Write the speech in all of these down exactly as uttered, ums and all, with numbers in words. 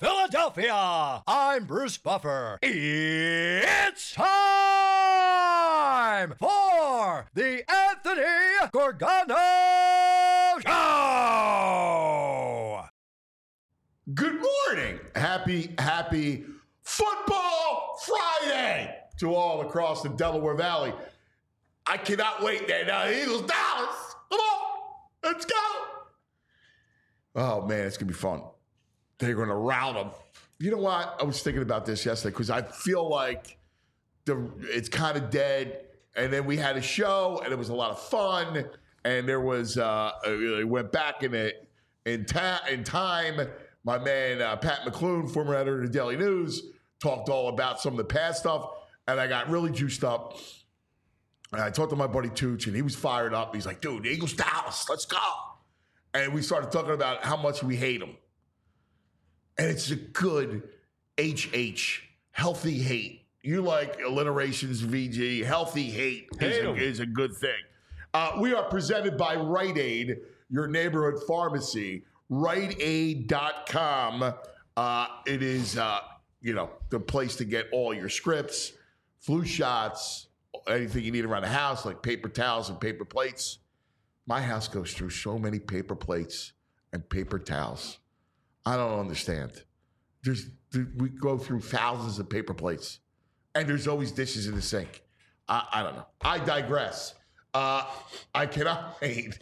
Philadelphia, I'm Bruce Buffer. It's time for the Anthony Gorgano Show. Good morning. Happy, happy Football Friday to all across the Delaware Valley. I cannot wait there now. Eagles, Dallas. Come on. Let's go. Oh, man, it's going to be fun. They're going to rout them. You know what? I was thinking about this yesterday because I feel like the it's kind of dead. And then we had a show, and it was a lot of fun. And there was, uh, it went back in it in, ta- in time. My man, uh, Pat McClune, former editor of the Daily News, talked all about some of the past stuff. And I got really juiced up. And I talked to my buddy Tooch, and he was fired up. He's like, dude, the Eagles, Dallas, let's go. And we started talking about how much we hate them. And it's a good H H, healthy hate. You like alliterations, V G. Healthy hate, hate is, a, is a good thing. Uh, we are presented by Rite Aid, your neighborhood pharmacy, rite aid dot com. Uh, it is, uh, you know, the place to get all your scripts, flu shots, anything you need around the house, like paper towels and paper plates. My house goes through so many paper plates and paper towels. I don't understand. There's we go through thousands of paper plates, and there's always dishes in the sink. I, I don't know. I digress. Uh, I cannot wait.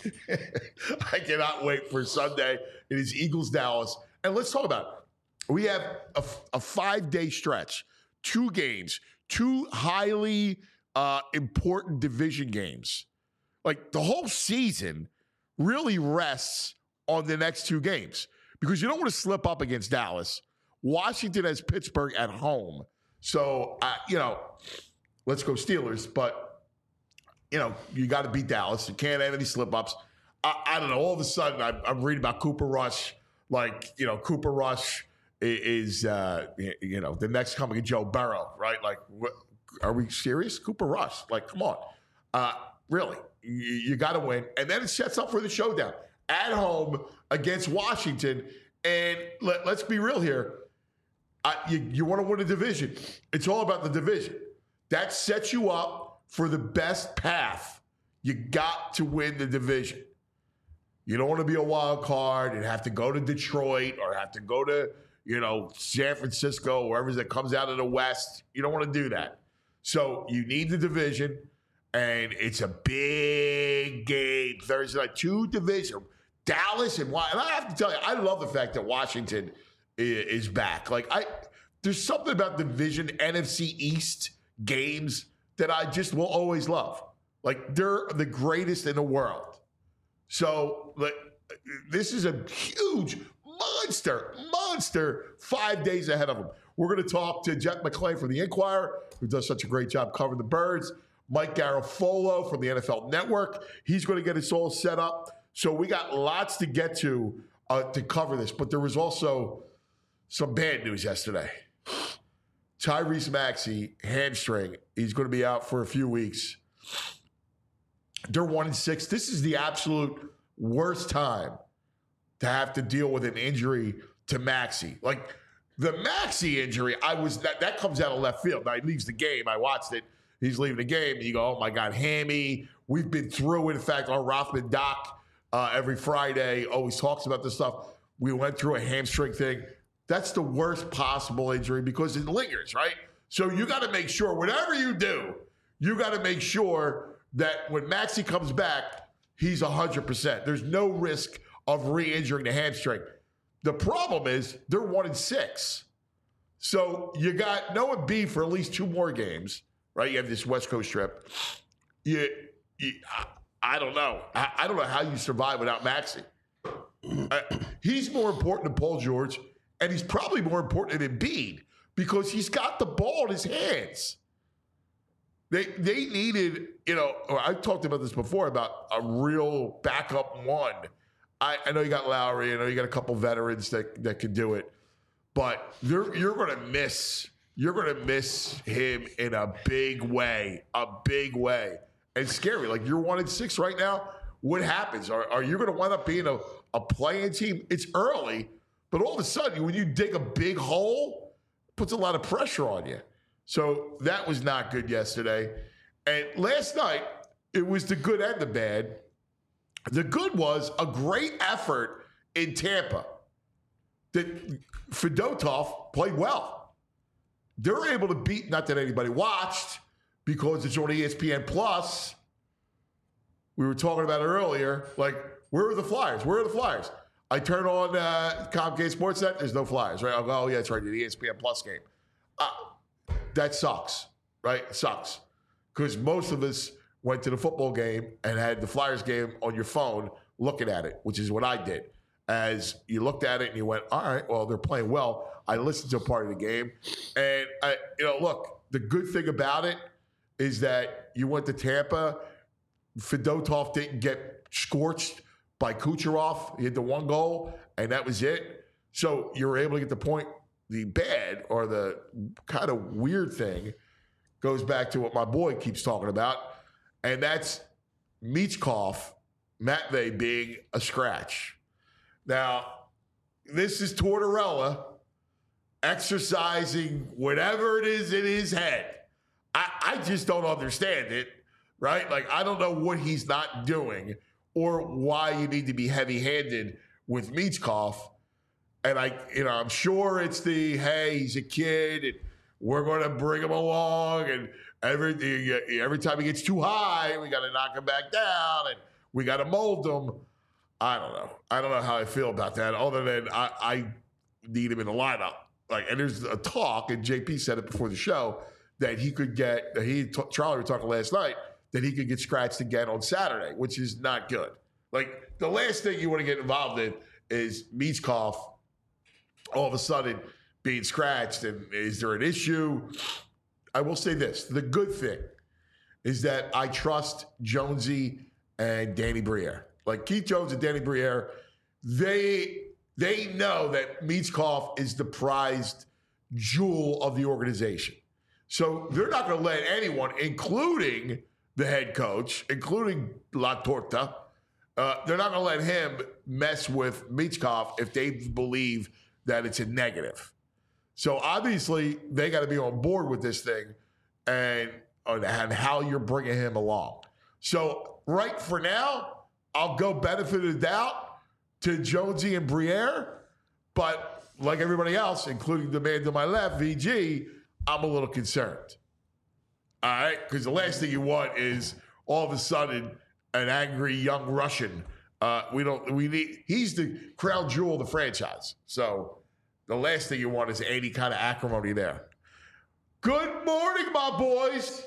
I cannot wait for Sunday. It is Eagles Dallas, and let's talk about it. We have a, a five-day stretch, two games, two highly uh, important division games. Like the whole season really rests on the next two games. Because you don't want to slip up against Dallas. Washington has Pittsburgh at home. So, uh, you know, let's go Steelers. But, you know, you got to beat Dallas. You can't have any slip-ups. I, I don't know. All of a sudden, I'm, I'm reading about Cooper Rush. Like, you know, Cooper Rush is, uh, you know, the next coming of Joe Burrow, right? Like, what, are we serious? Cooper Rush. Like, come on. Uh, really. You, you got to win. And then it sets up for the showdown. At home against Washington. And let, let's be real here. I, you you want to win a division. It's all about the division. That sets you up for the best path. You got to win the division. You don't want to be a wild card and have to go to Detroit or have to go to, you know, San Francisco, wherever that comes out of the West. You don't want to do that. So you need the division. And it's a big game Thursday night. Two division. Dallas and Washington. And I have to tell you, I love the fact that Washington is back. Like, I, there's something about division N F C East games that I just will always love. Like, they're the greatest in the world. So, like, this is a huge monster, monster five days ahead of them. We're going to talk to Jeff McClain from the Inquirer, who does such a great job covering the Birds. Mike Garafolo from the N F L Network. He's going to get us all set up. So we got lots to get to uh, to cover this. But there was also some bad news yesterday. Tyrese Maxey, hamstring. He's going to be out for a few weeks. They're one and six. This is the absolute worst time to have to deal with an injury to Maxey. Like the Maxey injury, I was that that comes out of left field. Now he leaves the game. I watched it. He's leaving the game, and you go, oh, my God, hammy. We've been through it. In fact, our Rothman doc uh, every Friday always talks about this stuff. We went through a hamstring thing. That's the worst possible injury because it lingers, right? So you got to make sure, whatever you do, you got to make sure that when Maxey comes back, he's one hundred percent. There's no risk of re-injuring the hamstring. The problem is they're one and six. So you got Noah B for at least two more games. Right, you have this West Coast trip. You, you I, I don't know. I, I don't know how you survive without Maxey. Uh, he's more important than Paul George, and he's probably more important than Embiid because he's got the ball in his hands. They they needed, you know. I talked about this before about a real backup one. I, I know you got Lowry. I know you got a couple veterans that that can do it, but you're you're going to miss. You're going to miss him in a big way, a big way. And it's scary. Like, you're one and six right now. What happens? Are, are you going to wind up being a, a playing team? It's early, But all of a sudden, when you dig a big hole, it puts a lot of pressure on you. So that was not good yesterday. And last night, it was the good and the bad. The good was a great effort in Tampa. That Fedotov played well. They were able to beat, not that anybody watched, because it's on E S P N Plus. We were talking about it earlier. Like, where are the Flyers? Where are the Flyers? I turn on uh, Comcast Sportsnet. There's no Flyers, right? I'll go, oh, yeah, that's right, the E S P N Plus game. Uh, that sucks, right? It sucks. Because most of us went to the football game and had the Flyers game on your phone looking at it, which is what I did. As you looked at it and you went, all right, well, they're playing well. I listened to a part of the game. And, I, you know, look, the good thing about it is that you went to Tampa. Fedotov didn't get scorched by Kucherov. He had the one goal, and that was it. So you were able to get the point. The bad or the kind of weird thing goes back to what my boy keeps talking about, and that's Michkov, Matvey being a scratch. Now, this is Tortorella exercising whatever it is in his head. I, I just don't understand it, right? Like, I don't know what he's not doing or why you need to be heavy-handed with Michkov. And I, you know, I'm sure it's the, hey, he's a kid, and we're going to bring him along, and every every time he gets too high, we got to knock him back down, and we got to mold him. I don't know. I don't know how I feel about that, other than I, I need him in the lineup. Like, and there's a talk, and J P said it before the show, that he could get, that he, Charlie were talking last night, that he could get scratched again on Saturday, which is not good. Like, the last thing you want to get involved in is Michkov all of a sudden being scratched. And is there an issue? I will say this. The good thing is that I trust Jonesy and Danny Briere. Like, Keith Jones and Danny Briere, they they know that Michkov is the prized jewel of the organization. So they're not going to let anyone, including the head coach, including La Torta, uh, they're not going to let him mess with Michkov if they believe that it's a negative. So obviously they got to be on board with this thing and, and how you're bringing him along. So right for now, I'll go benefit of the doubt to Jonesy and Briere, but like everybody else, including the man to my left, V G, I'm a little concerned. All right? Because the last thing you want is all of a sudden an angry young Russian. Uh, we don't, we need, he's the crown jewel of the franchise. So the last thing you want is any kind of acrimony there. Good morning, my boys.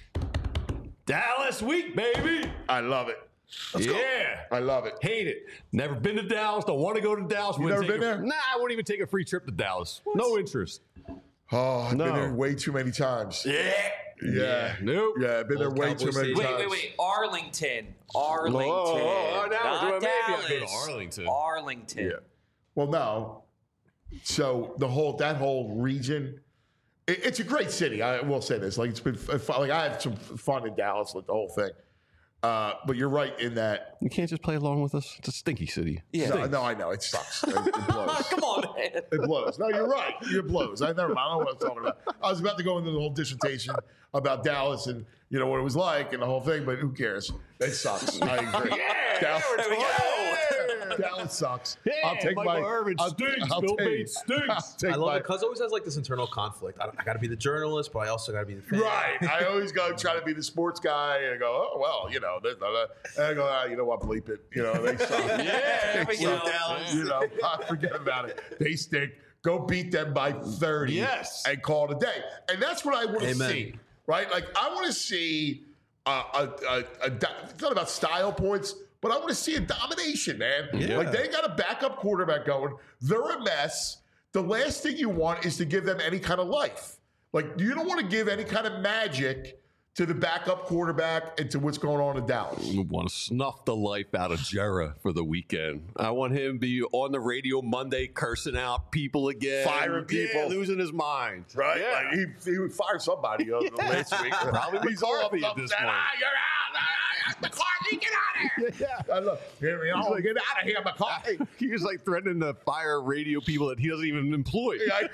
Dallas week, baby. I love it. Let's yeah. Go. I love it. Hate it. Never been to Dallas. Don't want to go to Dallas. You never been a, there? Nah, I won't even take a free trip to Dallas. What? No interest. Oh, I've no. been there way too many times. Yeah. Yeah. yeah. Nope. Yeah, I've been Old there way Cowboys too many City. times. Wait, wait, wait. Arlington. Arlington. Oh, oh, now Not maybe Dallas. I've been to Arlington. Arlington. Yeah. Well, no. So the whole that whole region, it, it's a great city. I will say this. Like, it's been fun. Like, I had some fun in Dallas with the whole thing. Uh, but you're right in that. You can't just play along with us. It's a stinky city. Yeah. No, no, I know. It sucks. It, it blows. Come on, man. It blows. No, you're right. It blows. I never. I don't know what I'm talking about. I was about to go into the whole dissertation about Dallas and you know what it was like and the whole thing, but who cares? It sucks. I agree. Yeah, Dallas, there we go. Dallas sucks. Yeah, I'll take Michael my. Irvin I'll, stinks. I'll Bill take- Bates stinks. I'll take I love my- it. Cuz always has like this internal conflict. I, I got to be the journalist, but I also got to be the fan. Right. I always go try to be the sports guy and go, oh, well, you know, blah, blah, blah. And I go, ah, you know what, bleep it. You know, they suck. Yeah, there we They go. suck. Dallas. You know, forget about it. They stink. Go beat them by thirty Yes. and call it a day. And that's what I want to Amen. see, right? Like, I want to see uh, a, a, a, it's not about style points, but I want to see a domination, man. Yeah. Like, they got a backup quarterback going. They're a mess. The last thing you want is to give them any kind of life. Like, you don't want to give any kind of magic to the backup quarterback and to what's going on in Dallas. I want to snuff the life out of Jera for the weekend. I want him to be on the radio Monday cursing out people again. Firing people. Yeah, losing his mind. Right? Yeah. Like he, he would fire somebody uh, last week. Probably He's all McCarthy at upset. this point. Ah, you're out. Ah, McCarthy, get out of here! Yeah. I love, here we go. like- Get out of here, McCarthy. He was like threatening to fire radio people that he doesn't even employ. Yeah,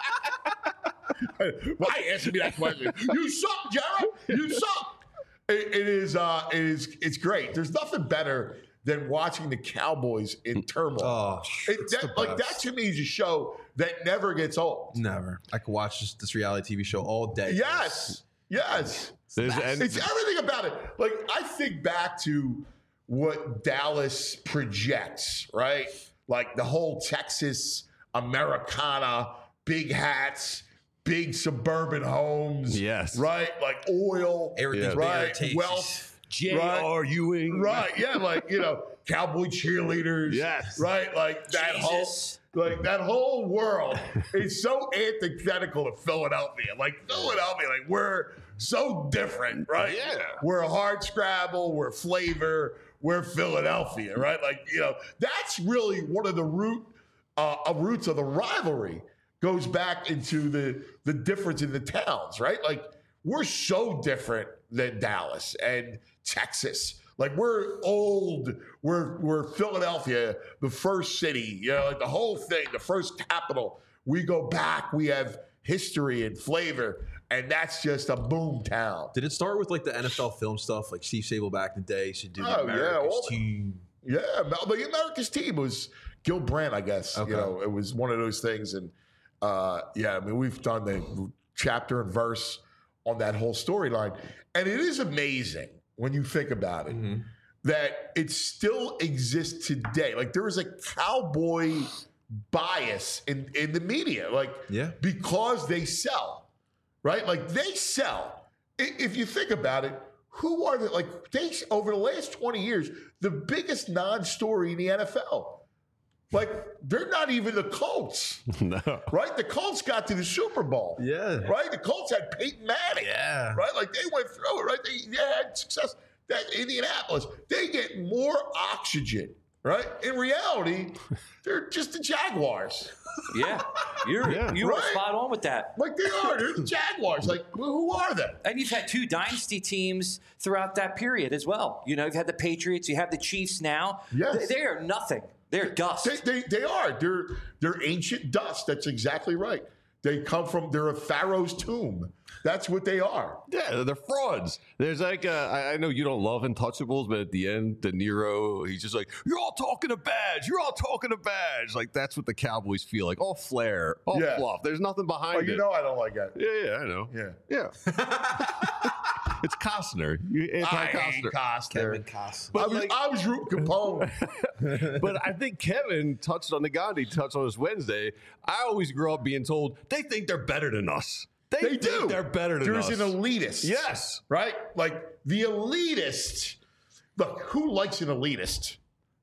I- Why answer me that question? You suck, Jared. You suck. It, it is. Uh, it is. It's great. There's nothing better than watching the Cowboys in turmoil. Oh, It- it's that- the like that best. to me is a show that never gets old. Never. I could watch this, this reality T V show all day. Yes. Yes. There's, and, It's everything about it. Like, I think back to what Dallas projects, right? Like the whole Texas Americana, big hats, big suburban homes. Yes. Right? Like oil. Everything's Yeah. bigger, Right? tasty. Wealth. J Right. R. Ewing. Right. Yeah. Like, you know, cowboy cheerleaders. Yes. Right? Like that whole. Jesus. Like that whole world is so antithetical to Philadelphia. Like Philadelphia, like we're so different, right? Yeah. We're hard scrabble, we're flavor, we're Philadelphia, right? Like, you know, that's really one of the root uh, uh, roots of the rivalry goes back into the the difference in the towns, right? Like we're so different than Dallas and Texas. Like we're old, we're we're Philadelphia, the first city, you know, like the whole thing, the first capital. We go back, we have history and flavor, and that's just a boom town. Did it start with like the N F L film stuff, like Steve Sable back in the day? Should do the Oh, yeah, America's all the- team. Yeah, Mel- the America's team was Gil Brandt, I guess. Okay. You know, it was one of those things, and uh, yeah, I mean, we've done the chapter and verse on that whole storyline, and it is amazing when you think about it. Mm-hmm. That it still exists today. Like there is a cowboy bias in, in the media, like Yeah. because they sell, right? Like they sell. I- If you think about it, who are the like they over the last twenty years, the biggest non-story in the N F L? Like they're not even the Colts, No. right? The Colts got to the Super Bowl. Yeah. Right? The Colts had Peyton Manning. Yeah. Right? Like they went through it, right? They, they had success. That Indianapolis, they get more oxygen, right? In reality, they're just the Jaguars. Yeah, you're Yeah. you were Right. spot on with that. Like they are. They're the Jaguars. Like, who are they? And you've had two dynasty teams throughout that period as well. You know, you've had the Patriots, you have the Chiefs now. Yes. They, they are nothing. They're dust. They, they, they are. They're they're ancient dust. That's exactly right. They come from, they're a Pharaoh's tomb. That's what they are. Yeah, they're frauds. There's like, uh, I I know you don't love Untouchables, but at the end, De Niro, he's just like, you're all talking a badge. You're all talking a badge. Like, that's what the Cowboys feel like. All flair, all Yeah. fluff. There's nothing behind Oh, it. you know I don't like that. yeah, yeah, I know. Yeah. Yeah. It's Costner. You anti-Costner. Costner. Kevin Costner. I was, I was rooting Capone. But I think Kevin touched on the Gandhi touched on this Wednesday. I always grew up being told they think they're better than us. They, They think do. They're better than There's us. an elitist. Yes. Right? Like the elitist. Look, who likes an elitist?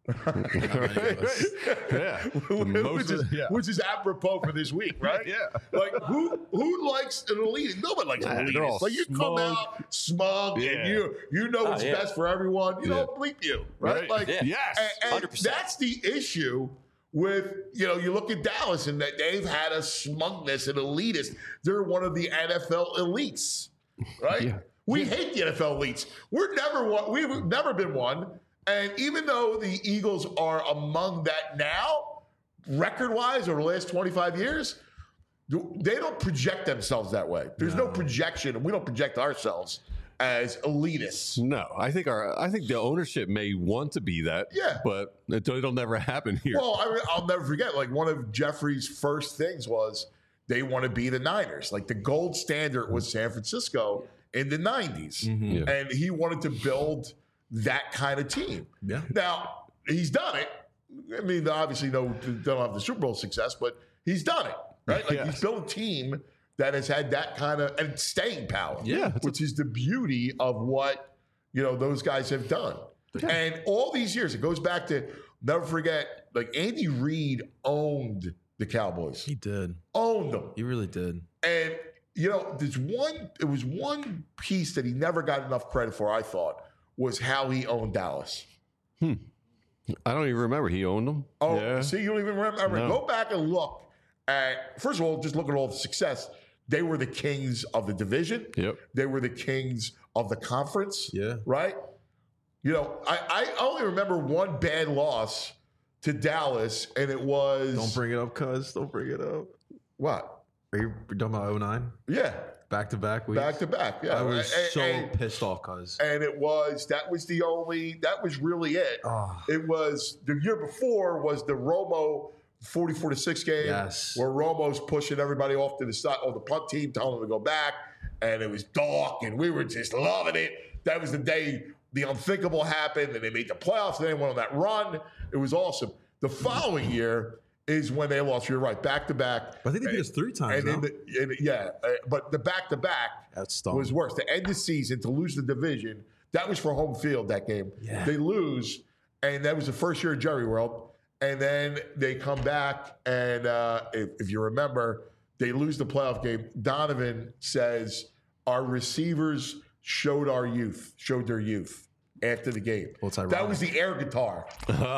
Yeah. The most which, is, of- yeah. which is apropos for this week, right? Yeah. Like who who likes an elitist? Nobody likes an Nah, they're all elitist. Like you come smug. out smug Yeah. and you you know what's yeah. best for everyone. You Yeah. don't bleep you, right? Right. Like Yeah. Yes. and, and one hundred percent. that's the issue with, you know, you look at Dallas and that they've had a smugness and elitist. They're one of the N F L elites, right? Yeah. We hate the N F L elites. We're never one. We've never been one. And even though the Eagles are among that now, record-wise over the last twenty-five years, they don't project themselves that way. There's no, projection, and we don't project ourselves as elitists. No, I think our I think the ownership may want to be that. Yeah. But it, it'll never happen here. Well, I, I'll never forget, like one of Jeffrey's first things was they want to be the Niners. Like the gold standard was San Francisco in the nineties. Yeah. And he wanted to build that kind of team. Yeah. Now, he's done it. I mean, obviously, no, don't have the Super Bowl success, but he's done it, right? Like Yes. he's built a team that has had that kind of and staying power, Yeah, it's a- which is the beauty of what, you know, those guys have done. And all these years, it goes back to, never forget, like Andy Reid owned the Cowboys, He did. owned them. He really did. And, you know, there's one, it was one piece that he never got enough credit for, I thought, was how he owned Dallas. I don't even remember. He owned them. Oh, yeah. see, you don't even remember. No. Go back and look at, first of all, just look at all the success. They were the kings of the division. Yep. They were the kings of the conference. Yeah. Right? You know, I, I only remember one bad loss to Dallas, and it was Don't bring it up, cuz. Don't bring it up. what? Are you talking about oh nine? Yeah, Back to back weeks? back to back. Yeah, I was and, so and, pissed off, cuz. and it was that was the only that was really it. Oh. It was the year before was the Romo forty-four to six game, Yes. where Romo's pushing everybody off to the side on the punt team, telling them to go back, and it was dark, and we were just loving it. That was the day the unthinkable happened, and they made the playoffs, and they went on that run. It was awesome. The following year is when they lost. You're right, back to back. I think they beat us three times. And in now. the, in, yeah, uh, but the back to back That's stunk. was worse. To end the season, to lose the division, that was for home field that game. Yeah. They lose, and that was the first year of Jerry World. And then they come back, and uh, if, if you remember, they lose the playoff game. Donovan says, our receivers showed our youth, showed their youth after the game. Well, it's that ironic. was the air guitar.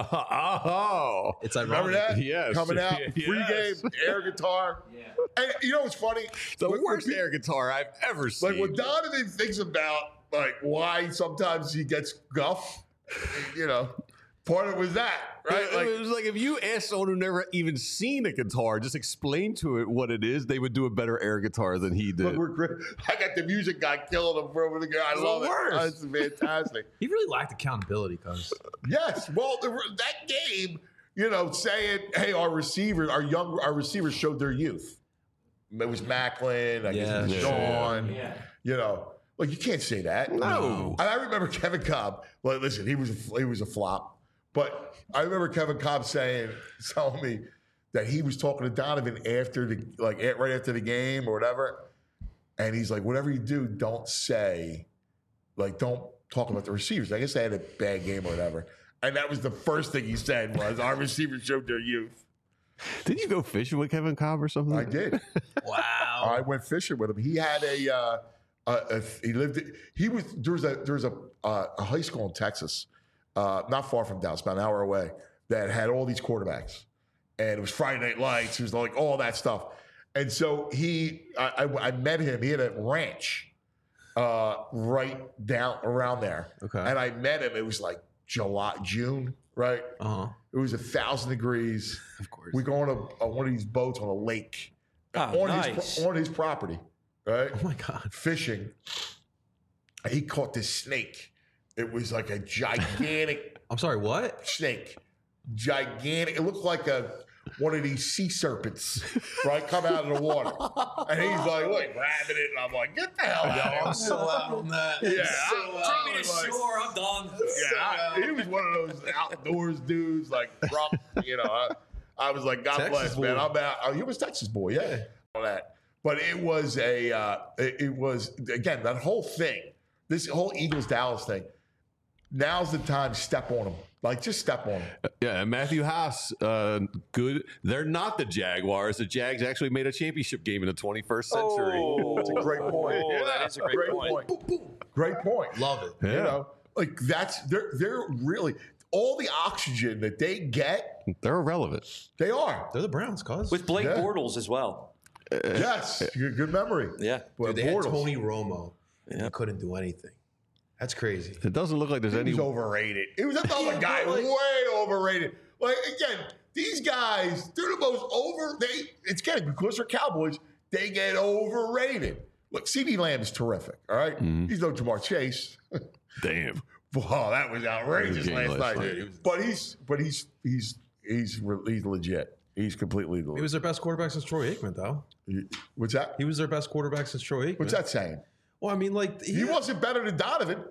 oh, It's ironic. Remember that? Yes. Coming out, Yes. pregame, air guitar. Yeah. And you know what's funny? the When- worst when pe- air guitar I've ever seen. Like when Donovan thinks about like why sometimes he gets guff, you know, part of it was that, right? It, Like, it was like if you asked someone who never even seen a guitar, just explain to it what it is, they would do a better air guitar than he did. but we're great. I got the music guy killing him for over the guy. I It's love the it. worst. It's fantastic. He really lacked accountability, cuz. Yes. Well, the, that game, you know, saying, "Hey, our receivers, our young, our receivers showed their youth." It was Macklin, I guess it was Yeah. Sean. Yeah. You know, like you can't say that. No. And I remember Kevin Cobb. Well, listen, he was a, he was a flop, but I remember Kevin Cobb saying, telling me that he was talking to Donovan after the like at- right after the game or whatever, and he's like, "Whatever you do, don't say, like, don't talk about the receivers." I guess they had a bad game or whatever, and that was the first thing he said was, "Our receivers showed their youth." Did you go fishing with Kevin Cobb or something? I did. Wow. I went fishing with him. He had a, uh, a, a he lived. He was there was a there was a, uh, a high school in Texas, uh, not far from Dallas, about an hour away, that had all these quarterbacks, and it was Friday Night Lights. It was like all that stuff, and so he, I, I, I met him. He had a ranch, uh, right down around there. Okay. and I met him. It was like July, June, right? Uh-huh. It was a thousand degrees. Of course. We go on a, on one of these boats on a lake Oh, on nice. his on his property, right? Oh my God. Fishing. He caught this snake. It was like a gigantic I'm sorry, what? snake, gigantic. It looked like a one of these sea serpents, right? Come out of the water, and he's like, "Look, grabbing it," and I'm like, "Get the hell out!" I'm so out on that. Yeah, So I- out. I Take me to was like- shore. I'm done. Yeah, I- he was one of those outdoors dudes, like drunk. You know, I, I was like, God Texas bless, man. boy. I'm out. Oh, he was Texas boy, yeah. All that, but it was a, uh, it, it was again that whole thing, this whole Eagles Dallas thing. Now's the time. Step on them, like just step on them. Yeah, and Matthew Haas, uh, good. They're not the Jaguars. The Jags actually made a championship game in the twenty-first century. That's a great point. Oh, that is a great, Great point. point. Great point. Love it. Yeah. You know, like that's they're they're really all the oxygen that they get. They're irrelevant. They are. They're the Browns, cuz. With Blake Yeah. Bortles as well. Yes, good, good memory. Yeah. Well, Dude, they had Bortles. Tony Romo. And Yeah. he couldn't do anything. That's crazy. It doesn't look like there's He any. was overrated. It was another Yeah, guy but like- way overrated. Like again, these guys, they're the most over. They it's getting because they're Cowboys. They get overrated. Look, CeeDee Lamb is terrific. All right? He's no Jamar Chase. Damn. Wow, that was outrageous Game last last night. night. But he's but he's he's he's re- he's legit. He's completely He legit. was their best quarterback since Troy Aikman, though. What's that? He was their best quarterback since Troy Aikman. What's that saying? Well, I mean, like He wasn't better than Donovan.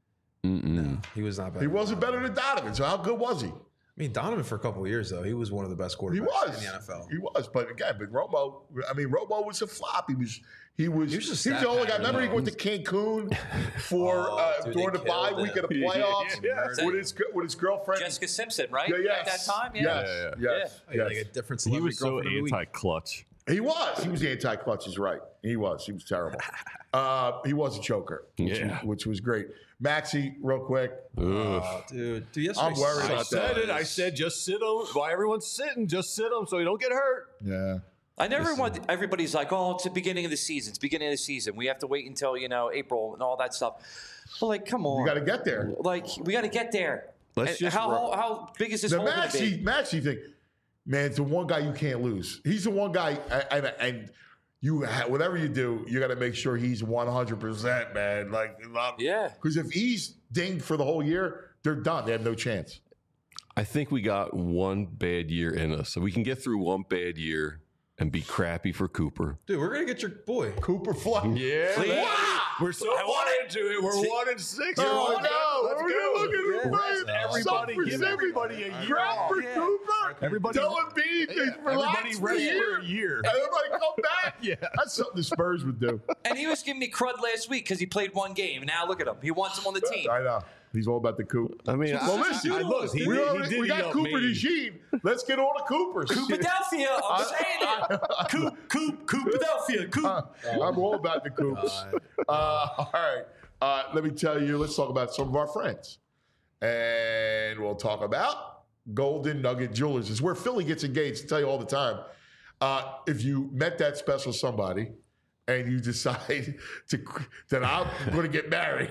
Mm-mm. He was not bad. He wasn't better than Donovan. So how good was he? I mean, Donovan for a couple of years though, he was one of the best quarterbacks He was in the N F L. He was, but again, but Romo. I mean, Romo was a flop. He was. He was. He was just he was stat the only guy. pattern, Remember, he though. went to Cancun for Oh, uh, dude, during they the bye killed week him. of the playoffs Yeah, with his with his girlfriend. Jessica Simpson, right? Yeah, yes. At that time, yeah. Yes, Yeah, yes, Oh, yeah, yes. like a different He celebrity was so girlfriend of the week. anti-clutch. He was. He was the anti-clutch. He's right. He was. He was terrible. uh, he was a choker, which, Yeah. was, which was great. Maxie, real quick. Ugh. Oh, dude, dude, yesterday I'm worried I about said that. it. I said just sit them. While everyone's sitting, just sit them so you don't get hurt. Yeah. I never want everybody's like, oh, it's the beginning of the season. It's the beginning of the season. We have to wait until, you know, April and all that stuff. But, like, come on. You got to get there. Like, we got to get there. Let's And just how, roll. how how big is this The hole going to Maxey, be? Maxey thing, man, it's the one guy you can't lose. He's the one guy, and, and you, whatever you do, you got to make sure he's one hundred percent, man. Like, Yeah. Because if he's dinged for the whole year, they're done. They have no chance. I think we got one bad year in us. So we can get through one bad year and be crappy for Cooper. Dude, we're gonna get your boy. Cooper Fly. Yeah. Please. We're so I want far into it. We're See- one and six. Oh, Let's no. Let's We're go. gonna look at him, Yeah. right? Everybody, Some give for everybody a year Crap off. for Yeah. Cooper. Everybody- Dylan B. Yeah, Relax everybody for a rest year. for a year. And everybody come back. Yeah. That's something the Spurs would do. And he was giving me crud last week because he played one game. Now look at him. He wants him on the team. I know. He's all about the Coop. I mean, Well, I, listen, I, I, look, he, we, did, already, he did we eat got up Cooper me. DeJean. Let's get all the Coopers. Coopadelphia, I'm saying it. Coop, Coop, Coopadelphia, Coop. I'm all about the Coops. Uh, all right. Uh, let me tell you, let's talk about some of our friends. And we'll talk about Golden Nugget Jewelers. It's where Philly gets engaged. I tell you all the time. Uh, if you met that special somebody and you decide to that I'm going to get married,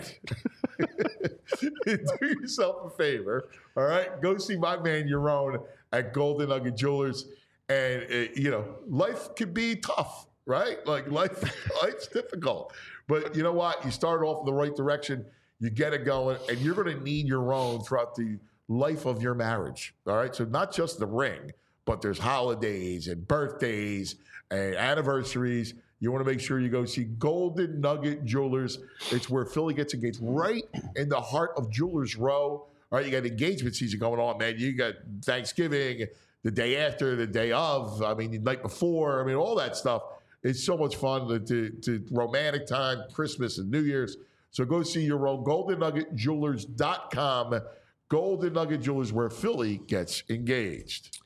do yourself a favor. All right, go see my man Yaron at Golden Nugget Jewelers, and uh, you know life can be tough, right? Like life, life's difficult, but you know what? You start off in the right direction, you get it going, and you're going to need your own throughout the life of your marriage. All right, so not just the ring, but there's holidays and birthdays and anniversaries. You want to make sure you go see Golden Nugget Jewelers. It's where Philly gets engaged, right in the heart of Jewelers Row. All right, you got engagement season going on, man. You got Thanksgiving, the day after, the day of. I mean, the night before. I mean, all that stuff. It's so much fun to, to, to romantic time, Christmas and New Year's. So go see your own golden nugget jewelers dot com. Golden Nugget Jewelers, where Philly gets engaged.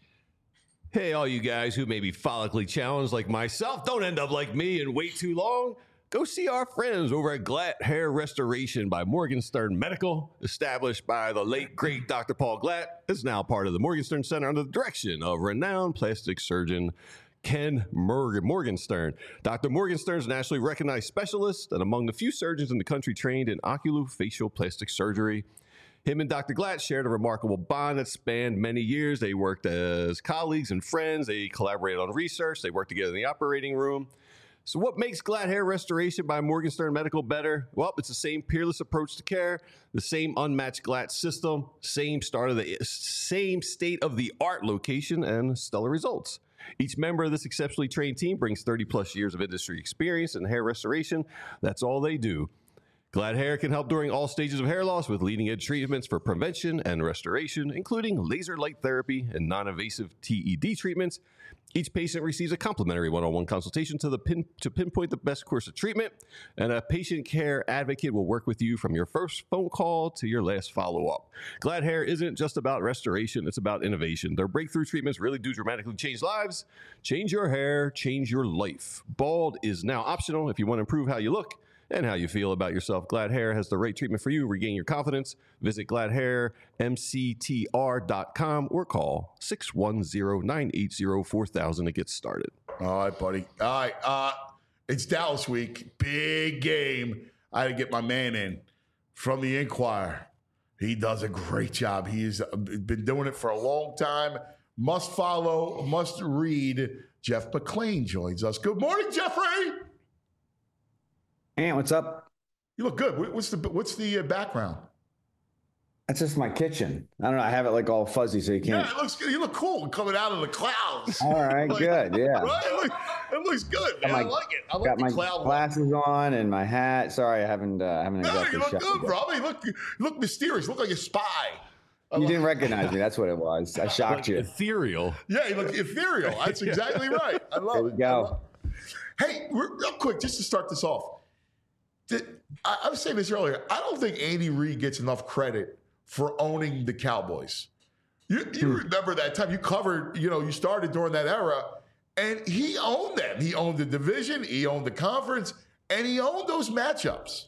Hey, all you guys who may be follically challenged like myself, don't end up like me and wait too long. Go see our friends over at Glatt Hair Restoration by Morgenstern Medical, established by the late, great Doctor Paul Glatt. It's now part of the Morgenstern Center under the direction of renowned plastic surgeon Ken Morgan, Morgenstern. Doctor Morgenstern is a nationally recognized specialist and among the few surgeons in the country trained in oculofacial plastic surgery. Him and Doctor Glatt shared a remarkable bond that spanned many years. They worked as colleagues and friends. They collaborated on research. They worked together in the operating room. So what makes Glatt Hair Restoration by Morgenstern Medical better? Well, it's the same peerless approach to care, the same unmatched Glatt system, same start of the same state-of-the-art location, and stellar results. Each member of this exceptionally trained team brings thirty plus years of industry experience in hair restoration. That's all they do. Glatt Hair can help during all stages of hair loss with leading-edge treatments for prevention and restoration, including laser light therapy and non-invasive T E D treatments. Each patient receives a complimentary one-on-one consultation to, the pin, to pinpoint the best course of treatment, and a patient care advocate will work with you from your first phone call to your last follow-up. Glatt Hair isn't just about restoration, it's about innovation. Their breakthrough treatments really do dramatically change lives. Change your hair, change your life. Bald is now optional if you want to improve how you look and how you feel about yourself. Glatt Hair has the right treatment for you. Regain your confidence. Visit glatt hair m c t r dot com or call six one zero, nine eight zero, four thousand to get started. All right, buddy. All right. Uh, it's Dallas week. Big game. I had to get my man in from the Inquirer. He does a great job. He's been doing it for a long time. Must follow, must read. Jeff McClain joins us. Good morning, Jeffrey. Hey, what's up? You look good. What's the what's the uh, background? That's just my kitchen. I don't know. I have it like all fuzzy, so you can't. Yeah, it looks good. You look cool coming out of the clouds. All right, Like, good. Yeah. Right? It, look, it looks good, man. my- I like it. I like Got the my cloud look. glasses on and my hat. Sorry, I haven't. Uh, haven't No, exactly you look shot good, yet. bro. You look, you look mysterious. You look like a spy. I You like- didn't recognize me. That's what it was. I shocked you. Ethereal. Yeah, you look ethereal. That's exactly right. I love There it. we go. I love it. Hey, real real quick, just to start this off. Did, I, I was saying this earlier. I don't think Andy Reid gets enough credit for owning the Cowboys. You, you remember that time you covered, you know, you started during that era, and he owned them. He owned the division, he owned the conference, and he owned those matchups.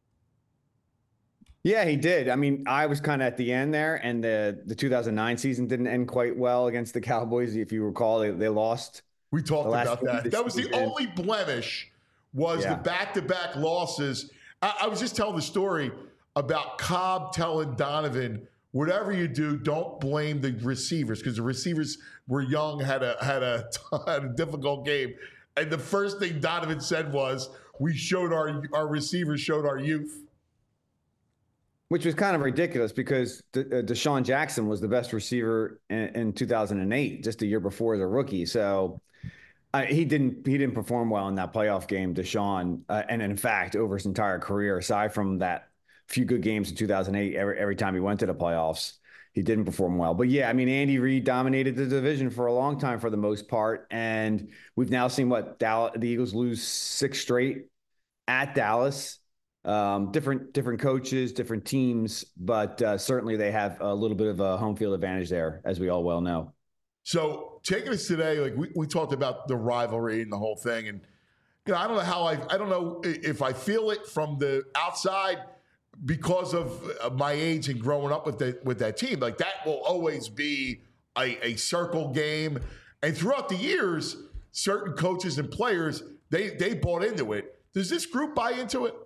Yeah, he did. I mean, I was kind of at the end there, and the the two thousand nine season didn't end quite well against the Cowboys. If you recall, they, they lost We talked The last about game of that. the That was the season. only blemish was Yeah. the back-to-back losses. I, I was just telling the story about Cobb telling Donovan, whatever you do, don't blame the receivers because the receivers were young, had a had a, had a difficult game. And the first thing Donovan said was, we showed our our receivers showed our youth. Which was kind of ridiculous because De- uh, Deshaun Jackson was the best receiver in, in two thousand eight, just a year before as a rookie. So uh, he didn't he didn't perform well in that playoff game, Deshaun. Uh, and in fact, over his entire career, aside from that few good games in two thousand eight, every every time he went to the playoffs, he didn't perform well. But yeah, I mean, Andy Reid dominated the division for a long time for the most part, and we've now seen what Dallas, the Eagles lose six straight at Dallas. Um, different different coaches, different teams, but uh, certainly they have a little bit of a home field advantage there, as we all well know. So taking us today, like we, we talked about the rivalry and the whole thing, and you know, I don't know how I I don't know if I feel it from the outside because of my age and growing up with that with that team. Like that will always be a, a circle game, and throughout the years, certain coaches and players they they bought into it. Does this group buy into it?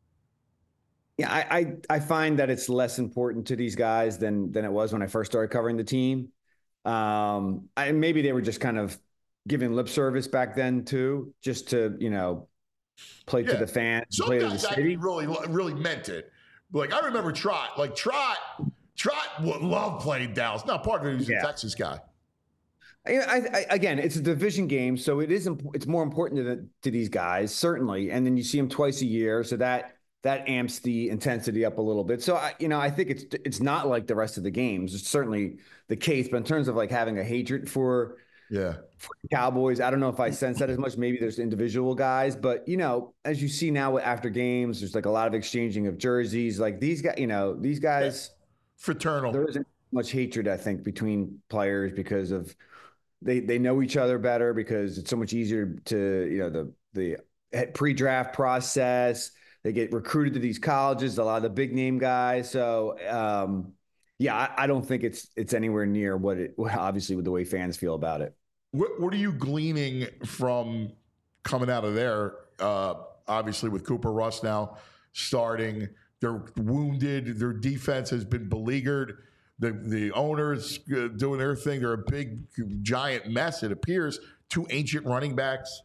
Yeah, I, I I find that it's less important to these guys than than it was when I first started covering the team. Um, and maybe they were just kind of giving lip service back then too, just to you know play Yeah. to the fans, Some play to the guys city. actually really really meant it. Like I remember Trot. Like Trot, Trot would love playing Dallas. Not part of it. He was Yeah. a Texas guy. I, I, again, it's a division game, so it is. imp- It's more important to the, to these guys, certainly. And then you see them twice a year, so that that amps the intensity up a little bit. So I, you know, I think it's it's not like the rest of the games. It's certainly the case, but in terms of like having a hatred for Yeah. for the Cowboys, I don't know if I sense that as much. Maybe there's individual guys, but you know, as you see now after games, there's like a lot of exchanging of jerseys. Like these guys, you know, these guys. Fraternal. There isn't much hatred, I think, between players because of they they know each other better because it's so much easier to you know the the pre-draft process. They get recruited to these colleges, a lot of the big name guys. So um, yeah, I, I don't think it's it's anywhere near what it obviously with the way fans feel about it. What, what are you gleaning from coming out of there? Uh, obviously, with Cooper Rush now starting, they're wounded. Their defense has been beleaguered. The the owners uh, doing their thing. They're a big, giant mess. It appears. Two ancient running backs.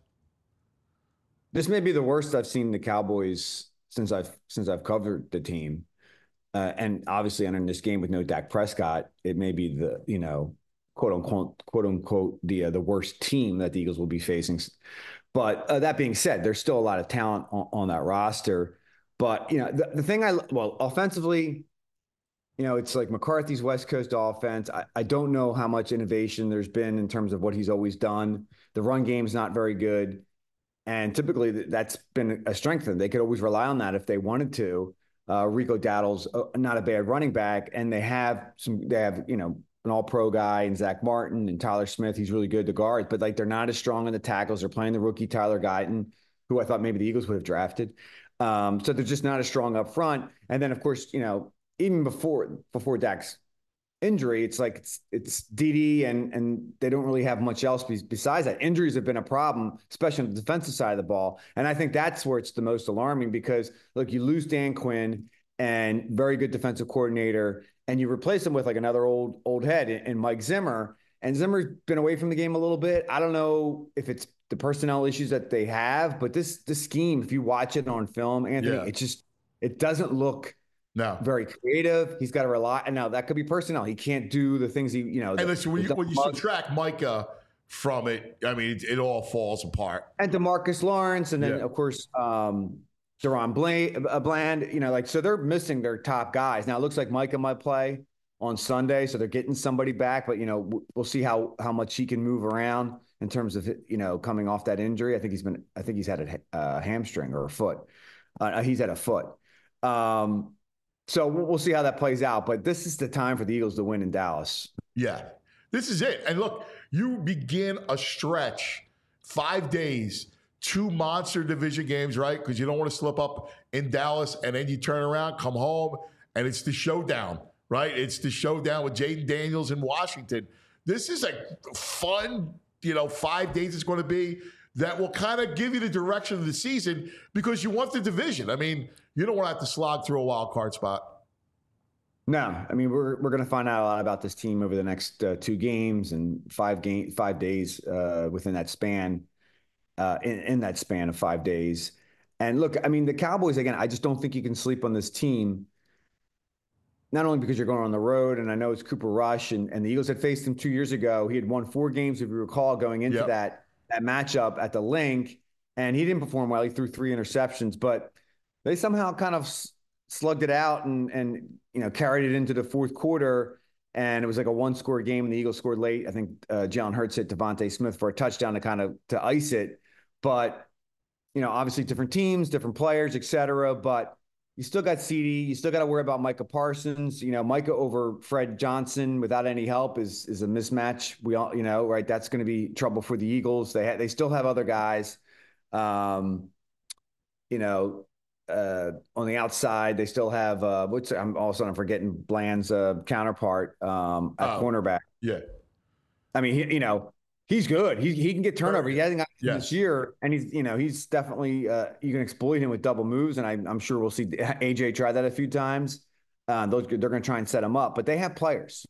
This may be the worst I've seen the Cowboys since I've since I've covered the team, uh, and obviously entering this game with no Dak Prescott, it may be the you know quote unquote quote unquote the uh, the worst team that the Eagles will be facing. But uh, that being said, there's still a lot of talent on, on that roster. But you know the, the thing I well offensively, you know it's like McCarthy's West Coast offense. I, I don't know how much innovation there's been in terms of what he's always done. The run game's not very good. And typically that's been a strength. They could always rely on that if they wanted to. Uh, Rico Dowdle's not a bad running back, and they have some. They have you know an All-Pro guy and Zach Martin and Tyler Smith. He's really good to guard, but like they're not as strong in the tackles. They're playing the rookie Tyler Guyton, who I thought maybe the Eagles would have drafted. Um, so they're just not as strong up front. And then of course you know even before before Dak's injury, it's like it's it's Dede and and they don't really have much else besides that. Injuries have been a problem, especially on the defensive side of the ball, and I think that's where it's the most alarming because look, you lose Dan Quinn and very good defensive coordinator, and you replace him with like another old old head in, in Mike Zimmer, and Zimmer's been away from the game a little bit. I don't know if it's the personnel issues that they have, but this this scheme, if you watch it on film, Anthony, Yeah. it just it doesn't look No. very creative. He's got to rely, and now that could be personnel. He can't do the things he, you know. And the- listen, when you, the- when you subtract Micah from it, I mean, it, it all falls apart. and DeMarcus Lawrence, and then Yeah. of course um, Deron Bland, uh, Bland. You know, like so they're missing their top guys. Now it looks like Micah might play on Sunday, so they're getting somebody back. But you know, w- we'll see how how much he can move around in terms of you know coming off that injury. I think he's been, I think he's had a uh, hamstring or a foot. Uh, he's had a foot. Um, So we'll we'll see how that plays out. But this is the time for the Eagles to win in Dallas. Yeah, this is it. And look, you begin a stretch, five days, two monster division games, right? Because you don't want to slip up in Dallas, and then you turn around, come home, and it's the showdown, right? It's the showdown with Jaden Daniels in Washington. This is a fun, you know, five days it's going to be that will kind of give you the direction of the season because you want the division. I mean, you don't want to have to slog through a wild card spot. No, I mean, we're we're going to find out a lot about this team over the next uh, two games and five game five days uh, within that span, uh, in, in that span of five days. And look, I mean, the Cowboys, again, I just don't think you can sleep on this team. Not only because you're going on the road, and I know it's Cooper Rush, and, and the Eagles had faced him two years ago. He had won four games, if you recall, going into yep. that that matchup at the Link, and he didn't perform well. He threw three interceptions, but they somehow kind of slugged it out and and you know carried it into the fourth quarter. And it was like a one-score game, and the Eagles scored late. I think uh, Jalen Hurts hit Devontae Smith for a touchdown to kind of to ice it. But you know, obviously different teams, different players, et cetera. But you still got CeeDee. You still got to worry about Micah Parsons. You know, Micah over Fred Johnson without any help is is a mismatch. We all, you know, right? That's going to be trouble for the Eagles. They ha- they still have other guys. Um, you know, uh, on the outside, they still have. Uh, what's I'm all of a sudden forgetting Bland's uh, counterpart um, at oh, cornerback. Yeah, I mean, he, you know. He's good. He he can get turnover. He hasn't got yes. this year, and he's you know he's definitely uh, you can exploit him with double moves, and I, I'm sure we'll see A J try that a few times. Uh, those they're going to try and set him up, but they have players.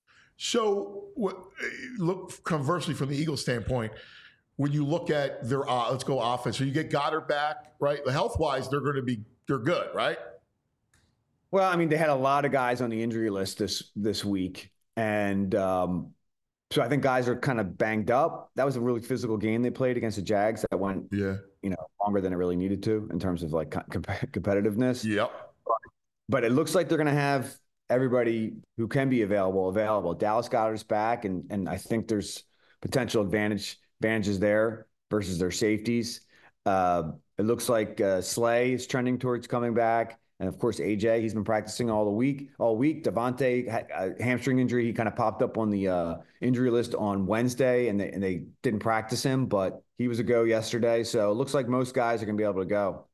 So look conversely from the Eagles standpoint, when you look at their uh, let's go offense, so you get Goddard back, right? Health wise, they're going to be they're good, right? Well, I mean, they had a lot of guys on the injury list this this week, and. Um, So I think guys are kind of banged up. That was a really physical game they played against the Jags that went, yeah, you know, longer than it really needed to in terms of like com- competitiveness. Yep. But it looks like they're going to have everybody who can be available available. Dallas Goedert's back, and and I think there's potential advantage advantages there versus their safeties. Uh, it looks like uh, Slay is trending towards coming back. And of course, A J, he's been practicing all the week, all week. Devontae had a hamstring injury. He kind of popped up on the uh, injury list on Wednesday, and they, and they didn't practice him, but he was a go yesterday. So it looks like most guys are going to be able to go.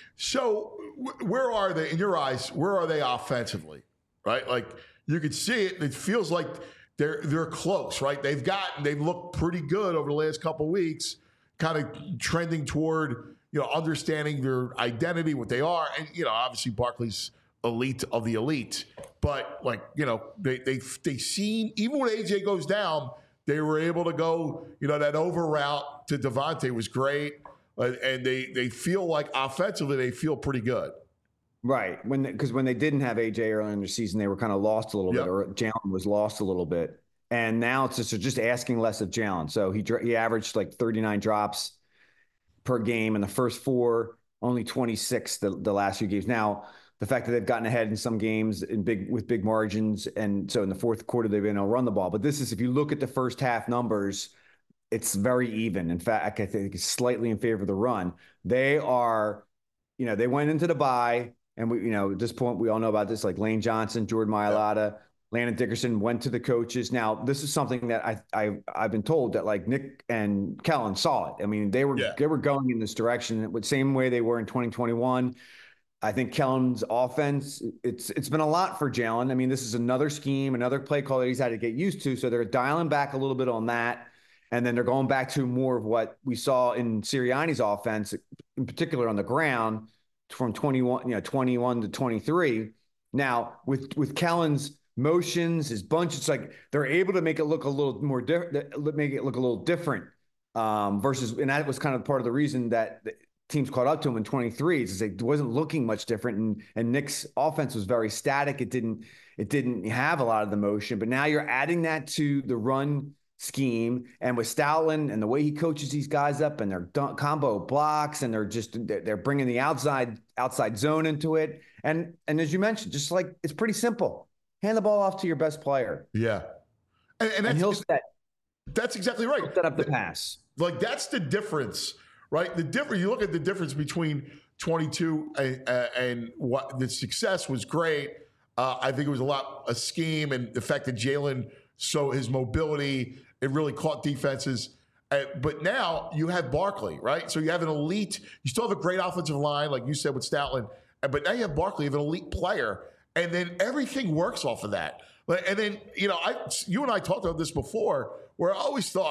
So w- where are they, in your eyes, where are they offensively, right? Like you could see it. It feels like they're they're close, right? They've gotten, they've looked pretty good over the last couple of weeks, kind of trending toward – you know, understanding their identity, what they are. And, you know, obviously Barkley's elite of the elite. But, like, you know, they they they seen, even when A J goes down, they were able to go, you know, that over route to Devontae was great. Uh, and they, they feel like offensively they feel pretty good. Right. When Because when they didn't have A J earlier in the season, they were kind of lost a little yep. bit, or Jalen was lost a little bit. And now it's just, just asking less of Jalen. So he he averaged like thirty-nine drops per game in the first four, only twenty-six the, the last few games. Now, the fact that they've gotten ahead in some games in big with big margins, and so in the fourth quarter they've been able to run the ball. But this is, if you look at the first half numbers, it's very even. In fact, I think it's slightly in favor of the run. They are, you know, they went into the bye, and we, you know, at this point we all know about this, like Lane Johnson, Jordan Mailata, yeah. Landon Dickerson went to the coaches. Now, this is something that I, I, I've been told that like Nick and Kellen saw it. I mean, they were yeah. they were going in this direction the same way they were in twenty twenty-one. I think Kellen's offense, it's it's been a lot for Jalen. I mean, this is another scheme, another play call that he's had to get used to. So they're dialing back a little bit on that. And then they're going back to more of what we saw in Sirianni's offense, in particular on the ground, from twenty-one, you know, twenty-one to twenty-three. Now, with with Kellen's motions, his bunch, it's like they're able to make it look a little more different, make it look a little different um, versus, and that was kind of part of the reason that the teams caught up to him in twenty-three is it wasn't looking much different. And, and Nick's offense was very static. It didn't, it didn't have a lot of the motion, but now you're adding that to the run scheme. And with Stoutland and the way he coaches these guys up and their dun- combo blocks, and they're just, they're bringing the outside, outside zone into it. And, and as you mentioned, just like, it's pretty simple. Hand the ball off to your best player. Yeah. And, and, and he'll set. That's exactly right. Set up the pass. Like, that's the difference, right? The difference, you look at the difference between twenty-two and, uh, and what the success was great. Uh, I think it was a lot a scheme, and the fact that Jalen, so his mobility, it really caught defenses. Uh, but now you have Barkley, right? So you have an elite, you still have a great offensive line, like you said with Stoutland, but now you have Barkley, you have an elite player. And then everything works off of that. And then, you know, I, you and I talked about this before, where I always thought,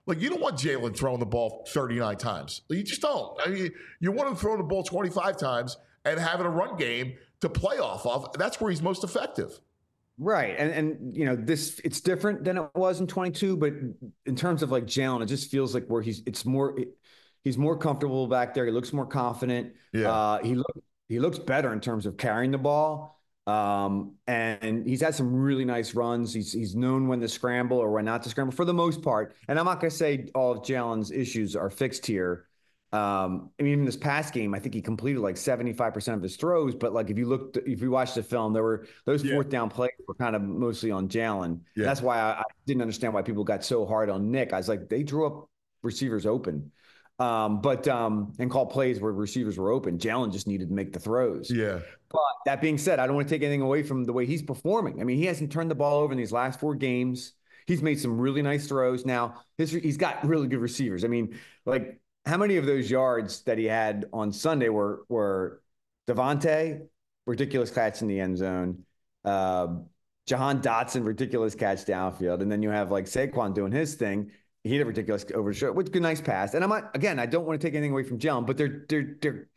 Like, you don't want Jalen throwing the ball thirty-nine times. You just don't. I mean, you want him throwing the ball twenty-five times and having a run game to play off of. That's where he's most effective. Right. And, and you know, this, it's different than it was in twenty-two, but in terms of like Jalen, it just feels like where he's, it's more, he's more comfortable back there. He looks more confident. Yeah. Uh, he, look, he looks better in terms of carrying the ball. Um, and he's had some really nice runs. He's he's known when to scramble or when not to scramble for the most part. And I'm not going to say all of Jalen's issues are fixed here. Um, I mean, in this past game, I think he completed like seventy-five percent of his throws. But like if you looked, if you watched the film, there were those Yeah. fourth down plays were kind of mostly on Jalen. Yeah. That's why I, I didn't understand why people got so hard on Nick. I was like, they drew up receivers open. Um, but um, and call plays where receivers were open. Jalen just needed to make the throws. Yeah. But that being said, I don't want to take anything away from the way he's performing. I mean, he hasn't turned the ball over in these last four games. He's made some really nice throws. Now, his, he's got really good receivers. I mean, like how many of those yards that he had on Sunday were were Devontae, ridiculous catch in the end zone, uh, Jahan Dotson, ridiculous catch downfield, and then you have like Saquon doing his thing. He had a ridiculous over the shoulder, which is a nice pass. And I'm not, again, I don't want to take anything away from Jalen, but they're they're they're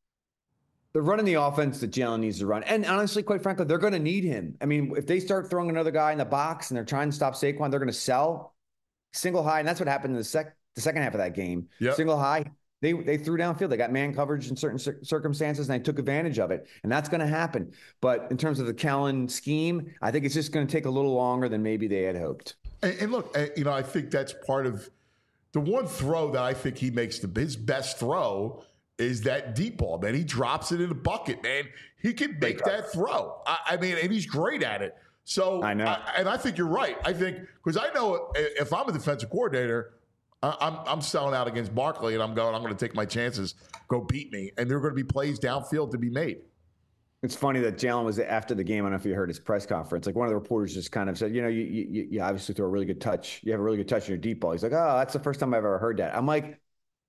they're running the offense that Jalen needs to run. And honestly, quite frankly, they're going to need him. I mean, if they start throwing another guy in the box and they're trying to stop Saquon, they're going to sell single high, and that's what happened in the sec the second half of that game. Yep. Single high, they they threw downfield. They got man coverage in certain cir- circumstances, and they took advantage of it. And that's going to happen. But in terms of the Kellen scheme, I think it's just going to take a little longer than maybe they had hoped. And, and look, uh, you know, I think that's part of the one throw that I think he makes the his best throw is that deep ball, man. He drops it in the bucket, man. He can make that throw. I, I mean, and he's great at it. So, I know. I, and I think you're right. I think because I know if I'm a defensive coordinator, I, I'm I'm selling out against Barkley, and I'm going. I'm going to take my chances. Go beat me, and there are going to be plays downfield to be made. It's funny that Jalen was after the game. I don't know if you heard his press conference. Like one of the reporters just kind of said, you know, you you, you obviously throw a really good touch. You have a really good touch in your deep ball. He's like, oh, that's the first time I've ever heard that. I'm like,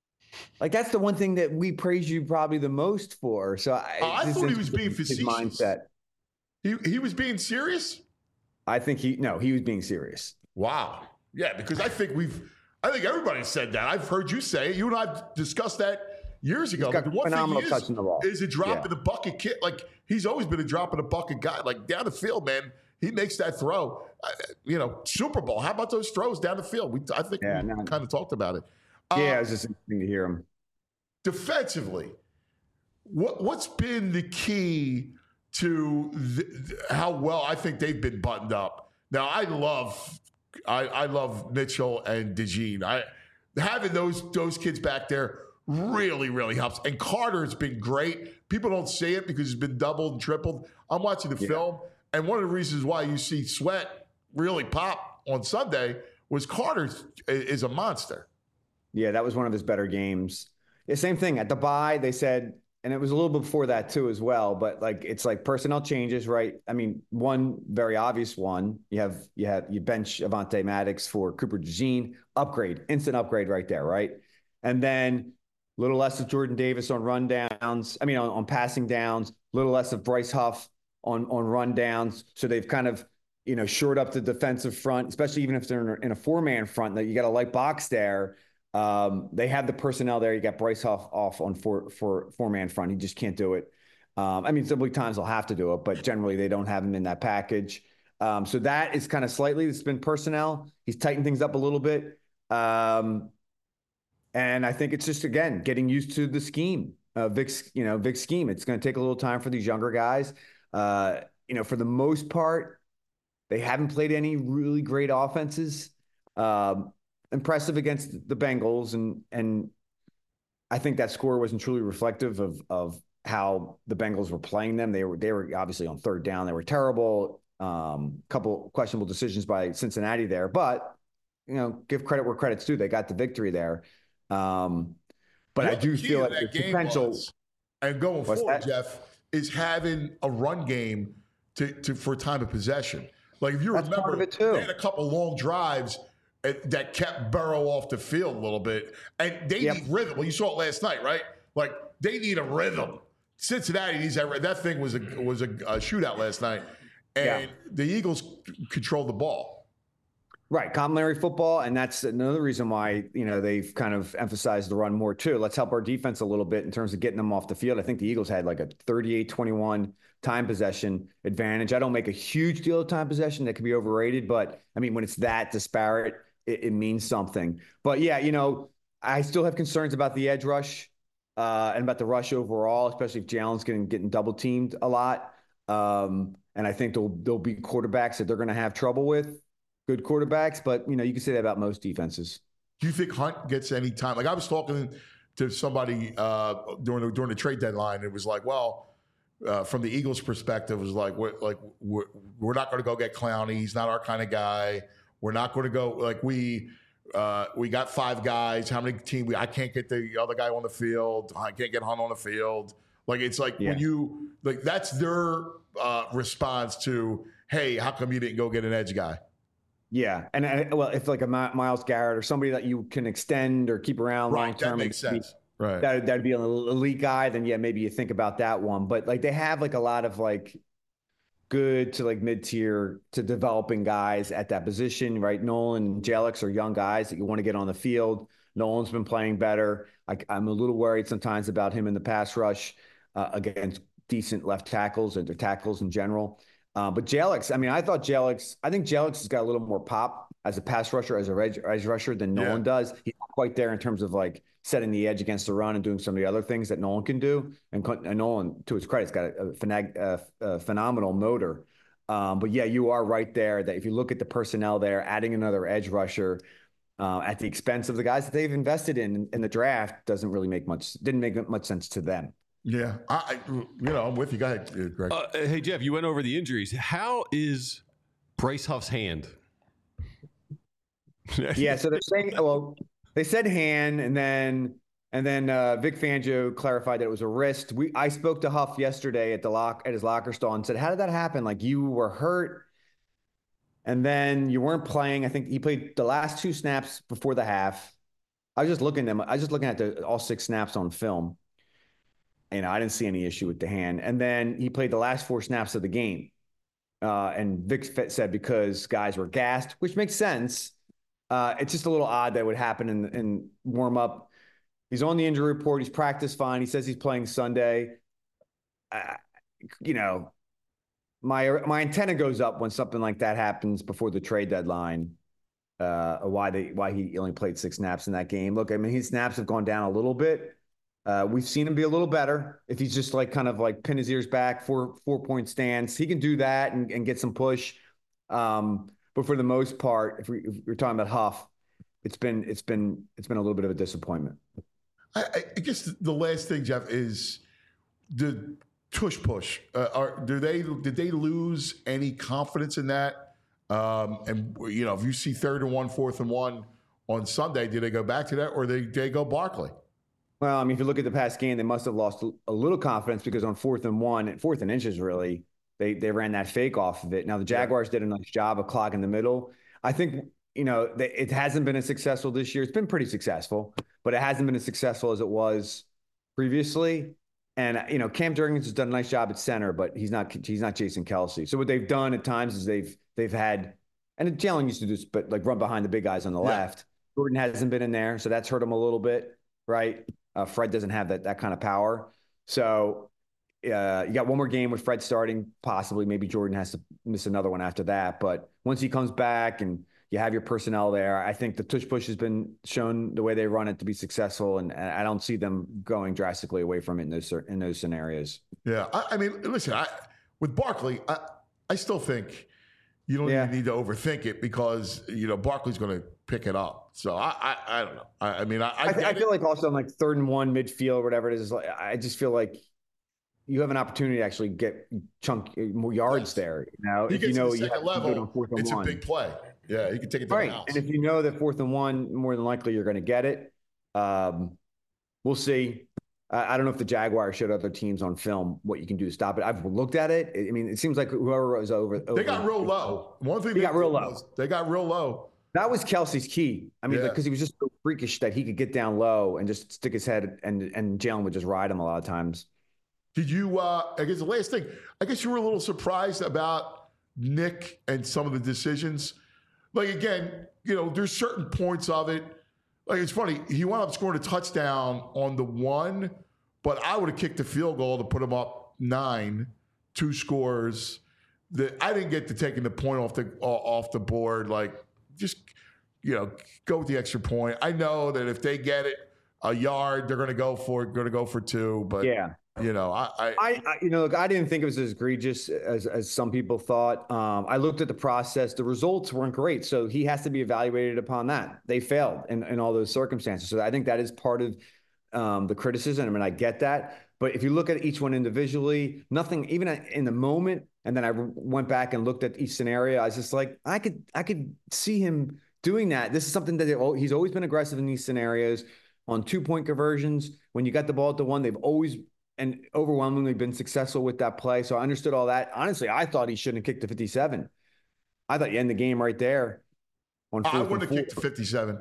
like that's the one thing that we praise you probably the most for. So I, Uh, I this thought he is was being his facetious. mindset. He he was being serious. I think he no, he was being serious. Wow. Yeah, because I think we've, I think everybody said that. I've heard you say it. You and I have discussed that years ago. He's got But the one phenomenal thing touch is, in the ball. is a drop Yeah. in the bucket kid. Like he's always been a drop in the bucket guy. Like down the field, man, he makes that throw. Uh, you know, Super Bowl. How about those throws down the field? We, I think Yeah, we no. kind of talked about it. Yeah, Uh, it was just interesting to hear him. defensively, what what's been the key to the, how well I think they've been buttoned up? Now, I love I, I love Mitchell and DeJean. I having those those kids back there really really helps. And Carter's been great. People don't say it because he's been doubled and tripled. I'm watching the Yeah. film, and one of the reasons why you see Sweat really pop on Sunday was Carter is a monster. Yeah, that was one of his better games. Yeah, same thing at the bye. They said, and it was a little bit before that too, as well. But like, it's like personnel changes, right? I mean, one very obvious one. You have you have you bench Avonte Maddox for Cooper DeJean. Upgrade, instant upgrade, right there, right? And then a little less of Jordan Davis on run downs. I mean, on, on passing downs. A little less of Bryce Huff on on run downs. So they've kind of you know shored up the defensive front, especially even if they're in a, in a four man front. That you got a light box there. Um, they have the personnel there. You got Bryce Huff off on four, four, four man front. He just can't do it. Um, I mean, there'll be times they'll have to do it, but generally they don't have him in that package. Um, so that is kind of slightly, it's been personnel. He's tightened things up a little bit. Um, and I think it's just, again, getting used to the scheme, uh, Vic's, you know, Vic's scheme. It's going to take a little time for these younger guys. Uh, you know, for the most part, they haven't played any really great offenses. Um, impressive against the Bengals, and and I think that score wasn't truly reflective of of how the Bengals were playing them. They were they were obviously on third down. They were terrible. Um, couple questionable decisions by Cincinnati there, but you know, give credit where credit's due. They got the victory there. Um, but What I do the key feel to like that the game potential. was, and going What's forward, that? Jeff, is having a run game to, to for time of possession. Like if you That's remember, part of it, too. they had a couple long drives uh, that kept Burrow off the field a little bit, and they Yep. need rhythm. Well, you saw it last night, right? Like they need a rhythm. Cincinnati needs that. That thing was a was a, a shootout last night, and Yeah. the Eagles c- controlled the ball. Right, complementary football, and that's another reason why, you know, they've kind of emphasized the run more too. Let's help our defense a little bit in terms of getting them off the field. I think the Eagles had like a thirty-eight twenty-one time possession advantage. I don't make a huge deal of time possession. That could be overrated, but I mean, when it's that disparate, it, it means something. But yeah, you know, I still have concerns about the edge rush uh, and about the rush overall, especially if Jalen's getting getting double teamed a lot. Um, and I think there'll there'll be quarterbacks that they're going to have trouble with. Good quarterbacks, but you know, you can say that about most defenses. Do you think Hunt gets any time? Like I was talking to somebody uh, during the, during the trade deadline. It was like, well, uh, from the Eagles' perspective, it was like, we're, like we're, we're not going to go get Clowney. He's not our kind of guy. We're not going to go like we uh, we got five guys. How many team? We I can't get the other guy on the field. I can't get Hunt on the field. Like it's like yeah. when you like that's their uh, response to, hey, how come you didn't go get an edge guy? Yeah, and, and well, if like a Myles Garrett or somebody that you can extend or keep around right, long term, that makes sense. Be, right, that that'd be an elite guy. Then yeah, maybe you think about that one. But like they have like a lot of like good to like mid tier to developing guys at that position, right? Nolan and Jelix are young guys that you want to get on the field. Nolan's been playing better. I, I'm a little worried sometimes about him in the pass rush uh, against decent left tackles and their tackles in general. Uh, but Jelix, I mean, I thought Jelix, I think Jelix has got a little more pop as a pass rusher, as a edge, edge rusher than Nolan yeah. does. He's not quite there in terms of like setting the edge against the run and doing some of the other things that Nolan can do. And, and Nolan, to his credit, has got a, a, a, a phenomenal motor. Um, but yeah, you are right there that if you look at the personnel there, adding another edge rusher uh, at the expense of the guys that they've invested in in the draft doesn't really make much, didn't make much sense to them. Yeah, I, you know, I'm with you. Go ahead, Greg. Uh, hey, Jeff, you went over the injuries. How is Bryce Huff's hand? yeah, so they're saying, well, they said hand, and then and then uh, Vic Fangio clarified that it was a wrist. We I spoke to Huff yesterday at the lock at his locker stall and said, "How did that happen? Like you were hurt, and then you weren't playing. I think he played the last two snaps before the half. I was just looking at them. I was just looking at the all six snaps on film." You know, I didn't see any issue with the hand. And then he played the last four snaps of the game. Uh, and Vic said because guys were gassed, which makes sense. Uh, it's just a little odd that would happen in, in warm up. He's on the injury report. He's practiced fine. He says he's playing Sunday. Uh, you know, my my antenna goes up when something like that happens before the trade deadline. Uh, why they why he only played six snaps in that game. Look, I mean, his snaps have gone down a little bit. Uh, we've seen him be a little better if he's just like kind of like pin his ears back, four four point stance. He can do that and, and get some push. Um, but for the most part, if, we, if we're talking about Huff, it's been it's been it's been a little bit of a disappointment. I, I guess the last thing, Jeff, is the tush push. Uh, are do they did they lose any confidence in that? Um, and you know, if you see third and one, fourth and one on Sunday, do they go back to that, or they they go Barkley? Well, I mean, if you look at the past game, they must have lost a little confidence because on fourth and one, and fourth and inches, really, they they ran that fake off of it. Now, the Jaguars yeah. did a nice job of clogging the middle. I think, you know, they, it hasn't been as successful this year. It's been pretty successful, but it hasn't been as successful as it was previously. And, you know, Cam Jurgens has done a nice job at center, but he's not he's not Jason Kelce. So what they've done at times is they've they've had, and Jalen used to do this, but like run behind the big guys on the yeah. left. Jordan hasn't been in there, so that's hurt him a little bit, right? Uh, Fred doesn't have that that kind of power. So uh, you got one more game with Fred starting, possibly. Maybe Jordan has to miss another one after that. But once he comes back and you have your personnel there, I think the tush push has been shown the way they run it to be successful. And, and I don't see them going drastically away from it in those, in those scenarios. Yeah. I, I mean, listen, I, with Barkley, I, I still think you don't yeah. even need to overthink it because, you know, Barkley's going to pick it up. So I, I, I don't know. I, I mean, I, I, I, I feel like also on like third and one midfield, whatever it is, like, I just feel like you have an opportunity to actually get chunk more yards yes. there. You know, he if you know you have level, to fourth and it's one. a big play. Yeah, you can take it to right. the house. And if you know that fourth and one, more than likely you're going to get it. Um, we'll see. I, I don't know if the Jaguars showed other teams on film what you can do to stop it. I've looked at it. I mean, it seems like whoever was over, they over, got real low. One thing they, they got real low. They got real low. That was Kelce's key. I mean, yeah. because he was just so freakish that he could get down low and just stick his head, and and Jalen would just ride him a lot of times. Did you? Uh, I guess the last thing. I guess you were a little surprised about Nick and some of the decisions. like, again, you know, there's certain points of it. Like, it's funny. He wound up scoring a touchdown on the one, but I would have kicked the field goal to put him up nine, two scores. The, I didn't get to taking the point off the off the board. Like, just, you know, go with the extra point. I know that if they get it a yard, they're going to go for it, going to go for two. But, yeah. you know, I, I, I, I, you know, look, I didn't think it was as egregious as, as some people thought. Um, I looked at the process. The results weren't great. So he has to be evaluated upon that. They failed in, in all those circumstances. So I think that is part of um, the criticism. I mean, I get that. But if you look at each one individually, nothing, even in the moment, and then I went back and looked at each scenario, I was just like, I could, I could see him doing that. This is something that they, he's always been aggressive in these scenarios on two-point conversions. When you got the ball at the one, they've always and overwhelmingly been successful with that play. So I understood all that. Honestly, I thought he shouldn't have kicked the fifty-seven. I thought you end the game right there. On I wouldn't have kicked the fifty-seven.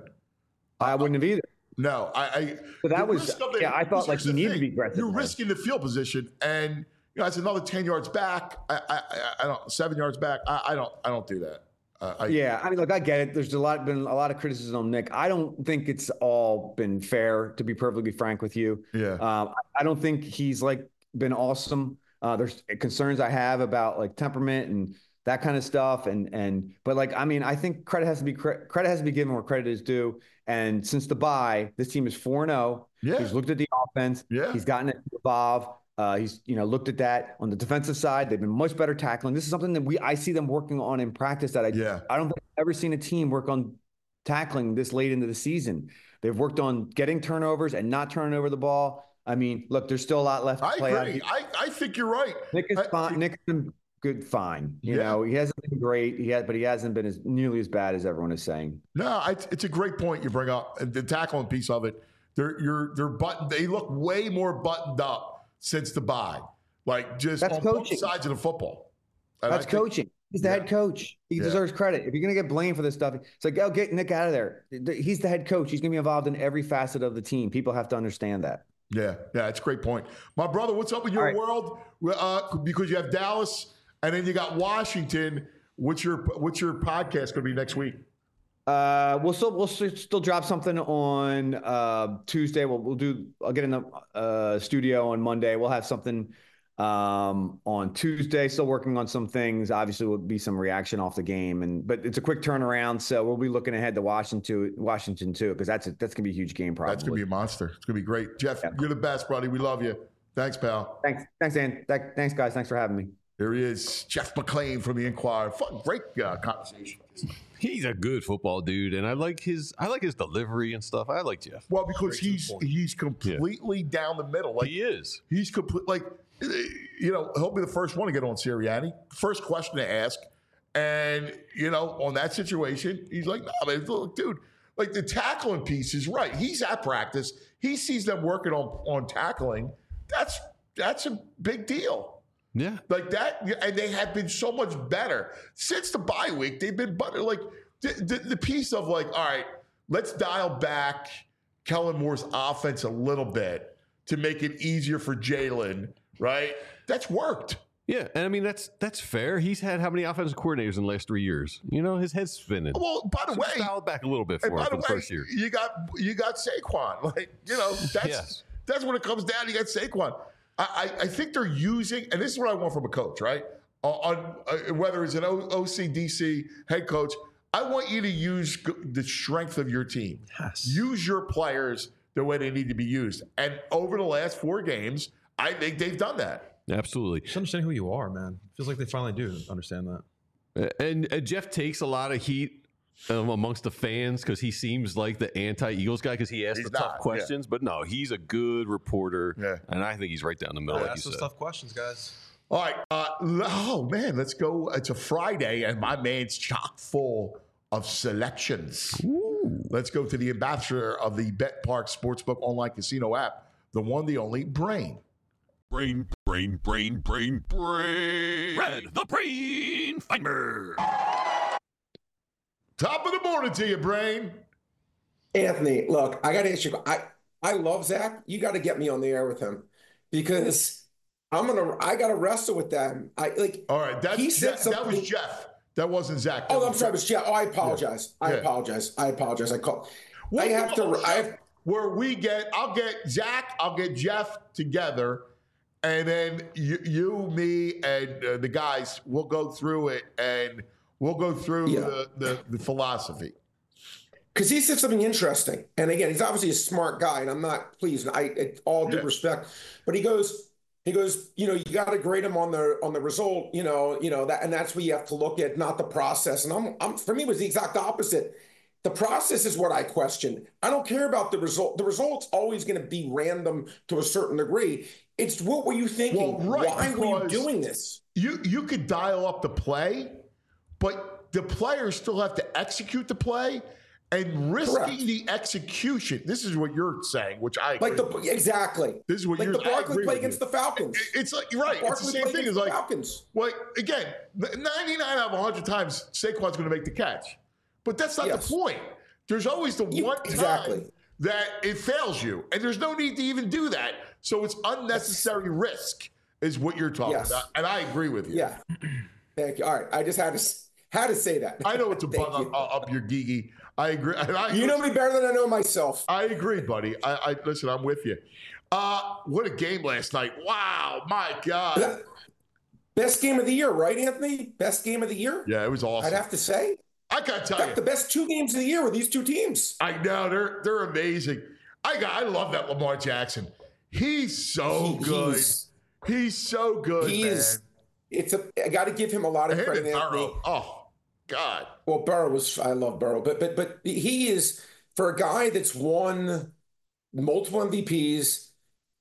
I wouldn't have either. No, I. I but that was, the, yeah, I thought like he needed to be aggressive. You're risking the field position, and you know, it's another ten yards back. I, I, I don't seven yards back. I, I don't, I don't do that. Uh, I, yeah, I mean, look, I get it. There's a lot been a lot of criticism on Nick. I don't think it's all been fair, to be perfectly frank with you. Yeah, um, I don't think he's like been awesome. Uh, there's concerns I have about like temperament and that kind of stuff. And and but like, I mean, I think credit has to be credit has to be given where credit is due. And since the bye, this team is four and zero. Yeah, he's looked at the offense. Yeah, he's gotten it to evolve. Uh, he's, you know, looked at that on the defensive side. They've been much better tackling. This is something that we I see them working on in practice that I yeah. I don't think I've ever seen a team work on tackling this late into the season. They've worked on getting turnovers and not turning over the ball. I mean, look, there's still a lot left to I play agree. out. I, I think you're right. Nick is I, fine. Nick's been good, fine. You yeah. know, he hasn't been great. He had, but he hasn't been as nearly as bad as everyone is saying. No, I, it's a great point you bring up. The tackling piece of it. They're you're they're buttoned. They look way more buttoned up since the bye. Like just That's on coaching. both sides of the football. And That's think, coaching. He's the yeah. head coach. He Yeah. deserves credit. If you're going to get blamed for this stuff, it's like, oh, get Nick out of there. He's the head coach. He's going to be involved in every facet of the team. People have to understand that. Yeah, yeah, it's a great point. My brother, what's up in your right. world? Uh, because you have Dallas and then you got Washington. What's your what's your podcast going to be next week? Uh, we'll still we'll still drop something on uh, Tuesday. We'll we'll do. I'll get in the uh, studio on Monday. We'll have something um, on Tuesday. Still working on some things. Obviously, will be some reaction off the game, and but it's a quick turnaround. So we'll be looking ahead to Washington, Washington too, because that's a, that's gonna be a huge game. Probably That's gonna be a monster. It's gonna be great. Jeff, yeah. You're the best, buddy. We love you. Thanks, pal. Thanks, thanks, Dan. Thanks, guys. Thanks for having me. Here he is, Jeff McClain from the Inquirer. Fun, great uh, conversation. He's a good football dude, and I like his I like his delivery and stuff. I like Jeff. Well, because he's he's completely yeah. down the middle. Like he is. He's complete. Like you know, he'll be the first one to get on Sirianni. First question to ask, and you know, on that situation, he's like, "No, man, look, dude. Like the tackling piece is right. He's at practice. He sees them working on on tackling. That's that's a big deal." Yeah. Like that, and they have been so much better. Since the bye week, they've been better. Like, the, the, the piece of like, all right, let's dial back Kellen Moore's offense a little bit to make it easier for Jalen, right? That's worked. Yeah, and I mean, that's that's fair. He's had how many offensive coordinators in the last three years? You know, his head's spinning. Well, by the so way, dial back a little bit for him for the way, first year. You got, you got Saquon. Like, you know, that's, yes. that's when it comes down. You got Saquon. I, I think they're using, and this is what I want from a coach, right? On uh, whether it's an O C D C head coach, I want you to use the strength of your team. Yes. Use your players the way they need to be used. And over the last four games, I think they've done that. Absolutely. Just understand who you are, man. Feels like they finally do understand that. And, and Jeff takes a lot of heat Um, amongst the fans because he seems like the anti-Eagles guy because he asks He's the tough not, questions. Yeah. But no, he's a good reporter, yeah. and I think he's right down the middle. Yeah, like ask you those said. tough questions, guys. All right. Uh, oh, man, let's go. It's a Friday, and my man's chock full of selections. Ooh. Let's go to the ambassador of the Bet Park Sportsbook online casino app, the one, the only, Brain. Brain, brain, brain, brain, brain. Red, the Brain Finder. Top of the morning to you, Brain. Anthony, look, I got to ask you. I I love Zach. You got to get me on the air with him because I'm gonna. I got to wrestle with that. I like. All right, that's, he said that, that was something- Jeff. That wasn't Zach. That Oh, I'm was sorry. But yeah, oh, I apologize. Yeah. I Yeah. apologize. I apologize. I call. We'll I have do a to. whole I show have. where we get, I'll get Zach, I'll get Jeff together, and then you, you me, and uh, the guys, we'll go through it, and we'll go through Yeah. the, the, the philosophy. Because he said something interesting, and again, he's obviously a smart guy, and I'm not pleased. I, I all due Yeah. respect, but he goes, he goes, you know, you got to grade him on the on the result, you know, you know that, and that's what you have to look at, not the process. And I'm, I'm for me, it was the exact opposite. The process is what I question. I don't care about the result. The result's always going to be random to a certain degree. It's what were you thinking? Well, right, Why were you because doing this? You you could dial up the play, but the players still have to execute the play, and risking Correct. the execution. This is what you're saying, which I agree Like the with. exactly. This is what like you're the I Barkley agree play with against you. the Falcons. It's like you're right. It's the Barkley same play thing as against the like Falcons. Well, again, ninety-nine out of one hundred times Saquon's going to make the catch, but that's not Yes. the point. There's always the You- one time exactly. that it fails you, and there's no need to even do that. So it's unnecessary risk, is what you're talking Yes. about, and I agree with you. Yeah. Thank you. All right. I just had to s- had to say that. I know it's a Thank bug you. up, up your geeky. I agree. And I, You know me better than I know myself. I agree, buddy. I, I listen. I'm with you. Uh, what a game last night! Wow, my God. Best game of the year, right, Anthony? Best game of the year? Yeah, it was awesome. I'd have to say. I gotta tell In fact, you, the best two games of the year were these two teams. I know they're they're amazing. I got I love that Lamar Jackson. He's so He- good. he's- He's, so good. He man. is. It's a. I got to give him a lot of Him credit, and Anthony. Burrow. Oh God. Well, Burrow was. I love Burrow, but but but he is, for a guy that's won multiple M V Ps.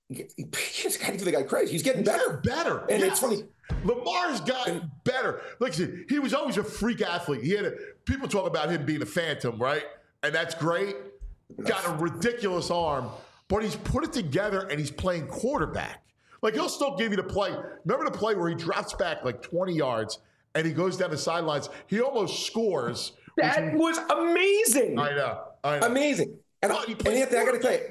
He's got to give the guy credit. He's getting He's better. getting better. And Yes. it's funny. Lamar's gotten better. Look, see, he was always a freak athlete. He had a, people talk about him being a phantom, right? And that's great. Got a ridiculous arm, but he's put it together and he's playing quarterback. Like he'll still give you the play. Remember the play where he drops back like twenty yards and he goes down the sidelines? He almost scores. That was amazing. I know. I know. Amazing. And, Well, he and plays Anthony, I got to tell you, quarterback.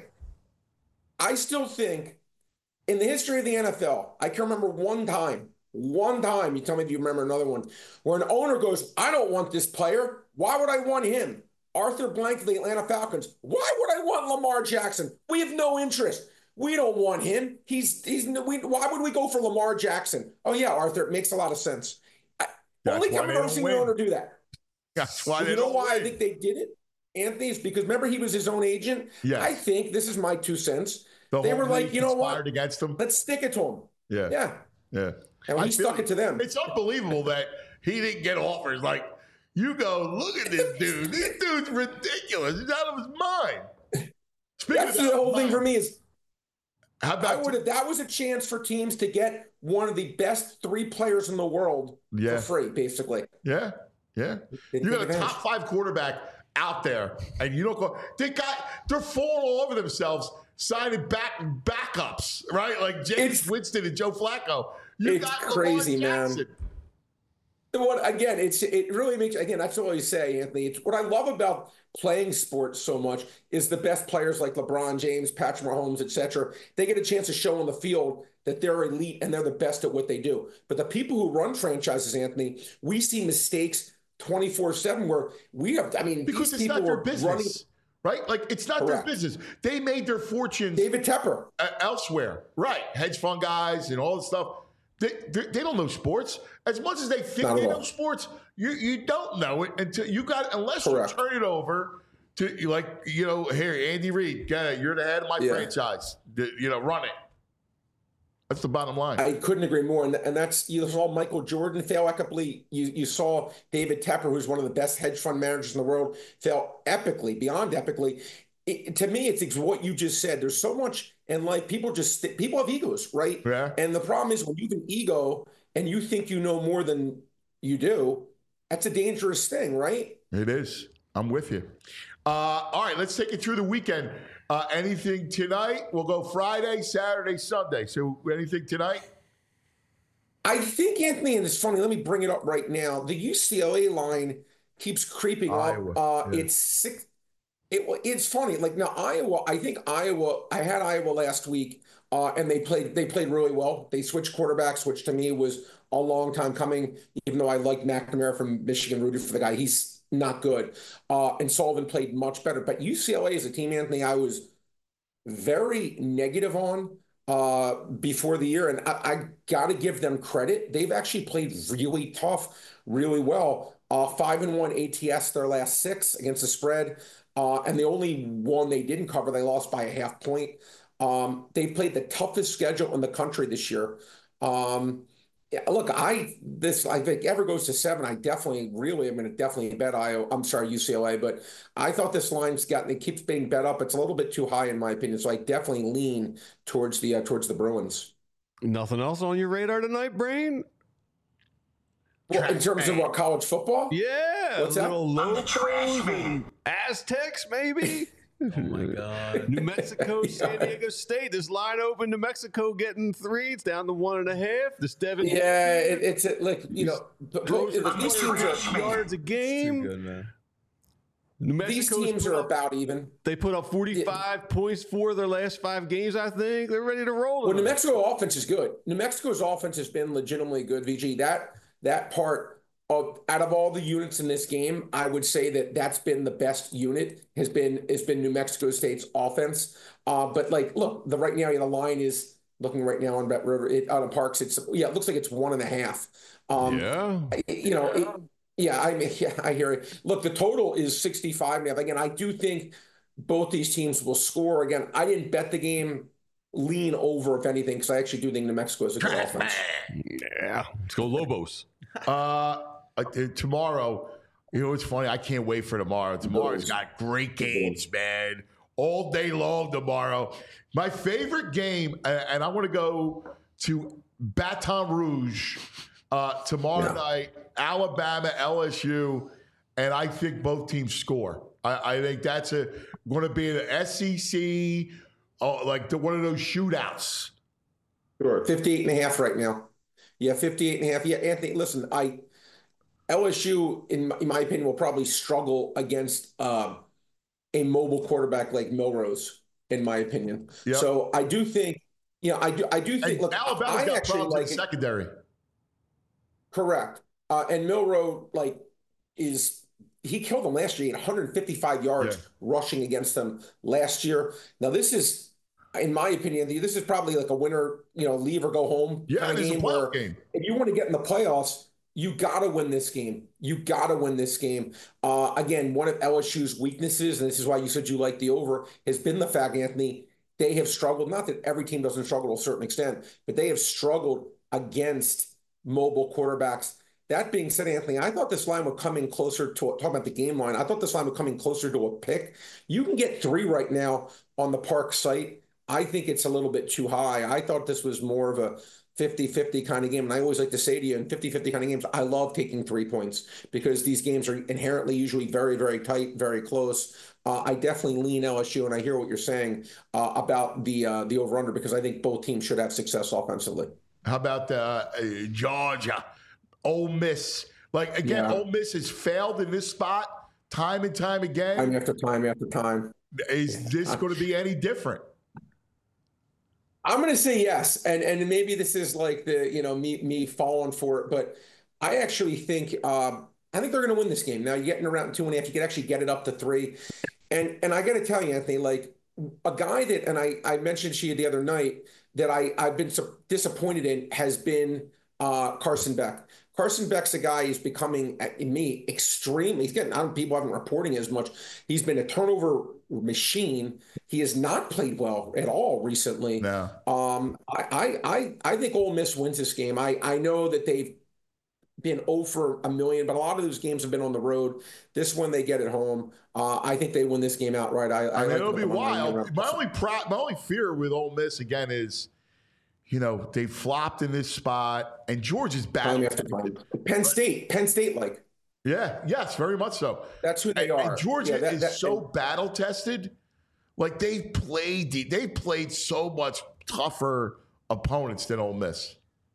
I still think in the history of the N F L, I can remember one time, one time, you tell me if you remember another one, where an owner goes, I don't want this player. Why would I want him? Arthur Blank of the Atlanta Falcons. Why would I want Lamar Jackson? We have no interest. We don't want him. He's, he's, we, why would we go for Lamar Jackson? Oh, yeah, Arthur, it makes a lot of sense. I, That's only why time they I've ever don't seen win. an owner do that. That's why they You know don't why I win. think they did it, Anthony? Is because remember he was his own agent. Yes. I think this is my two cents. The They whole were like, league you know what? conspired against him. Let's stick it to him. Yeah. Yeah, Yeah. and I he feel stuck you. it to them. It's unbelievable that he didn't get offers. Like, you go, look at this dude. This dude's ridiculous. He's out of his mind. Speaking That's of the out of whole thing mind, for me. Is How I about would have. That was a chance for teams to get one of the best three players in the world Yeah. for free, basically. Yeah, yeah. They You take got a advantage. top five quarterback out there, and you don't go. They got. They're falling all over themselves, signing back backups, right? Like James It's- Winston and Joe Flacco. You it's got crazy, Lamar man. Jackson. The one again, it's it really makes again. That's what I always say, Anthony. It's what I love about playing sports so much is the best players like LeBron James, Patrick Mahomes, et cetera. They get a chance to show on the field that they're elite and they're the best at what they do. But the people who run franchises, Anthony, we see mistakes twenty-four seven where we have. I mean, Because these it's people not their were business, running. right? Like it's not Correct. their business. They made their fortunes David Tepper. uh, elsewhere, right? Hedge fund guys and all this stuff. They, they, they don't know sports as much as they think Not at they all. know sports. You you don't know it until you got unless Correct. you turn it over to you like you know here Andy Reid. Yeah, you're the head of my Yeah. franchise. The- you know, run it. That's the bottom line. I couldn't agree more, and, and that's you saw Michael Jordan fail epically. You you saw David Tepper, who's one of the best hedge fund managers in the world, fail epically, beyond epically. It, to me, it's ex- what you just said. There's so much, and like people just people have egos, right? Yeah. And the problem is when you have an ego and you think you know more than you do, that's a dangerous thing, right? It is. I'm with you. Uh, all right, let's take it through the weekend. Uh, anything tonight? We'll go Friday, Saturday, Sunday. So anything tonight? I think, Anthony, and it's funny, let me bring it up right now. The U C L A line keeps creeping Iowa, up. Uh, yeah. It's six. It, it's funny. Like now, Iowa, I think Iowa, I had Iowa last week, uh, and they played they played really well. They switched quarterbacks, which to me was a long time coming, even though I like McNamara from Michigan, rooted for the guy. He's not good. Uh, and Sullivan played much better. But U C L A is a team, Anthony, I was very negative on uh, before the year. And I, I got to give them credit. They've actually played really tough, really well. Uh, five and one A T S their last six against the spread. Uh, and the only one they didn't cover, they lost by a half point. Um, they've played the toughest schedule in the country this year. Um, yeah, look, I this I think ever goes to seven. I definitely, really, I'm going to definitely bet I. I'm sorry, U C L A, but I thought this line's gotten it keeps being bet up. It's a little bit too high in my opinion, so I definitely lean towards the uh, towards the Bruins. Nothing else on your radar tonight, Brain? Well, in terms of what, college football? Yeah, What's a that? little Locals and Aztecs, maybe. Oh my God. New Mexico, San Diego State. This line open. New Mexico getting three. It's down to one and a half. The Devin. Yeah, it, it's a, like you know, throws these teams are yards a game. Too good, man. New these Mexico's teams put are up- about even. They put up forty-five points for their last five games, I think. They're ready to roll. Well, New tonight. Mexico offense is good. New Mexico's offense has been legitimately good. V G, that that part of out of all the units in this game, I would say that that's been the best unit. Has been has been New Mexico State's offense. Uh, but like, look, the right now the line is looking right now on Bet River it, out of Parks. It's yeah, it looks like it's one and a half. Um, yeah. you know. It, Yeah, I mean, yeah, I hear it. Look, the total is sixty-five now. Again, I do think both these teams will score. Again, I didn't bet the game lean over, if anything, because I actually do think New Mexico is a good offense. Yeah. Let's go Lobos. Uh, uh, tomorrow, you know, it's funny. I can't wait for tomorrow. Tomorrow's got great games, man. All day long tomorrow. My favorite game, uh, and I want to go to Baton Rouge uh, tomorrow Yeah. night. Alabama, L S U, and I think both teams score. I, I think that's a going to be an S E C, uh, like the, one of those shootouts. Sure. fifty-eight and a half right now. Yeah, fifty-eight and a half. Yeah, Anthony, listen, I L S U, in my, in my opinion, will probably struggle against uh, a mobile quarterback like Milrose, in my opinion. Yep. So I do think, you know, I do I do think, And look, Alabama's I got actually problems in like the it. secondary. Correct. Uh, and Milroe, like, is he killed them last year. He had one hundred fifty-five yards Yeah. rushing against them last year. Now, this is, in my opinion, this is probably like a winner, you know, leave or go home Yeah, kind it of is a game. playoff Where game. if you want to get in the playoffs, you got to win this game. You got to win this game. Uh, again, one of L S U's weaknesses, and this is why you said you like the over, has been the fact, Anthony, they have struggled. Not that every team doesn't struggle to a certain extent, but they have struggled against mobile quarterbacks. That being said, Anthony, I thought this line would come in closer to, talking about the game line, I thought this line would come in closer to a pick. You can get three right now on the Park site. I think it's a little bit too high. I thought this was more of a fifty-fifty kind of game. And I always like to say to you, in fifty-fifty kind of games, I love taking three points because these games are inherently usually very, very tight, very close. Uh, I definitely lean L S U, and I hear what you're saying uh, about the uh, the over-under because I think both teams should have success offensively. How about uh, uh, Georgia, Ole Miss? Like, again, Yeah. Ole Miss has failed in this spot time and time again. Time after time after time. Is this going to be any different? I'm going to say yes, and and maybe this is like the you know me me falling for it, but I actually think um, I think they're going to win this game. Now you're getting around two and a half, you could actually get it up to three, and and I got to tell you, Anthony, like a guy that and I I mentioned to you the other night that I I've been so disappointed in has been uh, Carson Beck. Carson Beck's a guy who's becoming, in me, extremely, he's getting, I don't, people haven't reporting as much. He's been a turnover machine. He has not played well at all recently. No. Um, I, I, I think Ole Miss wins this game. I, I know that they've been over a million, but a lot of those games have been on the road. This one they get at home. Uh, I think they win this game outright. I, I, I mean, like it'll be them on my wild. own. My only pro- my only fear with Ole Miss again is, you know, they flopped in this spot, and Georgia's Time back. after time. Penn State, Penn State, like Yeah, yes, very much so. that's who they And, are. and Georgia Yeah, that- is that- so battle tested. Like they played, they played so much tougher opponents than Ole Miss.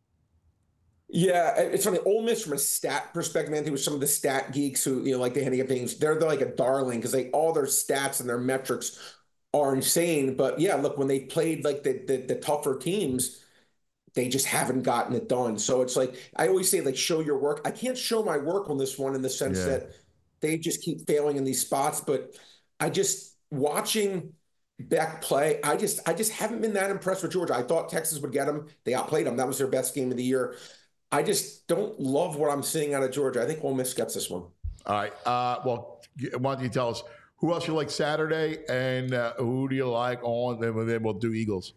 Yeah, it's funny. Ole Miss, from a stat perspective, Anthony, with some of the stat geeks who, you know, like the handicap things, they're, they're like a darling because they all their stats and their metrics are insane. But yeah, look, when they played like the the, the tougher teams, they just haven't gotten it done. So it's like, I always say, like, show your work. I can't show my work on this one in the sense Yeah. that they just keep failing in these spots. But I just, watching Beck play, I just I just haven't been that impressed with Georgia. I thought Texas would get them. They outplayed them. That was their best game of the year. I just don't love what I'm seeing out of Georgia. I think Ole Miss gets this one. All right. Uh, well, why don't you tell us who else you like Saturday and uh, who do you like on? Then then we'll do Eagles.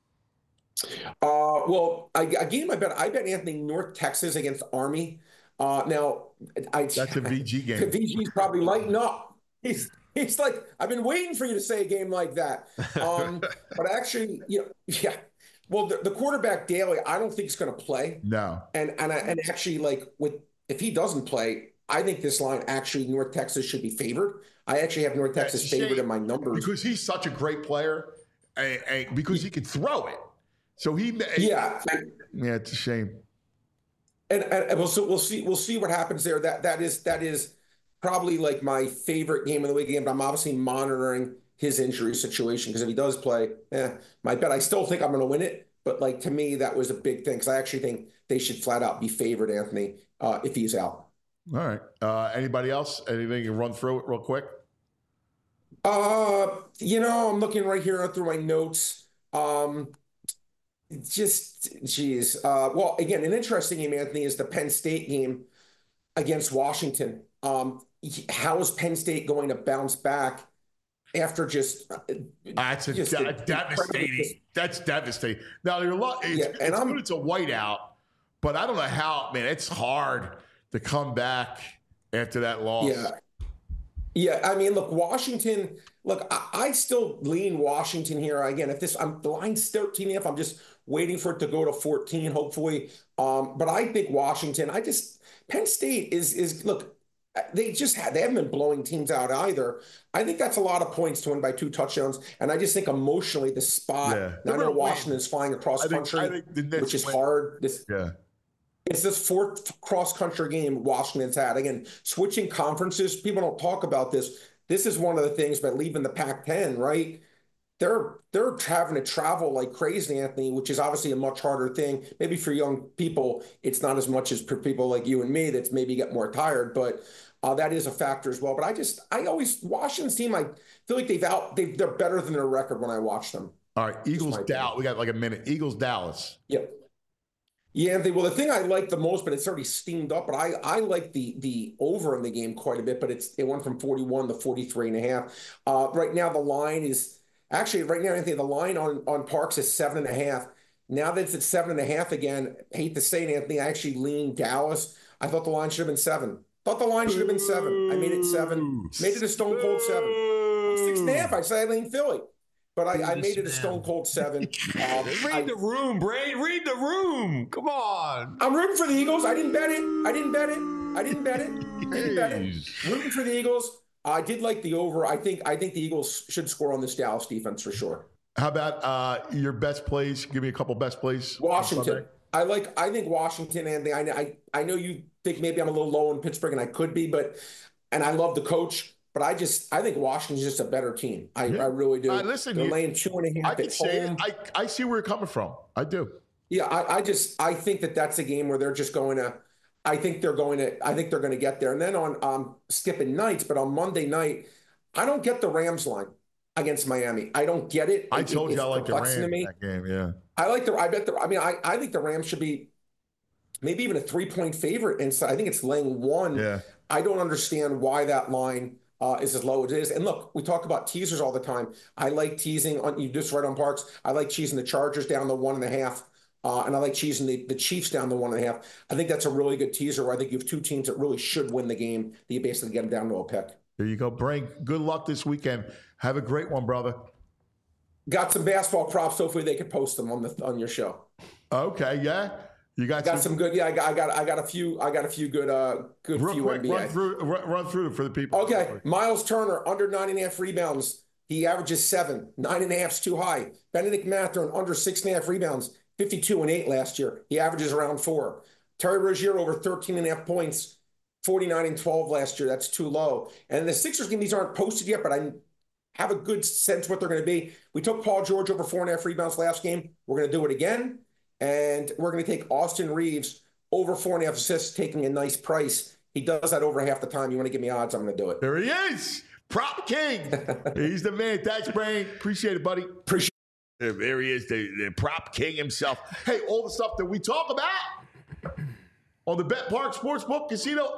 Uh, well, I, a game I bet I bet Anthony North Texas against Army. Uh, now, I That's a V G game. V G's probably lighting up. He's he's like, I've been waiting for you to say a game like that. Um, but actually, you know, yeah. Well, the, the quarterback Daly, I don't think he's going to play. No. And and I, and actually, like, with if he doesn't play, I think this line actually North Texas should be favored. I actually have North Texas favored in my numbers because he's such a great player, and, and because he can throw it. So he, yeah, yeah, it's a shame. And, and we'll so we'll see we'll see what happens there. That that is that is probably like my favorite game of the week game. But I'm obviously monitoring his injury situation because if he does play, eh, my bet I still think I'm going to win it. But like to me, that was a big thing because I actually think they should flat out be favored, Anthony, uh, if he's out. All right. Uh, anybody else? Anything you can run through it real quick? Uh, you know, I'm looking right here through my notes. Um, just, geez. Uh, well, again, an interesting game, Anthony, is the Penn State game against Washington. Um, how is Penn State going to bounce back after just? Uh, That's a, just de- a devastating. That's devastating. Now, you're lo- it's, Yeah, and it's I'm- good it's a whiteout, but I don't know how. Man, it's hard to come back after that loss. Yeah. Yeah, I mean, look, Washington, look, I, I still lean Washington here. Again, if this, I'm the line's thirteen and a half, I'm just waiting for it to go to fourteen, hopefully. Um, but I think Washington, I just, Penn State is, is look, they just had, they haven't been blowing teams out either. I think that's a lot of points to win by two touchdowns. And I just think emotionally the spot, Yeah. now I know Washington's flying across I think- country, I think the Knicks which is win. hard. This, Yeah. It's this fourth cross-country game Washington's had. Again, switching conferences, people don't talk about this. This is one of the things by leaving the Pac ten, right? They're they're having to travel like crazy, Anthony, which is obviously a much harder thing. Maybe for young people, it's not as much as for people like you and me that's maybe get more tired, but uh, that is a factor as well. But I just, I always, Washington's team, I feel like they've out, they they're better than their record when I watch them. All right. Eagles, my Dallas. We got like a minute. Eagles, Dallas. Yep. Yeah, they, well, the thing I like the most, but it's already steamed up, but I I like the the over in the game quite a bit, but it's it went from forty-one to forty-three and a half. Uh, right now, the line is actually right now, Anthony, the line on, on Parks is seven and a half. Now that it's at seven and a half again, I hate to say it, Anthony, I actually lean Dallas. I thought the line should have been seven. Thought the line should have been seven. I made it seven. Made it a stone cold seven. Six and a half. I said I lean Philly. But I, I made it a stone cold seven. Um, Read I, the room, Brain. Read the room. Come on. I'm rooting for the Eagles. I didn't bet it. I didn't bet it. I didn't bet it. I didn't bet it. Rooting for the Eagles. I did like the over. I think I think the Eagles should score on this Dallas defense for sure. How about uh, your best plays? Give me a couple best plays. Washington. I like. I think Washington, and I, I I know you think maybe I'm a little low in Pittsburgh, and I could be, but and I love the coach. But I just, I think Washington's just a better team. I, yeah. I really do. Uh, listen, they're you, laying two and a half I can at say home. it. I, I see where you're coming from. I do. Yeah, I, I just, I think that that's a game where they're just going to, I think they're going to, I think they're going to get there. And then on um, skipping nights, but on Monday night, I don't get the Rams line against Miami. I don't get it. I it, told it, you I like the Rams in me. that game. Yeah. I like the. I bet the. I mean, I, I think the Rams should be maybe even a three point favorite. And so I think it's laying one. Yeah. I don't understand why that line. Uh, is as low as it is. And look, we talk about teasers all the time. I like teasing on you just right on Parks. I like cheesing the Chargers down to one and a half. Uh, and I like cheesing the, the Chiefs down to one and a half. I think that's a really good teaser where I think you have two teams that really should win the game that you basically get them down to a pick. There you go. Brain, good luck this weekend. Have a great one, brother. Got some basketball props. Hopefully they could post them on the on your show. Okay, yeah. You got, got some, some good. Yeah, I got, I got, I got a few. I got a few good, uh, good real few quick, N B A. Run through, run, run through for the people. Okay, Miles Turner under nine and a half rebounds. He averages seven. Nine and a half's too high. Benedict Mathurin under six and a half rebounds. Fifty-two and eight last year. He averages around four. Terry Rozier over thirteen and a half points. Forty-nine and twelve last year. That's too low. And the Sixers game, these aren't posted yet, but I have a good sense what they're going to be. We took Paul George over four and a half rebounds last game. We're going to do it again. And we're going to take Austin Reeves over four and a half assists, taking a nice price. He does that over half the time. You want to give me odds, I'm going to do it. There he is. Prop King. He's the man. Thanks, Brain. Appreciate it, buddy. Appreciate it. There he is, the, the Prop King himself. Hey, all the stuff that we talk about on the Bet Park Sportsbook Casino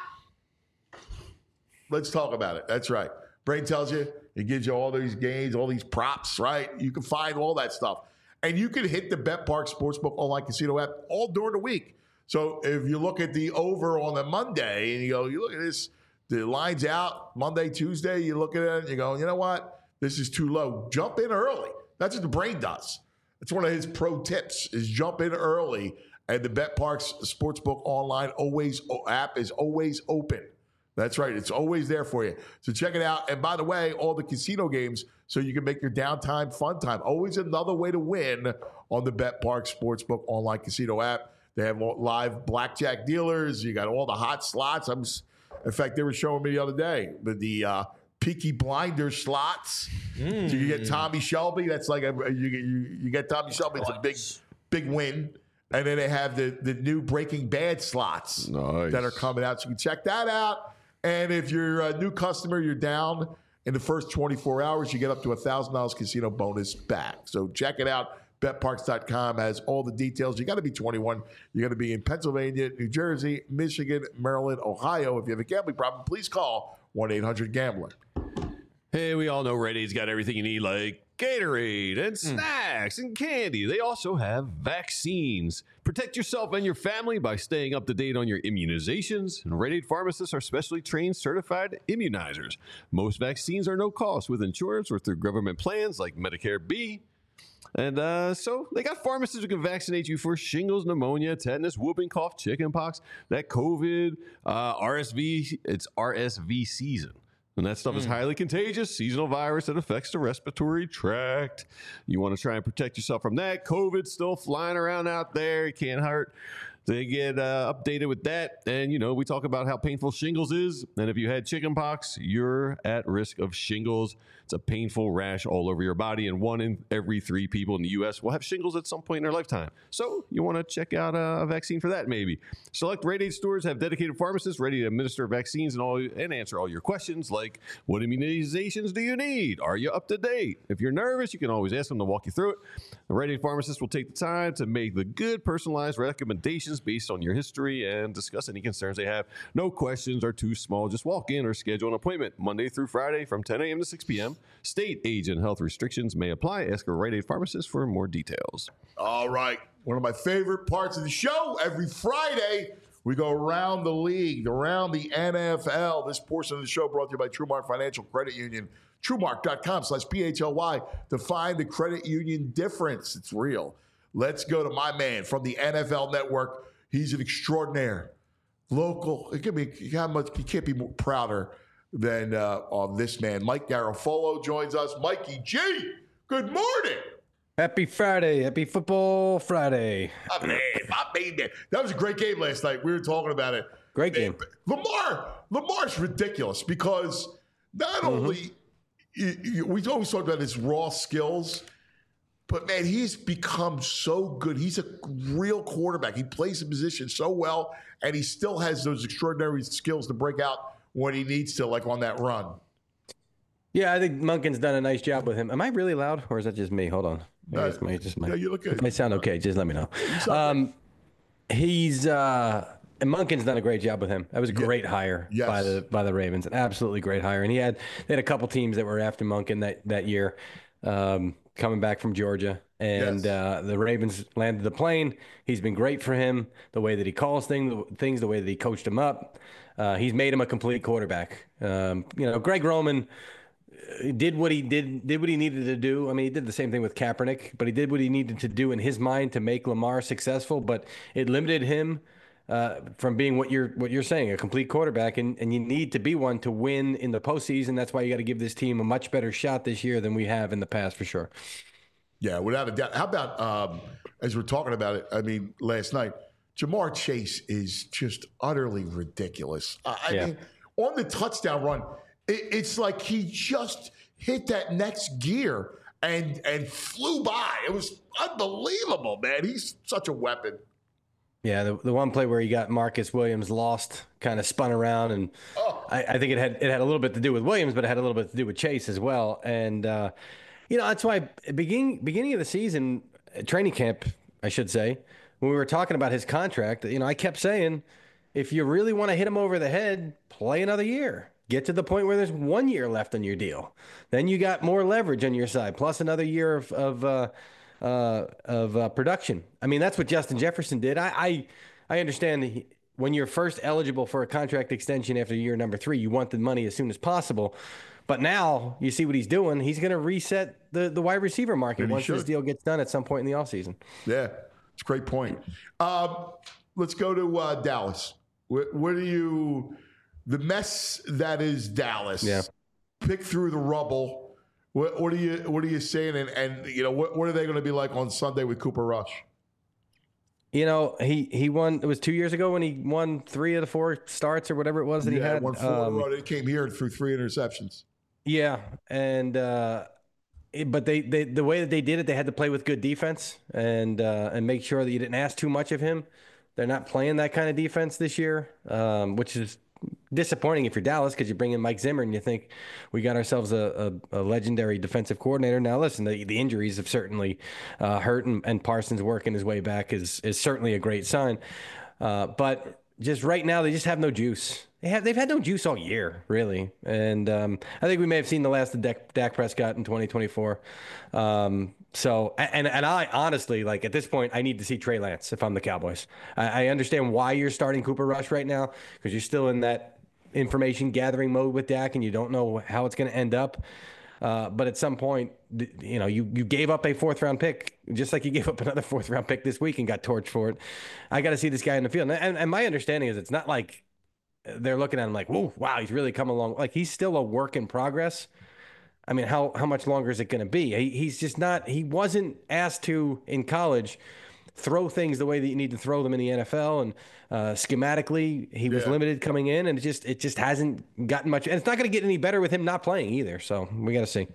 app. Let's talk about it. That's right. Brain tells you, it gives you all these games, all these props, right? You can find all that stuff. And you can hit the Bet Park Sportsbook Online Casino app all during the week. So if you look at the over on the Monday and you go, you look at this, the line's out Monday, Tuesday, you look at it and you go, you know what? This is too low. Jump in early. That's what the Brain does. That's one of his pro tips is jump in early. And the Bet Parks Sportsbook Online always app is always open. That's right. It's always there for you. So check it out. And by the way, all the casino games, so you can make your downtime fun time. Always another way to win on the Bet Park Sportsbook Online Casino app. They have live blackjack dealers. You got all the hot slots. I'm, in fact, they were showing me the other day the, the uh, Peaky Blinders slots. Mm. So you get Tommy Shelby. That's like a, you get you, you get Tommy Shelby. It's a big big win. And then they have the the new Breaking Bad slots nice. that are coming out. So you can check that out. And if you're a new customer, you're down in the first twenty-four hours, you get up to one thousand dollars casino bonus back. So check it out. bet parks dot com has all the details. You got to be twenty-one. You got to be in Pennsylvania, New Jersey, Michigan, Maryland, Ohio. If you have a gambling problem, please call one eight hundred gambler. Hey, we all know Rite Aid's got everything you need, like Gatorade and snacks mm. and candy. They also have vaccines. Protect yourself and your family by staying up to date on your immunizations. And Rite Aid pharmacists are specially trained, certified immunizers. Most vaccines are no cost with insurance or through government plans like Medicare B. And uh, so they got pharmacists who can vaccinate you for shingles, pneumonia, tetanus, whooping cough, chickenpox, that COVID, uh, R S V. It's R S V season. And that stuff mm. is highly contagious, seasonal virus that affects the respiratory tract. You want to try and protect yourself from that. COVID's still flying around out there. It can't hurt. They get uh, updated with that. And, you know, we talk about how painful shingles is. And if you had chickenpox, you're at risk of shingles. It's a painful rash all over your body. And one in every three people in the U S will have shingles at some point in their lifetime. So you want to check out a vaccine for that, maybe. Select Rite Aid stores have dedicated pharmacists ready to administer vaccines and all and answer all your questions like, what immunizations do you need? Are you up to date? If you're nervous, you can always ask them to walk you through it. The Rite Aid pharmacist will take the time to make the good personalized recommendations based on your history and discuss any concerns they have. No questions are too small. Just walk in or schedule an appointment Monday through Friday from ten a.m. to six p.m. State, age, and health restrictions may apply. Ask a Rite Aid pharmacist for more details. All right. One of my favorite parts of the show, every Friday, we go around the league, around the N F L. This portion of the show brought to you by TrueMark Financial Credit Union. TrueMark.com slash P H L Y to find the credit union difference. It's real. Let's go to my man from the N F L Network. He's an extraordinaire, local. It can be how much you can't be more prouder than uh, on this man. Mike Garafolo joins us. Mikey G, good morning. Happy Friday. Happy Football Friday. My man, my man. That was a great game last night. We were talking about it. Great game. Lamar, Lamar's ridiculous because not mm-hmm. only you, you, we always talk about his raw skills, but man, he's become so good. He's a real quarterback. He plays the position so well, and he still has those extraordinary skills to break out when he needs to, like on that run. Yeah, I think Monken's done a nice job with him. Am I really loud, or is that just me? Hold on. No, it's my, just my, yeah, you look good. It might sound okay. Just let me know. Um, he's uh, and Monken's done a great job with him. That was a great yeah. hire yes. by the by the Ravens. An absolutely great hire. And he had they had a couple teams that were after Monken that that year, um, coming back from Georgia. And yes. uh, the Ravens landed the plane. He's been great for him. The way that he calls things, things, the way that he coached him up. Uh, he's made him a complete quarterback. Um, you know, Greg Roman did what he did, did what he needed to do. I mean, he did the same thing with Kaepernick, but he did what he needed to do in his mind to make Lamar successful. But it limited him uh, from being what you're what you're saying, a complete quarterback. And, and you need to be one to win in the postseason. That's why you got to give this team a much better shot this year than we have in the past, for sure. Yeah, without a doubt. How about, um, as we're talking about it, I mean, last night, Jamar Chase is just utterly ridiculous. Uh, I yeah. mean, on the touchdown run, it, it's like he just hit that next gear. and and flew by. It was unbelievable, man. He's such a weapon. Yeah, the, the one play where he got Marcus Williams lost, kind of spun around, and oh. I, I think it had it had a little bit to do with Williams, but it had a little bit to do with Chase as well. And uh, you know, that's why beginning beginning of the season, training camp, I should say, when we were talking about his contract, you know, I kept saying, if you really want to hit him over the head, play another year. Get to the point where there's one year left on your deal. Then you got more leverage on your side, plus another year of of uh, uh, of uh, production. I mean, that's what Justin Jefferson did. I I, I understand that he, when you're first eligible for a contract extension after year number three, you want the money as soon as possible. But now you see what he's doing. He's going to reset the, the wide receiver market once this deal gets done at some point in the offseason. Yeah, it's a great point. Um, let's go to uh, Dallas. What, what do you – the mess that is Dallas. Yeah. Pick through the rubble. What, what are you What are you saying? And, and you know, what, what are they going to be like on Sunday with Cooper Rush? You know, he, he won. It was two years ago when he won three of the four starts or whatever it was that yeah, he had. Won four um, in a row. He came here and threw three interceptions. Yeah, and uh, it, but they, they the way that they did it, they had to play with good defense and uh, and make sure that you didn't ask too much of him. They're not playing that kind of defense this year, um, which is disappointing if you're Dallas, because you bring in Mike Zimmer and you think we got ourselves a, a, a legendary defensive coordinator. Now, listen, the, the injuries have certainly uh, hurt, and, and Parsons working his way back is is certainly a great sign. Uh, but just right now, they just have no juice. They have, they've had no juice all year, really. And um, I think we may have seen the last of Dak, Dak Prescott in twenty twenty-four. Um, so, and and I honestly, like at this point, I need to see Trey Lance if I'm the Cowboys. I, I understand why you're starting Cooper Rush right now, because you're still in that information gathering mode with Dak and you don't know how it's going to end up. Uh, but at some point, you know, you, you gave up a fourth round pick, just like you gave up another fourth round pick this week and got torched for it. I got to see this guy in the field. And, and my understanding is it's not like they're looking at him like, whoa, wow, he's really come along. Like, he's still a work in progress. I mean, how, how much longer is it going to be? He, he's just not, he wasn't asked to in college throw things the way that you need to throw them in the N F L. And uh, schematically, he was yeah. limited coming in, and it just it just hasn't gotten much. And it's not going to get any better with him not playing either. So we got to see.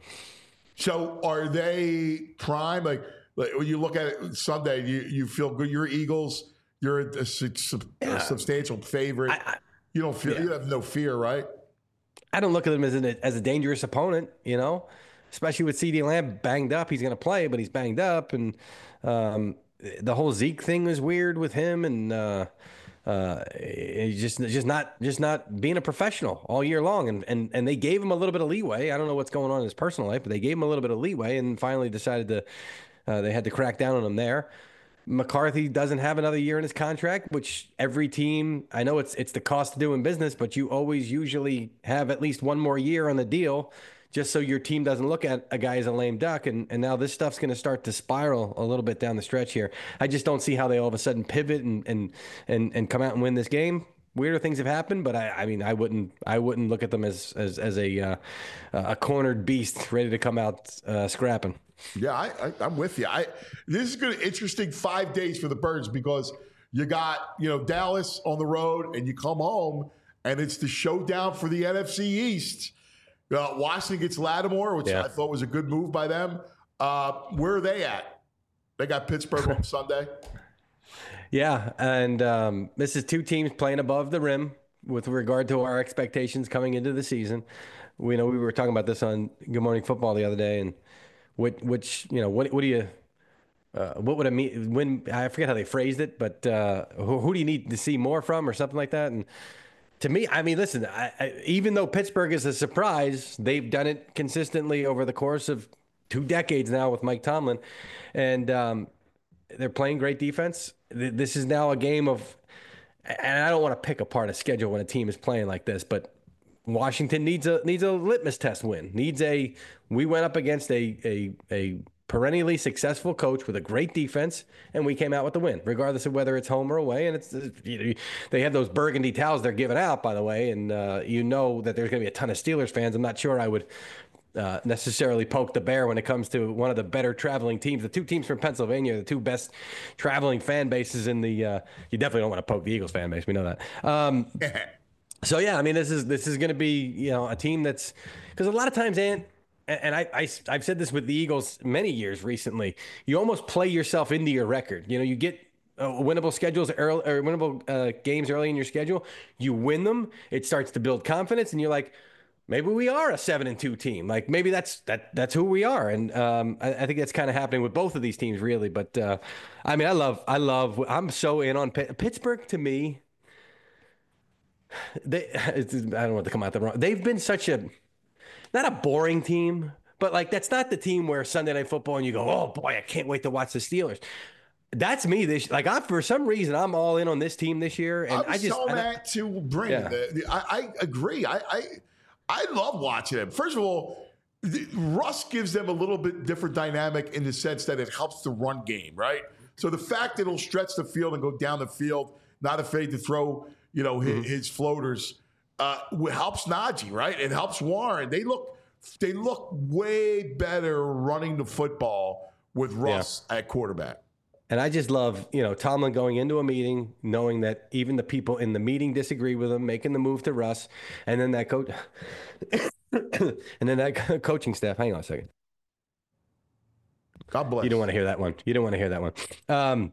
So are they prime? Like, like when you look at it Sunday, you, you feel good. You're Eagles. You're a, a, a yeah. substantial favorite. I, I, you don't feel yeah. you have no fear, right? I don't look at him as, an, as a dangerous opponent, you know, especially with CeeDee Lamb banged up. He's going to play, but he's banged up. And um, the whole Zeke thing is weird with him. And uh, uh, he's just, just not just not being a professional all year long. And, and, and they gave him a little bit of leeway. I don't know what's going on in his personal life, but they gave him a little bit of leeway and finally decided to uh, they had to crack down on him there. McCarthy doesn't have another year in his contract, which every team, I know it's it's the cost of doing business, but you always usually have at least one more year on the deal just so your team doesn't look at a guy as a lame duck. And, and now this stuff's going to start to spiral a little bit down the stretch here. I just don't see how they all of a sudden pivot and and and, and come out and win this game. Weirder things have happened, but I, I mean, I wouldn't, I wouldn't look at them as as, as a uh, a cornered beast ready to come out uh, scrapping. Yeah, I, I, I'm with you. I this is going to interesting five days for the Birds because you got you know Dallas on the road and you come home and it's the showdown for the N F C East. Uh, Washington gets Lattimore, which yeah. I thought was a good move by them. Uh, where are they at? They got Pittsburgh on Sunday. Yeah, and um, this is two teams playing above the rim with regard to our expectations coming into the season. We know we were talking about this on Good Morning Football the other day, and which, which you know, what what do you, uh, what would it mean when I forget how they phrased it, but uh, who, who do you need to see more from or something like that? And to me, I mean, listen, I, I, even though Pittsburgh is a surprise, they've done it consistently over the course of two decades now with Mike Tomlin, and um, they're playing great defense. This is now a game of, and I don't want to pick apart a schedule when a team is playing like this, but Washington needs a needs a litmus test win. Needs a we went up against a a a perennially successful coach with a great defense, and we came out with the win, regardless of whether it's home or away. And it's you know, they have those burgundy towels they're giving out, by the way, and uh, you know that there's going to be a ton of Steelers fans. I'm not sure I would uh, necessarily poke the bear when it comes to one of the better traveling teams. The two teams from Pennsylvania are the two best traveling fan bases in the. Uh, you definitely don't want to poke the Eagles fan base. We know that. Um, So yeah, I mean, this is this is going to be you know a team that's because a lot of times, Ant, and I, I, I've said this with the Eagles many years recently, you almost play yourself into your record. You know, you get uh, winnable schedules early, or winnable uh, games early in your schedule. You win them. It starts to build confidence, and you're like, maybe we are a seven and two team. Like maybe that's that that's who we are. And um, I, I think that's kind of happening with both of these teams, really. But uh, I mean, I love, I love, I'm so in on Pitt. Pittsburgh. To me, they, it's, I don't want to come out the wrong. They've been such a, not a boring team, but like that's not the team where Sunday Night Football and you go, oh boy, I can't wait to watch the Steelers. That's me this like I for some reason I'm all in on this team this year, and I, I just so I, that to bring yeah. the, the, I, I agree. I, I I love watching them. First of all, the, Russ gives them a little bit different dynamic in the sense that it helps the run game, right? So the fact that he'll stretch the field and go down the field, not afraid to throw, you know, his, mm-hmm. his floaters, uh, helps Najee, right? It helps Warren. They look they look way better running the football with Russ yeah. at quarterback. And I just love, you know, Tomlin going into a meeting, knowing that even the people in the meeting disagree with him, making the move to Russ, and then that coach, and then that coaching staff. Hang on a second. God bless. You don't want to hear that one. You don't want to hear that one. Um,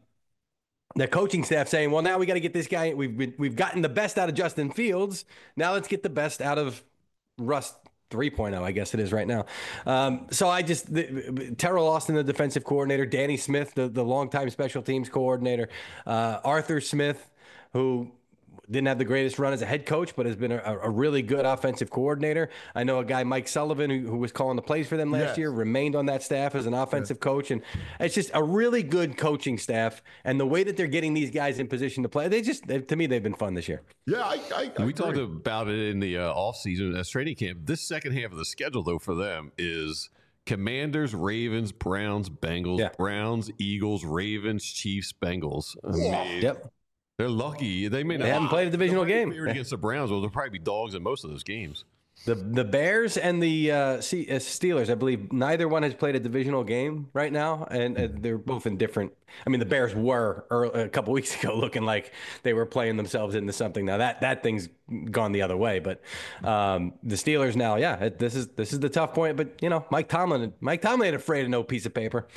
the coaching staff saying, "Well, now we got to get this guy. We've been, we've gotten the best out of Justin Fields. Now let's get the best out of Russ." three point oh, I guess it is right now. Um, so I just, the, Terrell Austin, the defensive coordinator, Danny Smith, the, the longtime special teams coordinator, uh, Arthur Smith, who didn't have the greatest run as a head coach, but has been a, a really good offensive coordinator. I know a guy, Mike Sullivan, who, who was calling the plays for them last yes. year, remained on that staff as an offensive yes. coach. And it's just a really good coaching staff. And the way that they're getting these guys in position to play, they just, they, to me, they've been fun this year. Yeah, I, I, I We agree. talked about it in the uh, offseason as training camp. This second half of the schedule, though, for them is Commanders, Ravens, Browns, Bengals, yeah. Browns, Eagles, Ravens, Chiefs, Bengals. I mean, yep. They're lucky. They may not. They haven't played a divisional game against the Browns. Well, they'll probably be dogs in most of those games. The the Bears and the uh, Steelers, I believe, neither one has played a divisional game right now, and uh, they're both in different. I mean, the Bears were early, a couple weeks ago looking like they were playing themselves into something. Now that that thing's gone the other way, but um, the Steelers now, yeah, it, this is this is the tough point. But you know, Mike Tomlin, Mike Tomlin ain't afraid of no piece of paper.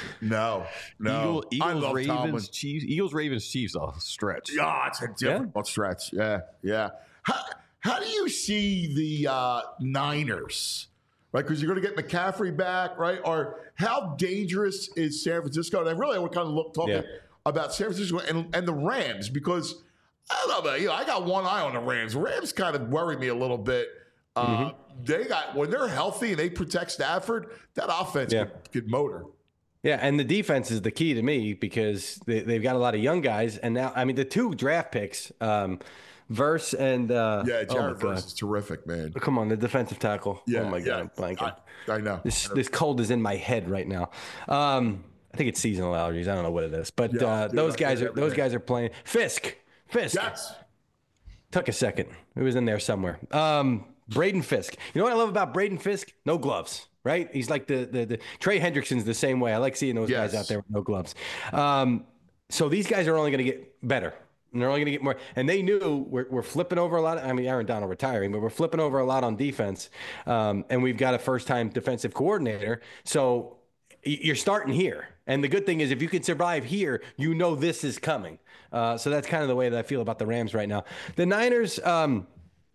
No, no, Eagle, Eagles, I love Ravens, Tomlin. Chiefs, Eagles, Ravens, Chiefs. I'll stretch. Yeah, it's a different yeah. stretch. Yeah, yeah. How, How do you see the uh, Niners, right? Because you're going to get McCaffrey back, right? Or how dangerous is San Francisco? And I really want to kind of look talking yeah. about San Francisco and, and the Rams, because I don't know, you know, I got one eye on the Rams. Rams kind of worry me a little bit. Uh, mm-hmm. They got when they're healthy and they protect Stafford, that offense yeah. could, could motor. Yeah, and the defense is the key to me because they, they've got a lot of young guys, and now I mean the two draft picks. Um, Verse and uh, yeah, Jared oh Verse is terrific, man. Come on, the defensive tackle. Yeah, oh my yeah. god, I'm blanking. I, I know. This this cold is in my head right now. Um, I think it's seasonal allergies. I don't know what it is, but yeah, uh, dude, those guys are those guys are playing. Fisk, Fisk. Yes. Took a second. It was in there somewhere. Um, Braden Fisk. You know what I love about Braden Fisk? No gloves. Right? He's like the the, the Trey Hendrickson's the same way. I like seeing those yes. guys out there with no gloves. Um, so these guys are only going to get better. And they're only going to get more. And they knew we're, we're flipping over a lot. Of, I mean, Aaron Donald retiring, but we're flipping over a lot on defense. Um, and we've got a first-time defensive coordinator. So you're starting here. And the good thing is if you can survive here, you know this is coming. Uh, so that's kind of the way that I feel about the Rams right now. The Niners, um,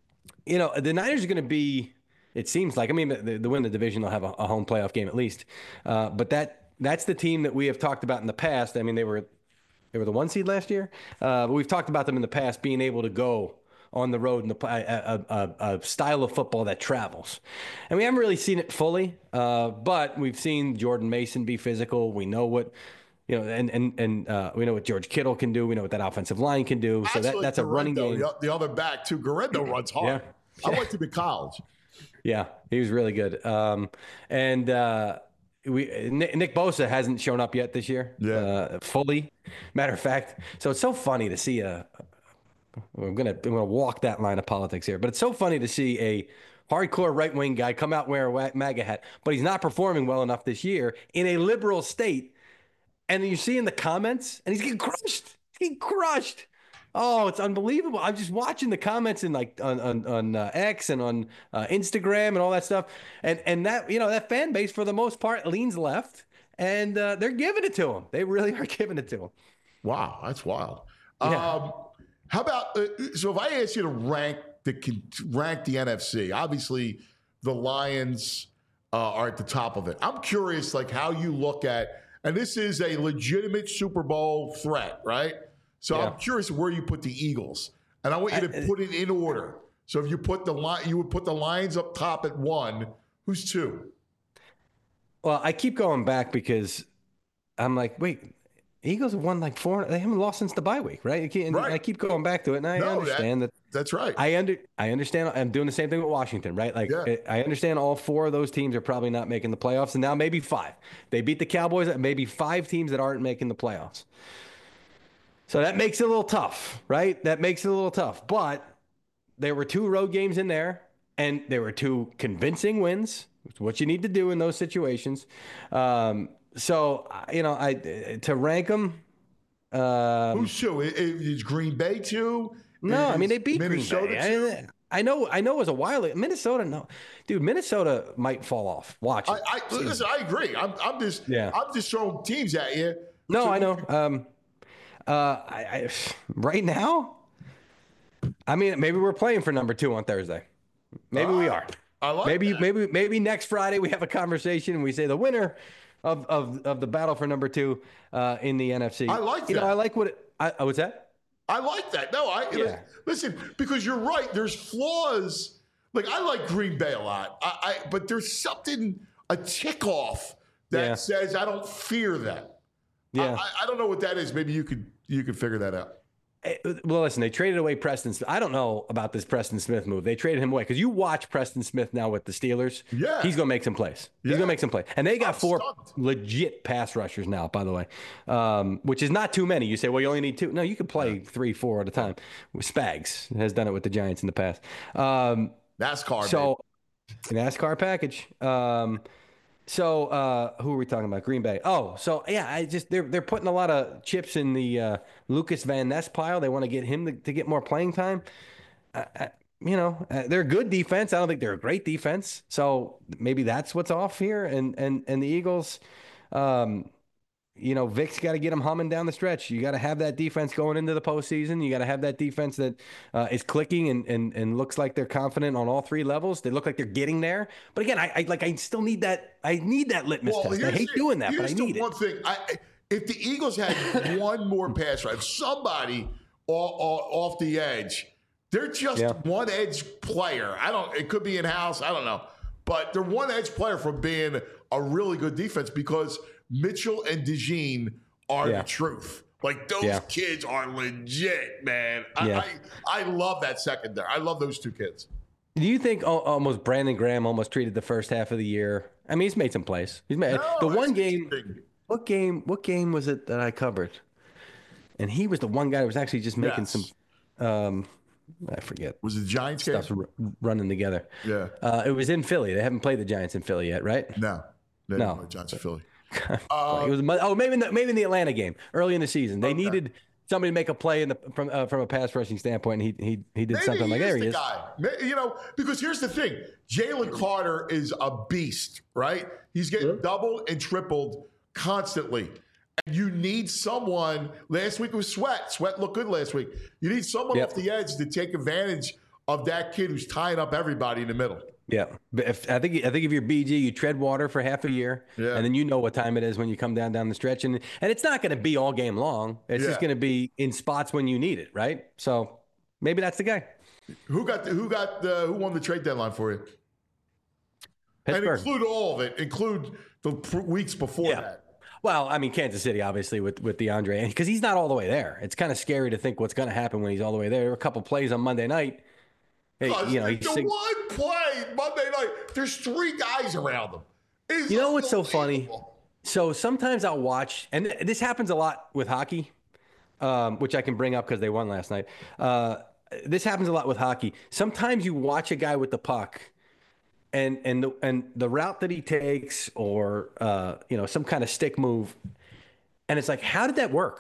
you know, the Niners are going to be, it seems like, I mean, the, the win the division, they'll have a, a home playoff game at least. Uh, but that that's the team that we have talked about in the past. I mean, they were – They were the one seed last year, uh, but we've talked about them in the past being able to go on the road in the, a, a, a style of football that travels. And we haven't really seen it fully, uh, but we've seen Jordan Mason be physical. We know what, you know, and and and uh, we know what George Kittle can do. We know what that offensive line can do. So that, that's a running game. The other back too, Garendo runs hard. Yeah. I went to the college. Yeah, he was really good. Um, and uh, we Nick, Nick Bosa hasn't shown up yet this year. Yeah, uh, fully. Matter of fact, so it's so funny to see a. I'm gonna I'm gonna walk that line of politics here, but it's so funny to see a hardcore right wing guy come out wearing a MAGA hat, but he's not performing well enough this year in a liberal state, and you see in the comments, and he's getting crushed. He's getting crushed. Oh, it's unbelievable. I'm just watching the comments in like on on, on uh, X and on uh, Instagram and all that stuff, and and that you know that fan base for the most part leans left, and uh, they're giving it to him. They really are giving it to him. Wow, that's wild. Yeah. Um, how about uh, so if I ask you to rank the rank the N F C, obviously the Lions uh, are at the top of it. I'm curious, like how you look at, and this is a legitimate Super Bowl threat, right? So Yeah. I'm curious where you put the Eagles, and I want you to put it in order. So if you put the line, you would put the Lions up top at one. Who's two? Well, I keep going back because I'm like, wait, Eagles have won like four. They haven't lost since the bye week, right? And Right. I keep going back to it, and I No, understand that, that- That's right. I under I understand. I'm doing the same thing with Washington, right? Like Yeah. I understand all four of those teams are probably not making the playoffs, and now maybe five. They beat the Cowboys. Maybe five teams that aren't making the playoffs. So that makes it a little tough, right? That makes it a little tough. But there were two road games in there, and there were two convincing wins. It's what you need to do in those situations. Um, so you know, I to rank them. Um, Who's two? I- I- Is Green Bay two? No, I mean Is they beat Minnesota Green Bay. two? I, I know, I know. It was a while ago. Minnesota, no, dude. Minnesota might fall off. Watch it. I, I listen. I agree. I'm, I'm just, Yeah. I'm just throwing teams at you. no, So I you know. can- Um, uh, I, I right now, I mean, maybe we're playing for number two on Thursday. Maybe we are. I like maybe, that. maybe, maybe next Friday we have a conversation and we say the winner of of, of the battle for number two uh, in the N F C. I like You know, that. I like what. It, I, oh, what's that? I like that. No, I Yeah. listen because you're right. There's flaws. Like I like Green Bay a lot. I, I but there's something a tick off that Yeah. says I don't fear them. Yeah. I, I don't know what that is. Maybe you could you could figure that out. Eh, Well, listen, they traded away Preston Smith. I don't know about this Preston Smith move. They traded him away because you watch Preston Smith now with the Steelers. Yeah. He's going to make some plays. He's Yeah. going to make some plays. And they got I'm four stunned. legit pass rushers now, by the way, um, which is not too many. You say, well, you only need two. No, you can play three, four at a time. Spags has done it with the Giants in the past. Um, NASCAR. so, NASCAR package. Um, so, uh, who are we talking about? Green Bay. Oh, so yeah, I just they're they're putting a lot of chips in the uh, Lucas Van Ness pile. They want to get him to, to get more playing time. Uh, uh, you know, uh, they're a good defense. I don't think they're a great defense. So maybe that's what's off here. And and and the Eagles, um, you know, Vic's got to get them humming down the stretch. You got to have that defense going into the postseason. You got to have that defense that uh, is clicking and, and and looks like they're confident on all three levels. They look like they're getting there. But again, I, I like I still need that. I need that litmus test. I here's hate the- doing that, but I here's need the it. one thing. I, if the Eagles had one more pass rush, if somebody off, off the edge, they're just Yeah. one edge player. I don't. It could be in house. I don't know, but they're one edge player from being a really good defense because Mitchell and DeJean are Yeah. the truth. Like those Yeah. kids are legit, man. I, Yeah. I I love that secondary. I love those two kids. Do you think al- almost Brandon Graham almost treated the first half of the year? I mean, he's made some plays. He's made No, the that's one game. interesting. What game? What game was it that I covered? And he was the one guy who was actually just making Yes. some. Um, I forget. Was it the Giants game? Stuff's r- running together. Yeah. Uh, it was in Philly. They haven't played the Giants in Philly yet, right? No. They No. didn't play Giants of Philly. it was Mo- oh maybe in the, maybe in the Atlanta game early in the season. They Okay. needed somebody to make a play in the from uh, from a pass rushing standpoint. And he he he did Maybe something he like is there he the is. guy. May- You know, because here's the thing: Jalen Carter is a beast, right? He's getting doubled and tripled constantly. And you need someone. Last week was Sweat. Sweat looked good last week. You need someone Yep. off the edge to take advantage of that kid who's tying up everybody in the middle. Yeah, but if, I think I think if you're B G, you tread water for half a year, Yeah. and then you know what time it is when you come down down the stretch, and and it's not going to be all game long. It's just Yeah. going to be in spots when you need it, right? So maybe that's the guy. Who got the, who got the, who won the trade deadline for you? Pittsburgh. And include all of it. Include the pr- weeks before Yeah. that. Well, I mean, Kansas City, obviously, with with DeAndre, because he's not all the way there. It's kind of scary to think what's going to happen when he's all the way there. There were a couple plays on Monday night. Hey, Because you know, the he's sing- one play Monday night, there's three guys around him. It's You know what's so funny? unbelievable. So sometimes I'll watch, and this happens a lot with hockey, um, which I can bring up because they won last night. Uh, this happens a lot with hockey. Sometimes you watch a guy with the puck, and and the, and the route that he takes, or uh, you know, some kind of stick move, and it's like, how did that work?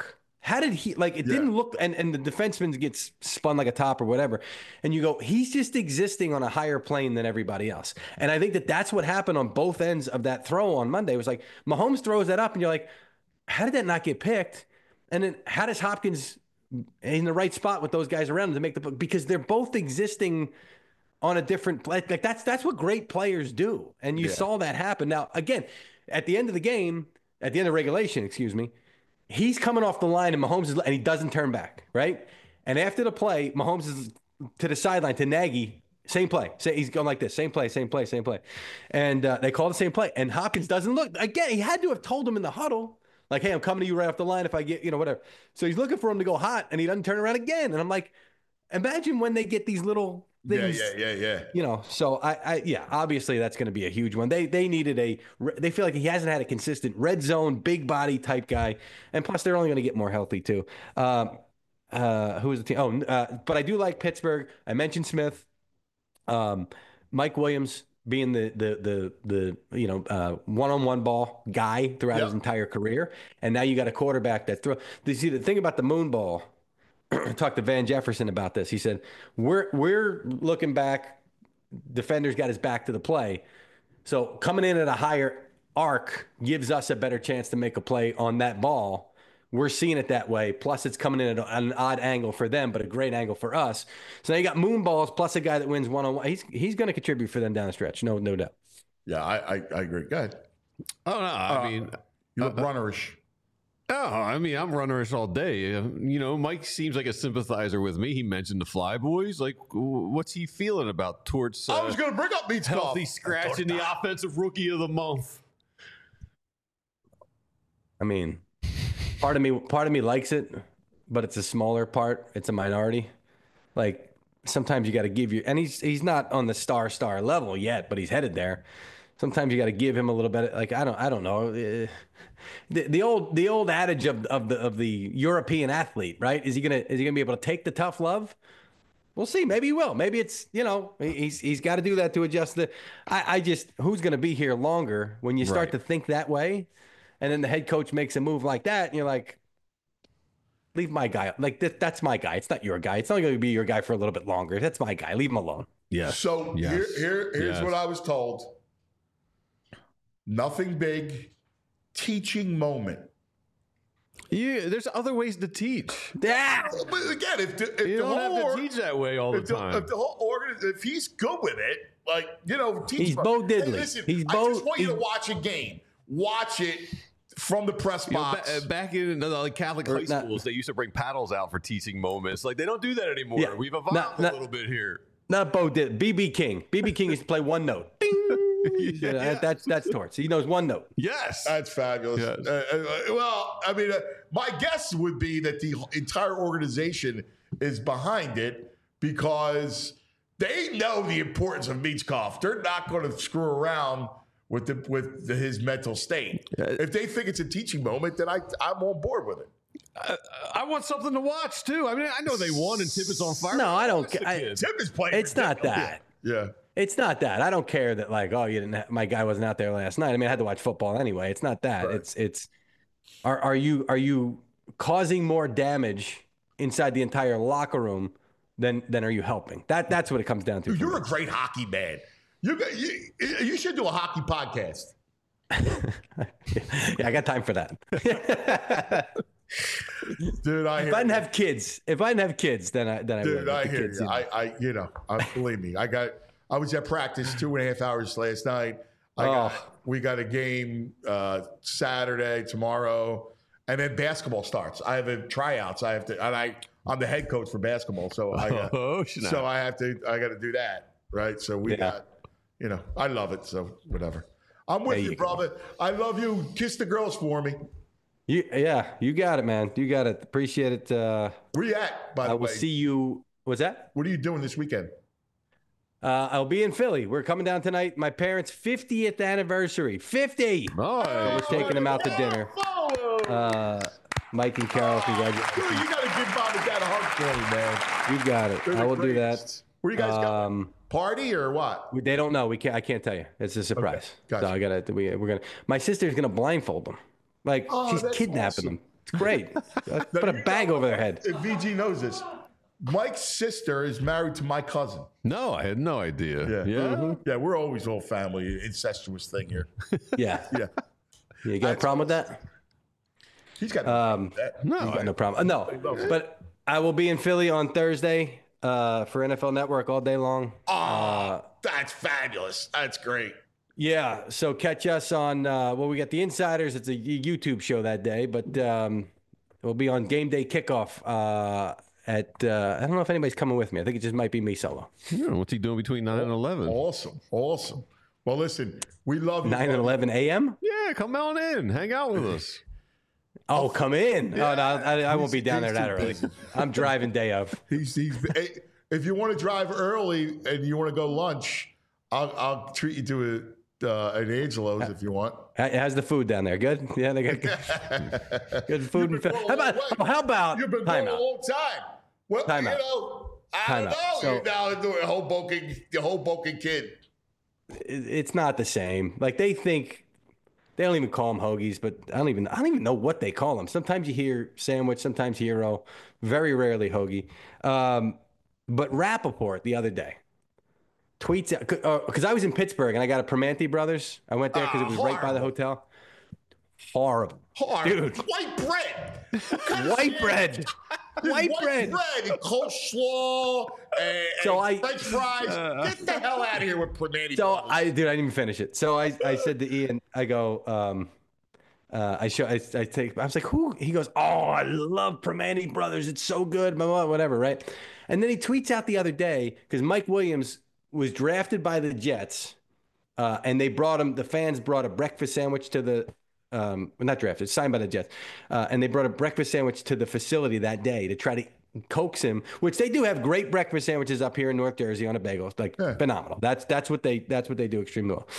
How did he like? It Yeah. didn't look, and and the defenseman gets spun like a top or whatever, and you go, he's just existing on a higher plane than everybody else. And I think that that's what happened on both ends of that throw on Monday. It was like Mahomes throws that up, and you're like, how did that not get picked? And then how does Hopkins in the right spot with those guys around him to make the because they're both existing on a different like that's that's what great players do, and you Yeah. saw that happen. Now again, at the end of the game, at the end of regulation, excuse me. He's coming off the line, and Mahomes is, and he doesn't turn back, right? And after the play, Mahomes is to the sideline to Nagy, same play. Say he's going like this, same play, same play, same play, and uh, they call the same play. And Hopkins doesn't look again. He had to have told him in the huddle, like, "Hey, I'm coming to you right off the line. If I get, you know, whatever." So he's looking for him to go hot, and he doesn't turn around again. And I'm like, imagine when they get these little things. Yeah, yeah, yeah, yeah. You know, so I, I yeah, obviously that's going to be a huge one. They they needed a, they feel like he hasn't had a consistent red zone, big body type guy, and plus they're only going to get more healthy too. Um, uh, who is the team? Oh, uh, but I do like Pittsburgh. I mentioned Smith, um, Mike Williams being the the the the you know uh, one-on-one ball guy throughout Yep. his entire career, and now you got a quarterback that throw. You see the thing about the moon ball. I talked to Van Jefferson about this. He said, we're we're looking back. Defender's got his back to the play. So coming in at a higher arc gives us a better chance to make a play on that ball. We're seeing it that way. Plus, it's coming in at an odd angle for them, but a great angle for us. So now you got moon balls plus a guy that wins one-on-one. He's he's going to contribute for them down the stretch. No, no doubt. Yeah, I, I, I agree. Go ahead. Oh, no. I Uh, mean, You look uh, runnerish. oh, I mean, I'm runnerish all day. Uh, You know, Mike seems like a sympathizer with me. He mentioned the Flyboys. Like, w- what's he feeling about Torts? Uh, I was going to bring up Beats healthy scratch in the offensive rookie of the month. I mean, part of me part of me likes it, but it's a smaller part. It's a minority. Like sometimes you got to give you, and he's he's not on the star star level yet, but he's headed there. Sometimes you got to give him a little bit. Like I don't I don't know. Uh, The, the old the old adage of of the of the European athlete, right? Is he gonna is he gonna be able to take the tough love? We'll see. Maybe he will. Maybe it's you know he's he's got to do that to adjust the. I, I just who's gonna be here longer when you start Right. to think that way, and then the head coach makes a move like that, and you're like, leave my guy. Like that, that's my guy. It's not your guy. It's not going to be your guy for a little bit longer. That's my guy. Leave him alone. Yes. So Yes. here, here, here's Yes. what I was told. Nothing big. Teaching moment. Yeah, there's other ways to teach. Yeah. But again, if the, if You the don't whole have or- to teach that way all the if the, time. if the whole organ, if he's good with it, like you know, teach He's him. Bo Hey, Diddley. listen, He's I Bo- just want you to he's- watch a game. Watch it from the press You know, box. ba- uh, back in the like Catholic Or high not- schools, they used to bring paddles out for teaching moments. Like they don't do that anymore. Yeah. We've evolved Not- a not- little bit here. Not Bo did. B B King. B B King used to play one note. Bing. You know, that- that's that's Torts. He knows one note. Yes. That's fabulous. Yes. Uh, uh, well, I mean, uh, my guess would be that the entire organization is behind it because they know the importance of Michkov. They're not going to screw around with the with the, his mental state. If they think it's a teaching moment, then I I'm on board with it. I, I want something to watch too. I mean, I know they won and Tippett's on fire. No, I don't It's the ca- I- kids. Tim is playing. It's not ridiculous. that. Yeah. It's not that. I don't care that like, oh, you didn't. Have, my guy wasn't out there last night. I mean, I had to watch football anyway. It's not that. Right. It's it's. Are are you are you causing more damage inside the entire locker room than than are you helping? That that's what it comes down to. Dude, for you're me. a great hockey man. You got you, you should do a hockey podcast. Yeah, I got time for that. Dude, I If hear I didn't you. have kids, if I didn't have kids, then I then I Dude, would. I The hear kids, you. know. I, I, you know, I, believe me. I got. I was at practice two and a half hours last night. I got. Oh. We got a game uh, Saturday, tomorrow, and then basketball starts. I have a tryouts. I have to, and I, I'm the head coach for basketball, so I, got, Oh, snap. so I have to, I got to do that, right? So we Yeah. got, you know, I love it. So whatever. I'm with There you, you go. brother. I love you. Kiss the girls for me. You, yeah, you got it, man. You got it. Appreciate it. Uh, Where you at, by I the will way? see you. What's that? What are you doing this weekend? Uh, I'll be in Philly. We're coming down tonight. My parents' fiftieth anniversary. fifty. Oh, We're taking them out to dinner. Uh, Mike and Carol, Dude, congratulations. you got to give mom and dad a hug for me, man. You got it. They're I the will do that. greatest. Where you guys going? Um, Party or what? we- they don't know. We can't. I can't tell you. It's a surprise. gotcha. So I gotta. We, we're gonna. My sister's gonna blindfold them. Like Oh, she's that's kidnapping awesome. them. It's great. Put a bag over their head. If V G knows this, Mike's sister is married to my cousin. No, I had no idea. Yeah, Yeah. mm-hmm. yeah. We're always all family, incestuous thing here. Yeah. Yeah. You got a problem with that? He's got um, that. No, He's got no problem. Uh, no, but I will be in Philly on Thursday uh, for N F L Network all day long. Oh, uh, that's fabulous. That's great. Yeah, so catch us on, uh, well, we got the Insiders. It's a YouTube show that day, but um, we'll be on Game Day Kickoff uh, at, uh, I don't know if anybody's coming with me. I think it just might be me solo. Yeah, what's he doing between nine and eleven? Awesome. Awesome. Well, listen, we love you. nine and eleven a.m.? Yeah, come on in. Hang out with us. Oh, come in. Yeah. Oh, no, I, I won't be down He's- there that he's too early. I'm driving day of. He's, he's, hey, if you want to drive early and you want to go lunch, I'll, I'll treat you to a, uh, an Angelo's if you want. How's the food down there? Good? Yeah, they got good, good food. And You've been how going a about, long way. how about You've been time going out? a long time. Well, Time you out. know, I Time don't out. know. So- You're now doing Hoboken, the Hoboken kid. It- It's not the same. Like they think they don't even call them hoagies, but I don't even I don't even know what they call them. Sometimes you hear sandwich, sometimes hero, very rarely hoagie. Um, but Rappaport the other day tweets out because I was in Pittsburgh and I got a Primanti Brothers. I went there because it was Ah, right by the hotel. Horrible, Hard. dude. White bread. White bread. There's White bread. and coleslaw and, So and I- French fries. Get the hell out of here with Primanti. So Brothers. I, dude, I didn't even finish it. So I, I said to Ian, I go, um, uh, I show, I, I take, I was like, who? He goes, oh, I love Primanti Brothers. It's so good, blah, blah, whatever, right? And then he tweets out the other day because Mike Williams was drafted by the Jets, uh, and they brought him. The fans brought a breakfast sandwich to the, um, well, not drafted, signed by the Jets, uh, and they brought a breakfast sandwich to the facility that day to try to coax him, which they do have great breakfast sandwiches up here in North Jersey on a bagel. It's like Yeah. phenomenal. That's that's what they that's what they do extremely well.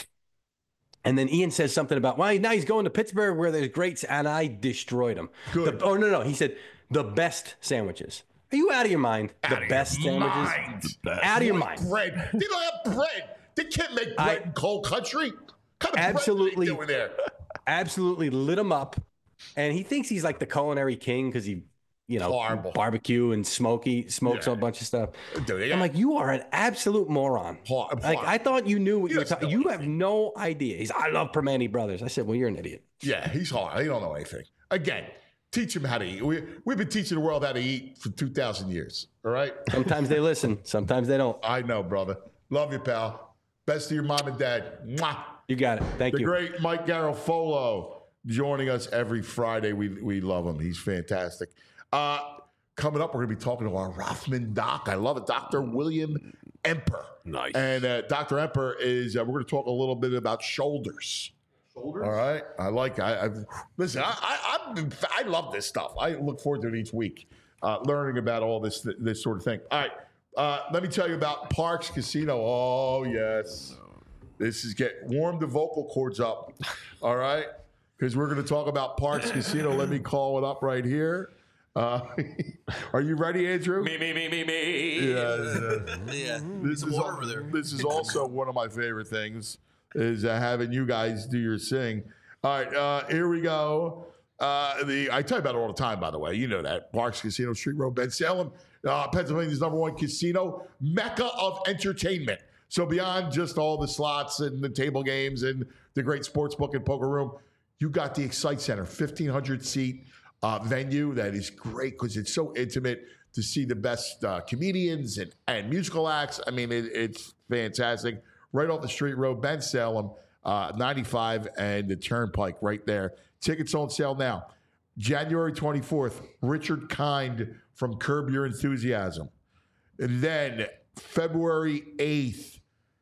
And then Ian says something about, well, now he's going to Pittsburgh where there's greats, and I destroyed him. Good. The, oh, no, no. He said, the best sandwiches. Are you out of your mind? Outta the your best sandwiches? mind. Out of your White mind. bread. They don't have bread. They can't make bread I- in cold country. What kind of Absolutely. bread are they doing there? Absolutely lit him up. And he thinks he's like the culinary king because he, you know, Horrible. barbecue and smoky, smokes Yeah. a bunch of stuff. Dude, they I'm got- like, you are an absolute moron. Hor- Like, hor- I thought you knew what you were doesn't talking. know You have no idea. He's, I love Primanti Brothers. I said, well, you're an idiot. Yeah, he's hard. He don't know anything. Again, teach him how to eat. We, we've been teaching the world how to eat for two thousand years. All right? Sometimes they listen. Sometimes they don't. I know, brother. Love you, pal. Best to your mom and dad. Mwah. You got it. Thank The you. great Mike Garofolo joining us every Friday. We we love him. He's fantastic. Uh, coming up, we're going to be talking to our Rothman doc. I love it. Doctor William Emper. Nice. And uh, Doctor Emper is, uh, we're going to talk a little bit about shoulders. Shoulders? All right. I like, I, I've, listen, I, I, I've been, I love this stuff. I look forward to it each week, uh, learning about all this, this sort of thing. All right. Uh, let me tell you about Parks Casino. Oh, yes. This is get warm the vocal cords up. All right. Because we're going to talk about Parks Casino. Let me call it up right here. Uh, are you ready, Andrew? Me, me, me, me, me. Yeah. Yeah. This Some is, water al- over there. this is also one of my favorite things is uh, having you guys do your sing. All right, uh, here we go. Uh, the I tell you about it all the time, by the way. You know that. Parks Casino, Street Road, Ben Salem, uh, Pennsylvania's number one casino, mecca of entertainment. So beyond just all the slots and the table games and the great sports book and poker room, you got the Excite Center, fifteen hundred seat uh, venue that is great because it's so intimate to see the best uh, comedians and, and musical acts. I mean, it, it's fantastic. Right off the Street Road, Ben Salem, uh, ninety-five and the Turnpike right there. Tickets on sale now. January twenty-fourth, Richard Kind from Curb Your Enthusiasm. And then February eighth,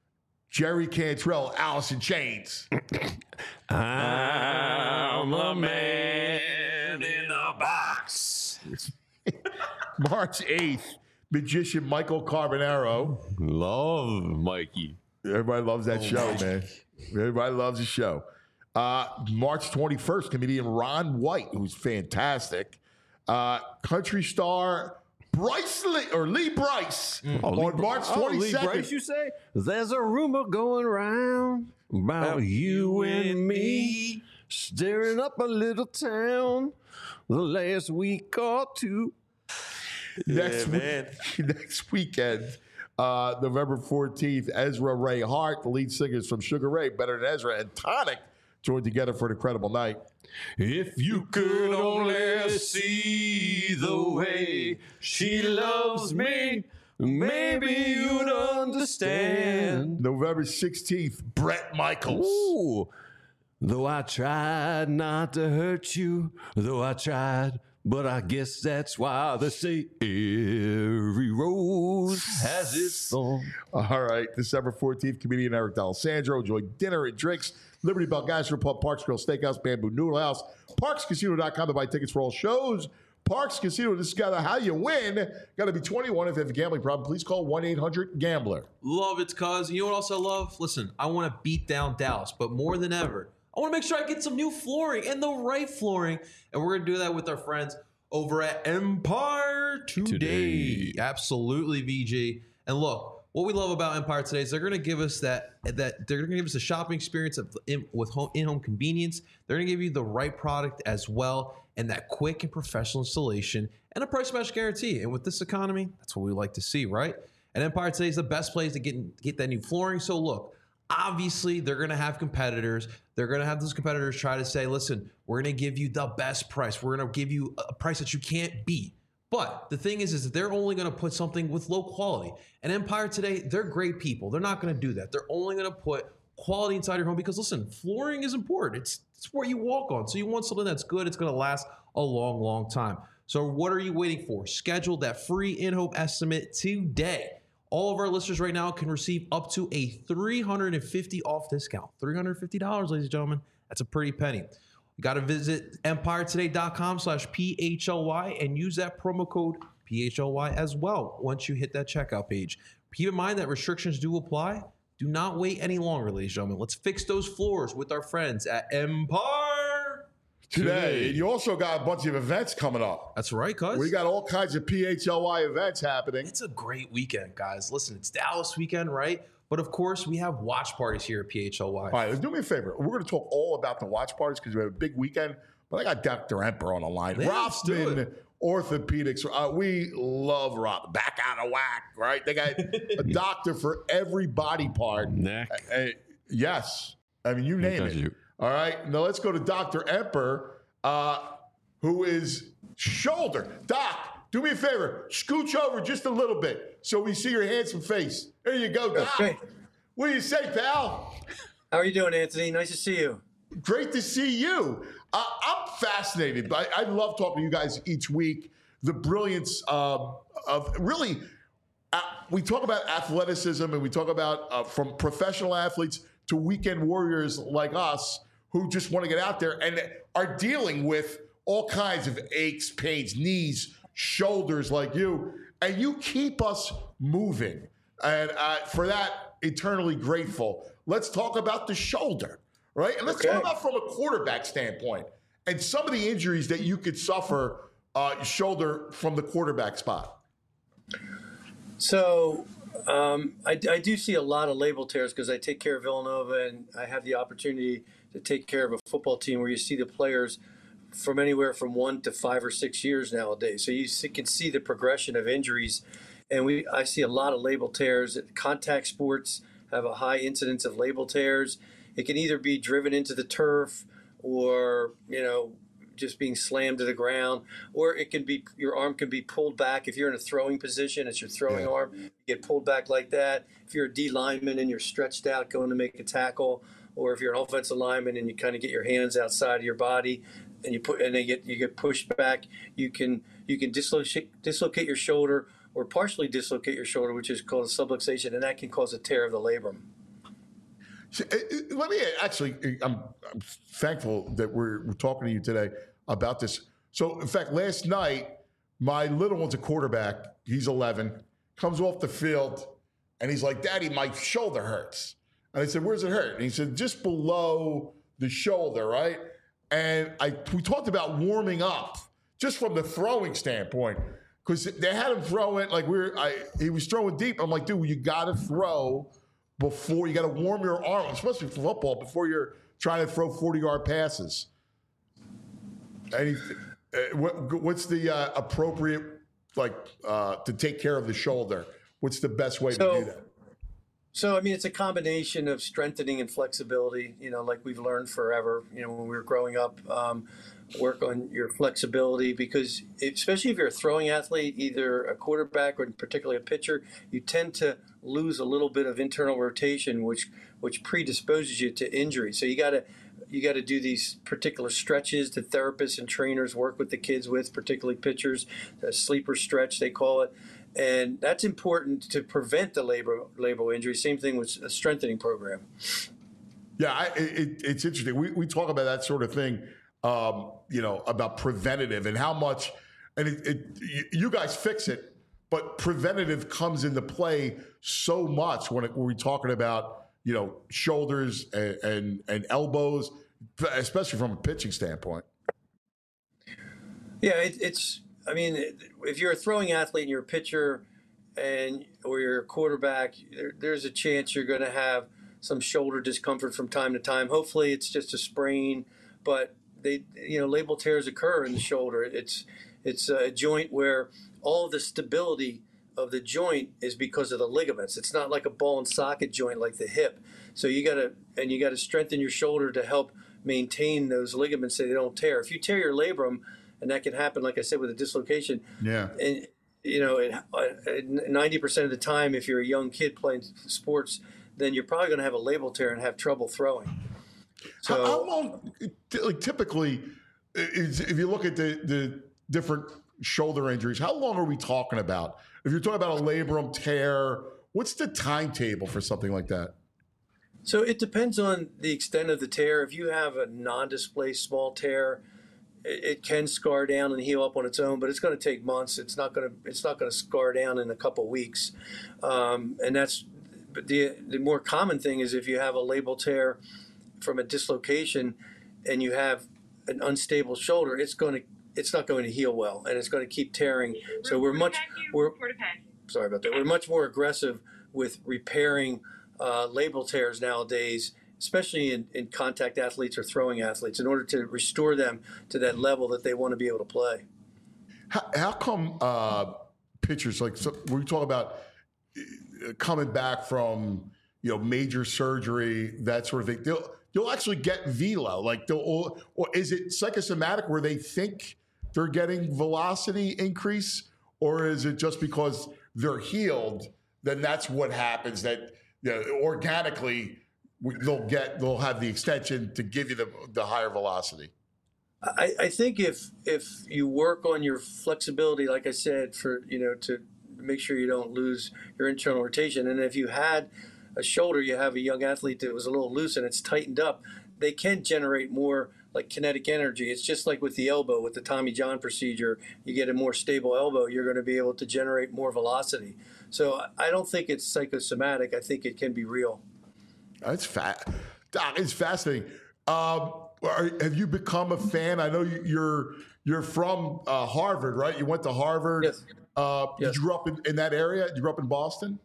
Jerry Cantrell, Alice in Chains. I'm a man in a box. March eighth, magician Michael Carbonaro. Love Mikey. Everybody loves that show, man. Everybody loves the show. Uh, March twenty-first, comedian Ron White, who's fantastic. Uh, country star Bryce Lee, or Lee Bryce, Oh, Lee on Br- March oh, Lee twenty-second. Bryce, you say? There's a rumor going around about you and me staring up a little town the last week or two. Next, man. week, next weekend, uh, November fourteenth, Ezra Ray Hart, the lead singers from Sugar Ray, Better Than Ezra, and Tonic joined together for an incredible night. If you could only see the way she loves me, maybe you'd understand. November sixteenth, Bret Michaels. Ooh. Though I tried not to hurt you, though I tried, but I guess that's why they say every rose has its thorn. All right, December fourteenth, comedian Eric D'Alessandro enjoyed dinner and drinks. Liberty Bell Gastro Pub, Parks Grill Steakhouse, Bamboo Noodle House, Parks Casino dot com to buy tickets for all shows. Parks Casino, this is gotta how you win. Got to be twenty-one. If you have a gambling problem, please call one eight hundred gambler. Love it, cuz. You know what else I love? Listen, I want to beat down Dallas, but more than ever, I want to make sure I get some new flooring and the right flooring. And we're going to do that with our friends over at Empire Today. Today. Absolutely, V G. And look, what we love about Empire Today is they're going to give us that, that they're going to give us a shopping experience of, in, with home, in-home convenience. They're going to give you the right product as well, and that quick and professional installation and a price match guarantee. And with this economy, that's what we like to see, right? And Empire Today is the best place to get, get that new flooring. So look, obviously, they're going to have competitors. They're going to have those competitors try to say, listen, we're going to give you the best price. We're going to give you a price that you can't beat. But the thing is, is that they're only going to put something with low quality. And Empire Today, they're great people. They're not going to do that. They're only going to put quality inside your home because, listen, flooring is important. It's, it's where you walk on. So you want something that's good. It's going to last a long, long time. So what are you waiting for? Schedule that free in-home estimate today. All of our listeners right now can receive up to a three hundred fifty dollars off discount. three hundred fifty dollars, ladies and gentlemen. That's a pretty penny. You got to visit empire today dot com slash P H L Y and use that promo code P H L Y as well once you hit that checkout page. Keep in mind that restrictions do apply. Do not wait any longer, ladies and gentlemen. Let's fix those floors with our friends at Empire Today. And you also got a bunch of events coming up. That's right, cuz. We got all kinds of P H L Y events happening. It's a great weekend, guys. Listen, it's Dallas weekend, right? But of course, we have watch parties here at P H L Y. All right, do me a favor. We're going to talk all about the watch parties because we have a big weekend. But I got Doctor Emperor on the line. Yeah, let's do Rothman it. Orthopedics. Uh, we love Rob. Back out of whack, right? They got a doctor for every body part. Neck. Uh, uh, yes. I mean, you name it. you. All right. Now let's go to Doctor Emperor, uh, who is shoulder. Doc, do me a favor. Scooch over just a little bit so we see your handsome face. There you go, Doc. Okay. What do you say, pal? How are you doing, Anthony? Nice to see you. Great to see you. Uh, I'm fascinated. I, I love talking to you guys each week. The brilliance uh, of really, uh, we talk about athleticism and we talk about uh, from professional athletes to weekend warriors like us who just want to get out there and are dealing with all kinds of aches, pains, knees, shoulders like you. And you keep us moving. And uh, for that, eternally grateful. Let's talk about the shoulder. Right? And let's Okay. talk about from a quarterback standpoint and some of the injuries that you could suffer uh, shoulder from the quarterback spot. So um, I, I do see a lot of label tears because I take care of Villanova and I have the opportunity to take care of a football team where you see the players from anywhere from one to five or six years nowadays. So you see, can see the progression of injuries. And we I see a lot of label tears. Contact sports have a high incidence of label tears. It can either be driven into the turf or, you know, just being slammed to the ground, or it can be your arm can be pulled back. If you're in a throwing position, it's your throwing Yeah. arm, you get pulled back like that. If you're a D lineman and you're stretched out going to make a tackle, or if you're an offensive lineman and you kind of get your hands outside of your body and you put and they get you get pushed back, you can you can dislocate dislocate your shoulder or partially dislocate your shoulder, which is called a subluxation, and that can cause a tear of the labrum. Let me actually, I'm, I'm thankful that we're, we're talking to you today about this. So, in fact, last night, my little one's a quarterback. He's eleven, comes off the field, and he's like, Daddy, my shoulder hurts. And I said, where's it hurt? And he said, just below the shoulder, right? And I we talked about warming up just from the throwing standpoint because they had him throw it like we were, I, he was throwing deep. I'm like, dude, you got to throw before you got to warm your arm, especially for football, before you're trying to throw forty-yard passes. And he, uh, what, what's the uh, appropriate, like, uh, to take care of the shoulder? What's the best way So- to do that? So, I mean, it's a combination of strengthening and flexibility, you know, like we've learned forever, you know, when we were growing up. Um, work on your flexibility because, especially if you're a throwing athlete, either a quarterback or particularly a pitcher, you tend to lose a little bit of internal rotation, which which predisposes you to injury. So you got to you got to do these particular stretches that therapists and trainers work with the kids with, particularly pitchers, a sleeper stretch they call it. And that's important to prevent the labor labral injury. Same thing with a strengthening program. Yeah, I, it, it's interesting. We we talk about that sort of thing, um, you know, about preventative and how much, and it, it, you guys fix it, but preventative comes into play so much when, it, when we're talking about, you know, shoulders and, and and elbows, especially from a pitching standpoint. Yeah, it, it's. I mean, if you're a throwing athlete and you're a pitcher, and or you're a quarterback, there, there's a chance you're going to have some shoulder discomfort from time to time. Hopefully, it's just a sprain, but they, you know, labral tears occur in the shoulder. It's it's a joint where all of the stability of the joint is because of the ligaments. It's not like a ball and socket joint like the hip. So you got to and you got to strengthen your shoulder to help maintain those ligaments so they don't tear. If you tear your labrum, and that can happen, like I said, with a dislocation. Yeah. And, you know, ninety percent of the time, if you're a young kid playing sports, then you're probably going to have a labral tear and have trouble throwing. So, how, how long, like typically, is, if you look at the, the different shoulder injuries, how long are we talking about? If you're talking about a labrum tear, what's the timetable for something like that? So it depends on the extent of the tear. If you have a non-displaced small tear, it can scar down and heal up on its own, but it's going to take months. It's not going to it's not going to scar down in a couple of weeks, um, and that's but the the more common thing is if you have a labral tear from a dislocation, and you have an unstable shoulder, it's going to it's not going to heal well, and it's going to keep tearing. So we're much we're sorry about that. We're much more aggressive with repairing uh, labral tears nowadays, especially in, in contact athletes or throwing athletes, in order to restore them to that level that they want to be able to play. How, how come uh, pitchers, like so we talk about coming back from, you know, major surgery, that sort of thing, they'll, you'll actually get velo, like they'll, or, or is it psychosomatic where they think they're getting velocity increase, or is it just because they're healed, then that's what happens, that, you know, organically they'll get they'll have the extension to give you the the higher velocity? I, I think if if you work on your flexibility, like I said, for you know to make sure you don't lose your internal rotation, and if you had a shoulder, you have a young athlete that was a little loose and it's tightened up, they can generate more like kinetic energy. It's just like with the elbow, with the Tommy John procedure, you get a more stable elbow, you're going to be able to generate more velocity. So I don't think it's psychosomatic. I think it can be real. That's fat. Doc, it's fascinating. Um, are, have you become a fan? I know you, you're you're from uh, Harvard, right? You went to Harvard. Yes. Uh, yes. Did you grow up in, in that area? Did you grow up in Boston?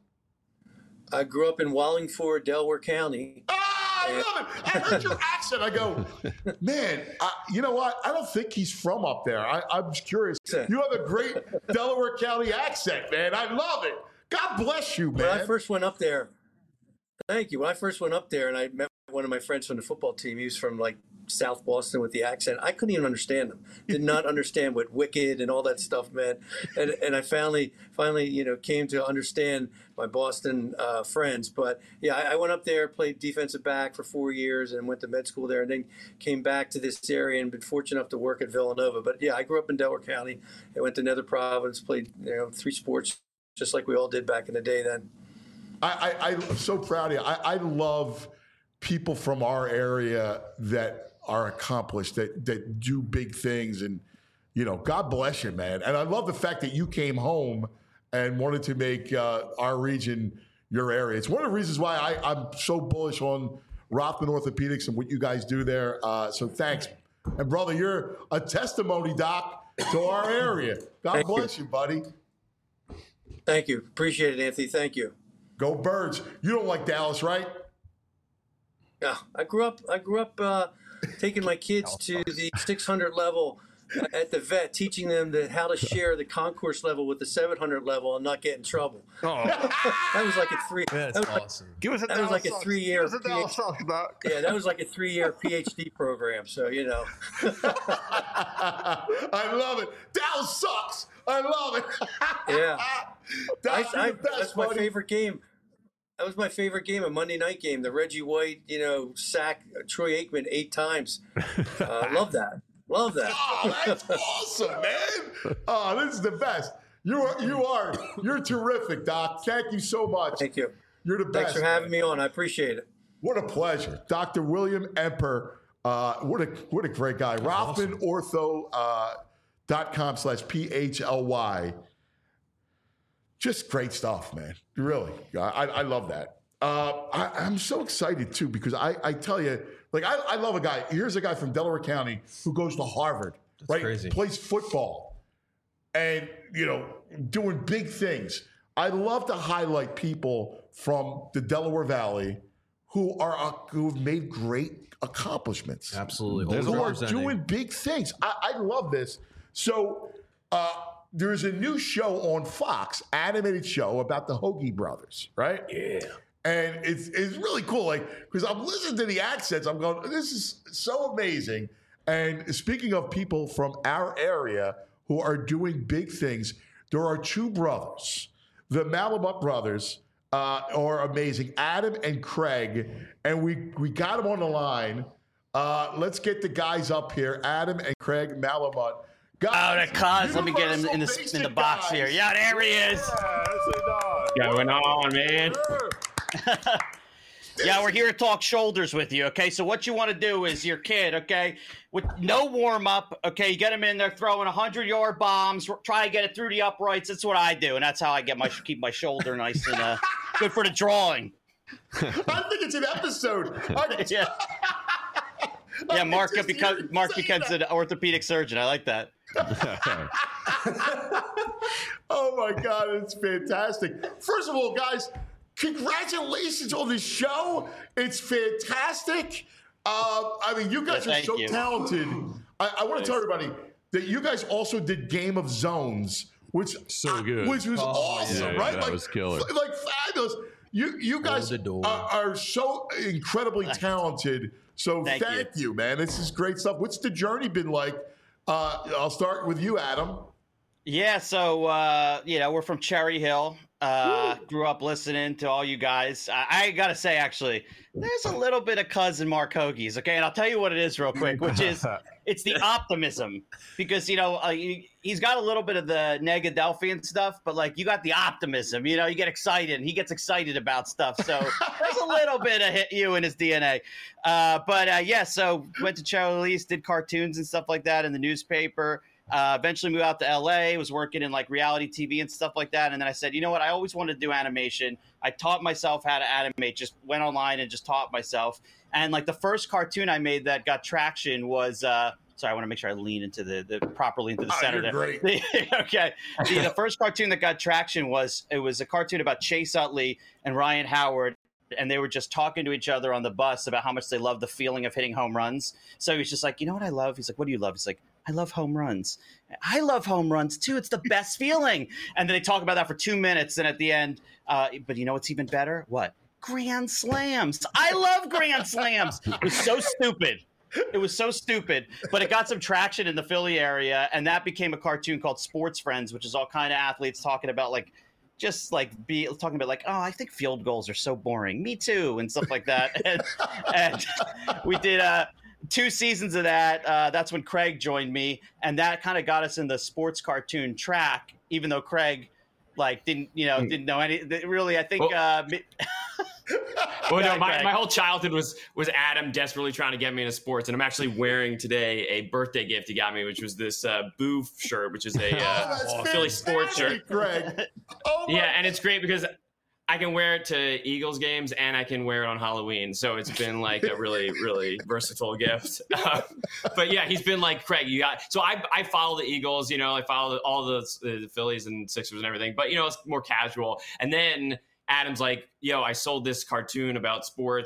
I grew up in Wallingford, Delaware County. Ah, I love it. I heard your accent. I go, man, I, you know what? I don't think he's from up there. I, I'm just curious. You have a great Delaware County accent, man. I love it. God bless you, man. When I first went up there, thank you. When I first went up there and I met one of my friends from the football team, he was from like South Boston with the accent. I couldn't even understand him. Did not understand what wicked and all that stuff meant. And and I finally, finally, you know, came to understand my Boston uh, friends. But yeah, I, I went up there, played defensive back for four years, and went to med school there, and then came back to this area and been fortunate enough to work at Villanova. But yeah, I grew up in Delaware County. I went to Nether Providence, played you know three sports, just like we all did back in the day then. I, I, I'm so proud of you. I, I love people from our area that are accomplished, that that do big things, and you know, God bless you, man. And I love the fact that you came home and wanted to make uh, our region your area. It's one of the reasons why I, I'm so bullish on Rothman Orthopedics and what you guys do there. Uh, so thanks, and brother, you're a testimony, Doc, to our area. God Thank bless you. you, buddy. Thank you. Appreciate it, Anthony. Thank you. Go Birds. You don't like Dallas, right? Yeah, I grew up. I grew up uh, taking my kids to the six hundred level at the vet, teaching them the, how to share the concourse level with the seven hundred level and not get in trouble. Oh, that was like a three. That's that was awesome. Like, give us a that was like a three year. Yeah, that was like a three year PhD program. So you know. I love it. Dallas sucks. I love it. Yeah, that's, I, I, best, that's my buddy. favorite game. That was my favorite game, a Monday night game. The Reggie White, you know, sack Troy Aikman eight times. Uh, love that. Love that. Oh, that's awesome, man. Oh, this is the best. You are, you are, you're terrific, Doc. Thank you so much. Thank you. You're the best. Thanks for having me on. I appreciate it. What a pleasure. Doctor William Emper. Uh, what a what a great guy. Rothman Ortho uh, dot com slash P H L Y. Just great stuff, man. Really. I, I love that. Uh, I, I'm so excited, too, because I, I tell you, like, I, I love a guy. Here's a guy from Delaware County who goes to Harvard, That's right? crazy. Plays football and, you know, doing big things. I love to highlight people from the Delaware Valley who are uh, who've made great accomplishments. Absolutely. Who are Representing. doing big things. I, I love this. So uh, there's a new show on Fox, animated show about the Hoagie brothers, right? yeah. And it's it's really cool, like, because I'm listening to the accents, I'm going, this is so amazing. And speaking of people from our area who are doing big things, there are two brothers. The Malamut brothers uh, are amazing, Adam and Craig, and we we got them on the line. Uh, let's get the guys up here, Adam and Craig Malamut. Guys, oh, the cuz. Let me get him in the in the box guys. Here. Yeah, there he is. Yeah, going on, man? Yeah, we're here to talk shoulders with you, okay? So what you want to do is your kid, okay, with no warm-up, okay, you get him in there throwing one hundred-yard bombs, try to get it through the uprights. That's what I do, and that's how I get my keep my shoulder nice and uh, good for the drawing. I think it's an episode. yeah, yeah Mark, because, Mark becomes an orthopedic surgeon. I like that. Oh, my God, it's fantastic. First of all, guys, congratulations on this show. It's fantastic. Uh, I mean, you guys yeah, are so you. talented. I, I want to tell everybody that you guys also did Game of Zones, which so good, which was oh, awesome, yeah, right? That like, was killer, like fabulous. You you guys are, are so incredibly talented. So thank, thank you. you, man. This is great stuff. What's the journey been like? Uh, I'll start with you, Adam. Yeah, so uh, you know, we're from Cherry Hill. Uh, grew up listening to all you guys. I, I gotta say, actually, there's a little bit of cousin Mark Hoagie's, okay? And I'll tell you what it is real quick, which is it's the optimism. Because, you know, uh, he, he's got a little bit of the Negadelphian stuff, but, like, you got the optimism. You know, you get excited, and he gets excited about stuff. So there's a little bit of hit you in his D N A. Uh, but, uh, yeah, so went to Cherry Hill, did cartoons and stuff like that in the newspaper. Uh, eventually moved out to L A, was working in like reality T V and stuff like that. And then I said, you know what? I always wanted to do animation. I taught myself how to animate, just went online and just taught myself. And like the first cartoon I made that got traction was, uh, sorry, I want to make sure I lean into the, the properly into the oh, center you're there. Great. Okay. The, the first cartoon that got traction was, it was a cartoon about Chase Utley and Ryan Howard. And they were just talking to each other on the bus about how much they love the feeling of hitting home runs. So he's just like, you know what I love? He's like, what do you love? He's like, I love home runs. I love home runs too. It's the best feeling. And then they talk about that for two minutes. And at the end, uh, but you know what's even better? What? Grand slams. I love grand slams. It was so stupid. It was so stupid, but it got some traction in the Philly area. And that became a cartoon called Sports Friends, which is all kind of athletes talking about like, just like be talking about like, oh, I think field goals are so boring. Me too. And stuff like that. and, and we did uh, two seasons of that. Uh, that's when Craig joined me. And that kind of got us in the sports cartoon track, even though Craig like didn't, you know, didn't know any really, I think. Well, uh, well no, my, my whole childhood was was Adam desperately trying to get me into sports. And I'm actually wearing today a birthday gift he got me, which was this uh, Boo shirt, which is a uh, oh, Philly sports shirt. Greg. Oh yeah, and it's great because I can wear it to Eagles games and I can wear it on Halloween. So it's been like a really, really versatile gift. Uh, but yeah, he's been like, Craig, you got, so I, I follow the Eagles, you know, I follow all the, the Phillies and Sixers and everything, but you know, it's more casual. And then Adam's like, yo, I sold this cartoon about sports.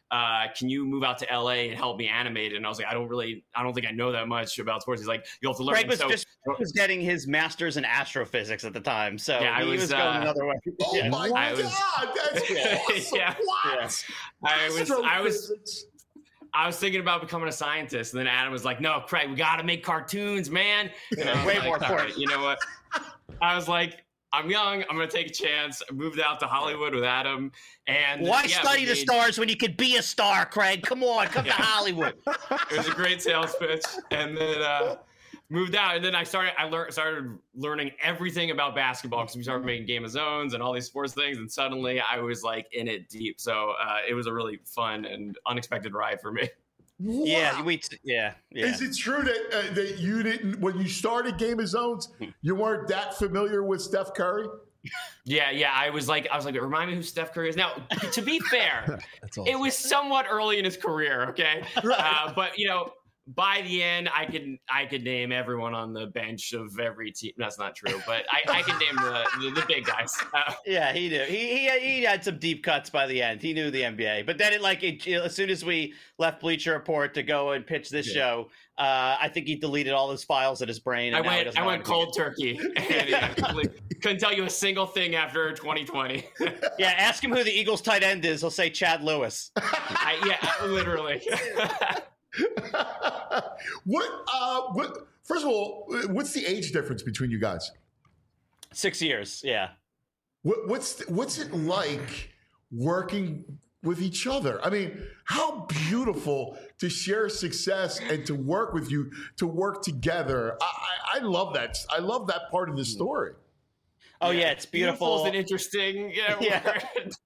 uh, can you move out to L A and help me animate it? And I was like, I don't really, I don't think I know that much about sports. He's like, you'll have to learn. Craig was so, just was getting his master's in astrophysics at the time, so yeah, I he was, was going uh, another way. Oh yeah. my I God, was, that's awesome. yeah, What? Yeah. I was, I was, I was thinking about becoming a scientist, and then Adam was like, "No, Craig, we got to make cartoons, man." And I was Way like, more "All important. right, you know what?" I was like, I'm young. I'm going to take a chance. I moved out to Hollywood with Adam. And why yeah, study made, the stars when you could be a star, Craig? Come on, come yeah. to Hollywood. It was a great sales pitch. And then uh, moved out. And then I started, I learned, started learning everything about basketball because we started making Game of Zones and all these sports things. And suddenly I was like in it deep. So uh, it was a really fun and unexpected ride for me. Wow. Yeah, we. Yeah, yeah. Is it true that uh, that you didn't, when you started Game of Zones, you weren't that familiar with Steph Curry? Yeah, yeah. I was like, I was like, remind me who Steph Curry is. Now, to be fair, awesome. It was somewhat early in his career. Okay, right. uh, but you know, by the end, I could I could name everyone on the bench of every team. That's not true, but I, I can name the, the the big guys. Uh, yeah, he knew. He, he he had some deep cuts by the end. He knew the N B A. But then, it like it, as soon as we left Bleacher Report to go and pitch this yeah. show, uh, I think he deleted all his files in his brain. And I went I went cold turkey. And yeah, couldn't tell you a single thing after twenty twenty. Yeah, ask him who the Eagles tight end is. He'll say Chad Lewis. I, yeah, literally. what? Uh, what? First of all, what's the age difference between you guys? Six years. Yeah. What, what's what's it like working with each other? I mean, how beautiful to share success and to work with you, to work together. I, I, I love that. I love that part of the story. Oh yeah, it's beautiful. Beautiful and interesting. Yeah. yeah.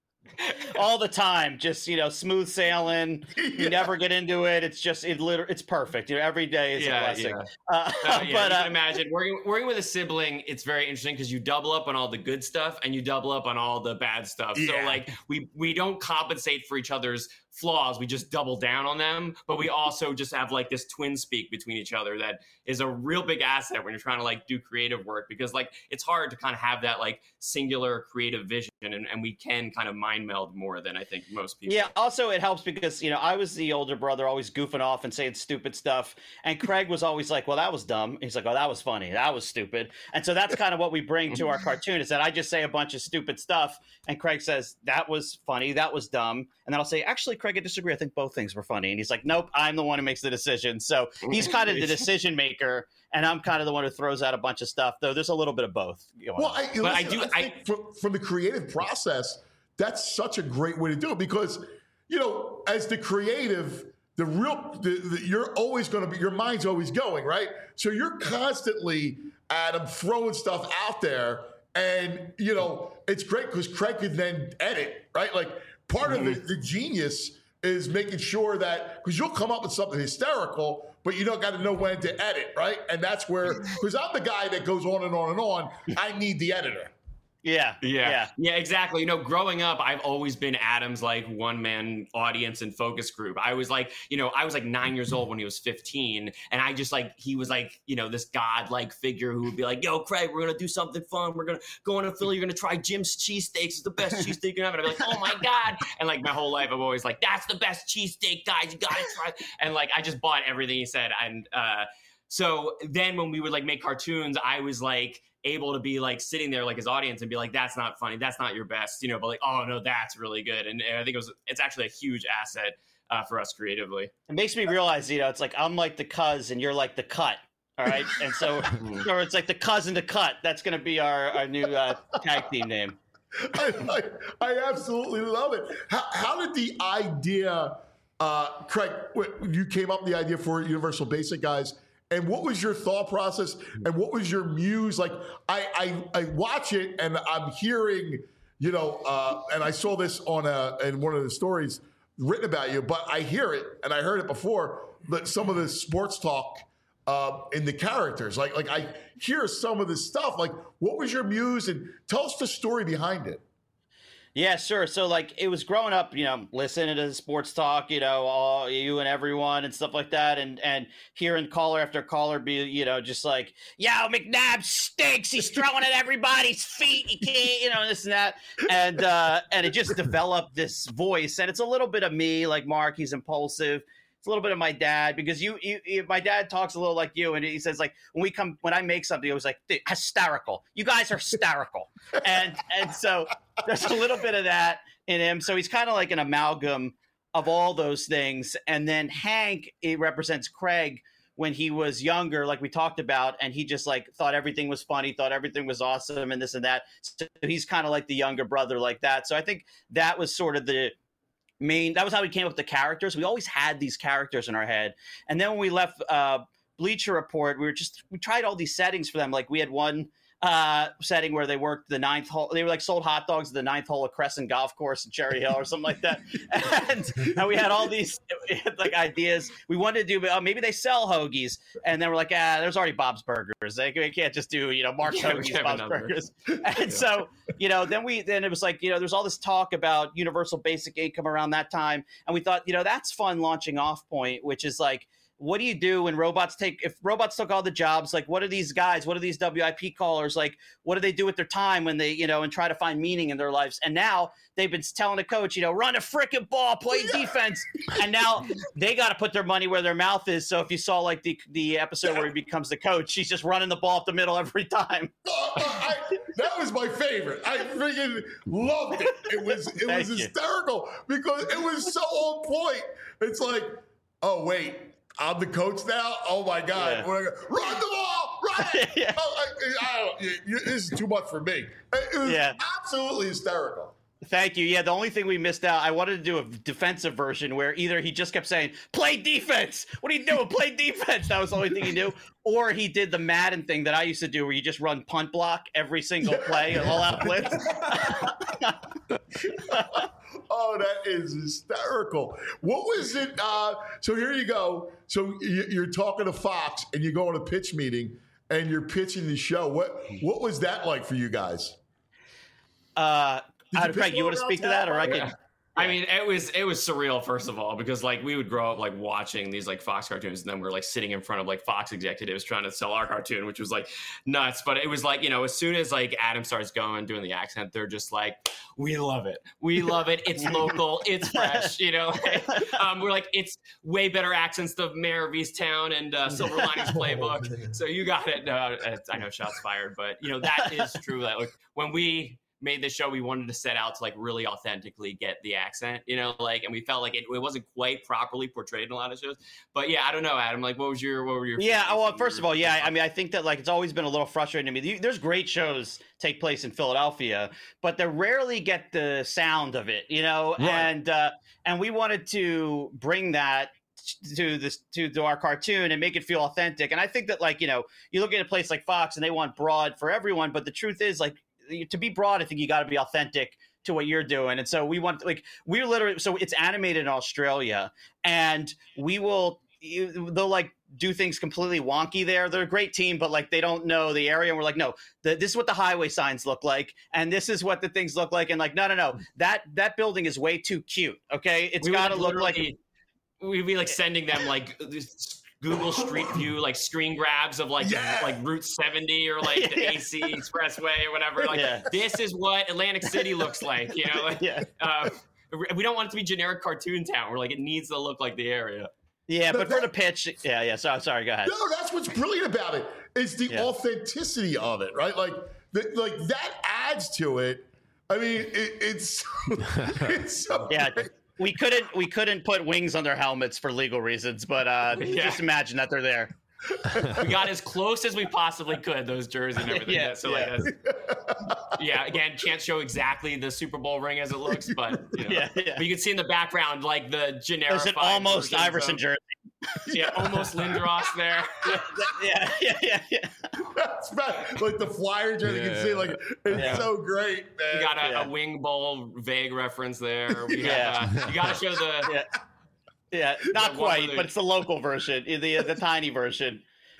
All the time, just you know, smooth sailing. You yeah. never get into it. It's just it. Literally, it's perfect. You know, every day is yeah, a blessing. Yeah. Uh, uh, yeah, but you uh, can imagine working working with a sibling. It's very interesting because you double up on all the good stuff and you double up on all the bad stuff. Yeah. So like we we don't compensate for each other's flaws. We just double down on them. But we also just have like this twin speak between each other that is a real big asset when you're trying to like do creative work because like it's hard to kind of have that like singular creative vision and, and we can kind of mind meld more than I think most people. Yeah. Also, it helps because you know I was the older brother, always goofing off and saying stupid stuff, and Craig was always like, "Well, that was dumb." He's like, "Oh, that was funny. That was stupid." And so that's kind of what we bring to our cartoon is that I just say a bunch of stupid stuff, and Craig says that was funny, that was dumb, and then I'll say, "Actually, Craig, I disagree. I think both things were funny." And he's like, "Nope, I'm the one who makes the decision." So he's kind of the decision maker, and I'm kind of the one who throws out a bunch of stuff. Though there's a little bit of both. Well, I, listen, I do. I think I, from, from the creative process, that's such a great way to do it because, you know, as the creative, the real, the, the, you're always going to be, your mind's always going, right? So you're constantly, Adam, throwing stuff out there. And, you know, it's great because Craig can then edit, right? Like part mm-hmm. of the, the genius is making sure that, because you'll come up with something hysterical, but you don't got to know when to edit, right? And that's where, because I'm the guy that goes on and on and on, I need the editor. Yeah, yeah, yeah, yeah, exactly. You know, growing up, I've always been Adam's like one man audience and focus group. I was like, you know, I was like nine years old when he was fifteen, and I just like he was like, you know, this god-like figure who would be like, "Yo, Craig, we're gonna do something fun. We're gonna go into Philly. You're gonna try Jim's cheesesteaks. It's the best cheesesteak you can have." And I'd be like, "Oh my god!" And like my whole life, I'm always like, "That's the best cheesesteak, guys. You gotta try." And like I just bought everything he said, and uh, so then when we would like make cartoons, I was like able to be like sitting there like his audience and be like, "That's not funny, that's not your best," you know, but like, "Oh no, that's really good." And, and I think it was it's actually a huge asset uh, for us creatively. It makes me realize, you know, it's like I'm like the cuz and you're like the cut. All right. And so or it's like the cousin to cut. That's gonna be our, our new uh, tag team name. I, I, I absolutely love it. How, how did the idea uh Craig, you came up with the idea for Universal Basic Guys? And what was your thought process? And what was your muse? Like, I I, I watch it and I'm hearing, you know, uh, and I saw this on a in one of the stories written about you, but I hear it and I heard it before. But some of the sports talk uh, in the characters, like like I hear some of this stuff. Like, what was your muse? And tell us the story behind it. Yeah, sure. So like it was growing up, you know, listening to sports talk, you know, all you and everyone and stuff like that. And, and hearing caller after caller be, you know, just like, yo, McNabb stinks. He's throwing at everybody's feet. He can't, you know, this and that. And, uh, and it just developed this voice. And it's a little bit of me, like Mark, he's impulsive. It's a little bit of my dad because you, you, you, my dad talks a little like you, and he says like when we come, when I make something, he was like hysterical. You guys are hysterical, and and so there's a little bit of that in him. So he's kind of like an amalgam of all those things. And then Hank, it represents Craig when he was younger, like we talked about, and he just like thought everything was funny, thought everything was awesome, and this and that. So he's kind of like the younger brother, like that. So I think that was sort of the main, that was how we came up with the characters. We always had these characters in our head. And then when we left uh, Bleacher Report, we were just, we tried all these settings for them. Like we had one uh, setting where they worked the ninth hole. They were like sold hot dogs at the ninth hole of Crescent Golf Course in Cherry Hill or something like that. And, and we had all these like ideas. We wanted to do, oh, maybe they sell hoagies. And then we're like, ah, there's already Bob's Burgers. They, we can't just do, you know, Mark's Yeah, Hoagies, Bob's Burgers. And so, you know, then we, then it was like, you know, there's all this talk about universal basic income around that time. And we thought, you know, that's fun launching Off Point, which is like, what do you do when robots take, if robots took all the jobs, like what are these guys, what are these W I P callers, like what do they do with their time when they, you know, and try to find meaning in their lives? And now they've been telling the coach, you know, run a frickin' ball, play defense. And now they got to put their money where their mouth is. So if you saw like the the episode where he becomes the coach, he's just running the ball up the middle every time. Oh, I, that was my favorite. I freaking loved it. It was it was hysterical because it was so on point. It's like, oh wait, I'm the coach now. Oh my God! Yeah. We're gonna, run the ball, run it. Yeah. Oh, I, I don't, you, you, this is too much for me. It was Yeah. absolutely hysterical. Thank you. Yeah, the only thing we missed out, I wanted to do a defensive version where either he just kept saying, play defense. What are you doing? Play defense. That was the only thing he knew. Or he did the Madden thing that I used to do where you just run punt block every single play, all out blitz. Oh, that is hysterical. What was it? Uh, so here you go. So you- you're talking to Fox and you go on a pitch meeting and you're pitching the show. What What was that like for you guys? Uh, Did uh, you Craig, pitch you want to one speak to that, or I around can? Yeah. I mean, it was it was surreal, first of all, because like we would grow up like watching these like Fox cartoons, and then we're like sitting in front of like Fox executives trying to sell our cartoon, which was like nuts. But it was like, you know, as soon as like Adam starts going doing the accent, they're just like, we love it, we love it. It's local, it's fresh, you know. um, we're like, it's way better accents than Mayor of Easttown and uh, Silver Linings Playbook. So you got it. No, I know shots fired, but you know that is true. That like when we made the show, we wanted to set out to like really authentically get the accent, you know, like, and we felt like it, it wasn't quite properly portrayed in a lot of shows. But yeah, I don't know, Adam, like, what was your, what were your? Yeah, well, first of all, yeah, I mean, I think that like it's always been a little frustrating to me. There's great shows take place in Philadelphia, but they rarely get the sound of it, you know, Right. and uh, and we wanted to bring that to this to, to our cartoon and make it feel authentic. And I think that like, you know, you look at a place like Fox and they want broad for everyone, but the truth is like, to be broad, I think you got to be authentic to what you're doing. And so we want, like, we're literally, so it's animated in Australia, and we will, you, they'll like do things completely wonky there. They're a great team, but like they don't know the area. And we're like, no, the, this is what the highway signs look like, and this is what the things look like. And like, no, no, no, that that building is way too cute. Okay, it's We got to would look like. literally- We'd be like sending them like this Google Street View, like screen grabs of like Yeah. like Route seventy or like the Yeah. A C Expressway or whatever. Like Yeah. this is what Atlantic City looks like, you know. Like, Yeah. uh, we don't want it to be generic cartoon town. We're like, it needs to look like the area. Yeah, No, but for that- the pitch, yeah, yeah. So sorry, go ahead. No, that's what's brilliant about it. It's the Yeah. authenticity of it, right? Like, the, like that adds to it. I mean, it, it's it's so Yeah. great. We couldn't we couldn't put wings on their helmets for legal reasons, but uh, Yeah. just imagine that they're there. We got as close as we possibly could, those jerseys and everything. Yeah, so yeah. like, that's, yeah. Again, can't show exactly the Super Bowl ring as it looks, but you know, Yeah, yeah. but you can see in the background like the generic. There's an almost Iverson jersey. Yeah, almost Lindros there. Yeah, yeah, yeah, yeah. That's bad. Like the flyer jersey, you can see, like it's Yeah. so great, man. You got a, Yeah. a wing bowl vague reference there. We Yeah. have, uh, you got to show the. Yeah. Yeah, not The one quite, where they- but it's the local version, the the tiny version.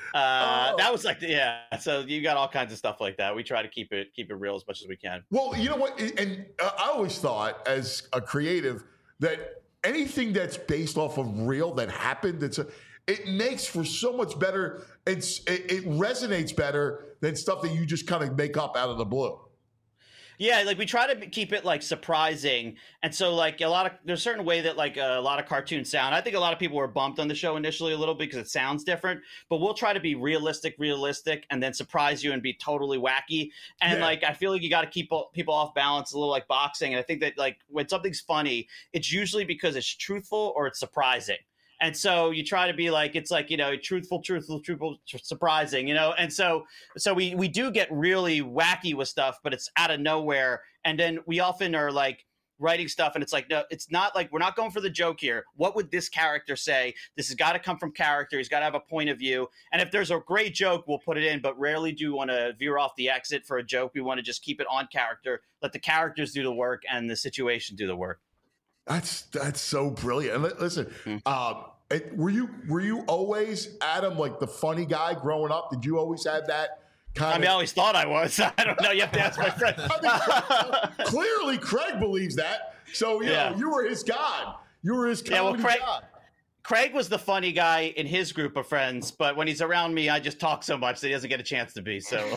Uh, Oh. That was like, yeah. So you got all kinds of stuff like that. We try to keep it keep it real as much as we can. Well, you know what? And uh, I always thought, as a creative, that anything that's based off of real that happened, it's a, it makes for so much better. It's it, it resonates better than stuff that you just kind of make up out of the blue. Yeah, like we try to keep it like surprising, and so like a lot of there's a certain way that like a lot of cartoons sound. I think a lot of people were bumped on the show initially a little bit because it sounds different, but we'll try to be realistic, realistic, and then surprise you and be totally wacky. And Yeah. like I feel like you got to keep people off balance, a little like boxing. And I think that like when something's funny, it's usually because it's truthful or it's surprising. And so you try to be like, it's like, you know, truthful, truthful, truthful, tr- surprising, you know? And so, so we, we do get really wacky with stuff, but it's out of nowhere. And then we often are like writing stuff and it's like, no, it's not like, we're not going for the joke here. What would this character say? This has got to come from character. He's got to have a point of view. And if there's a great joke, we'll put it in, but rarely do we want to veer off the exit for a joke. We want to just keep it on character, let the characters do the work and the situation do the work. That's that's so brilliant. And li- listen, Mm. um, it, were you were you always, Adam, like the funny guy growing up? Did you always have that kind I of? mean, I always thought I was. I don't know. You have to ask my friend. I mean, clearly, Craig believes that. So you Yeah. know, you were his god. You were his Yeah, well, comedy Craig- god. Craig was the funny guy in his group of friends, but when he's around me, I just talk so much that he doesn't get a chance to be. So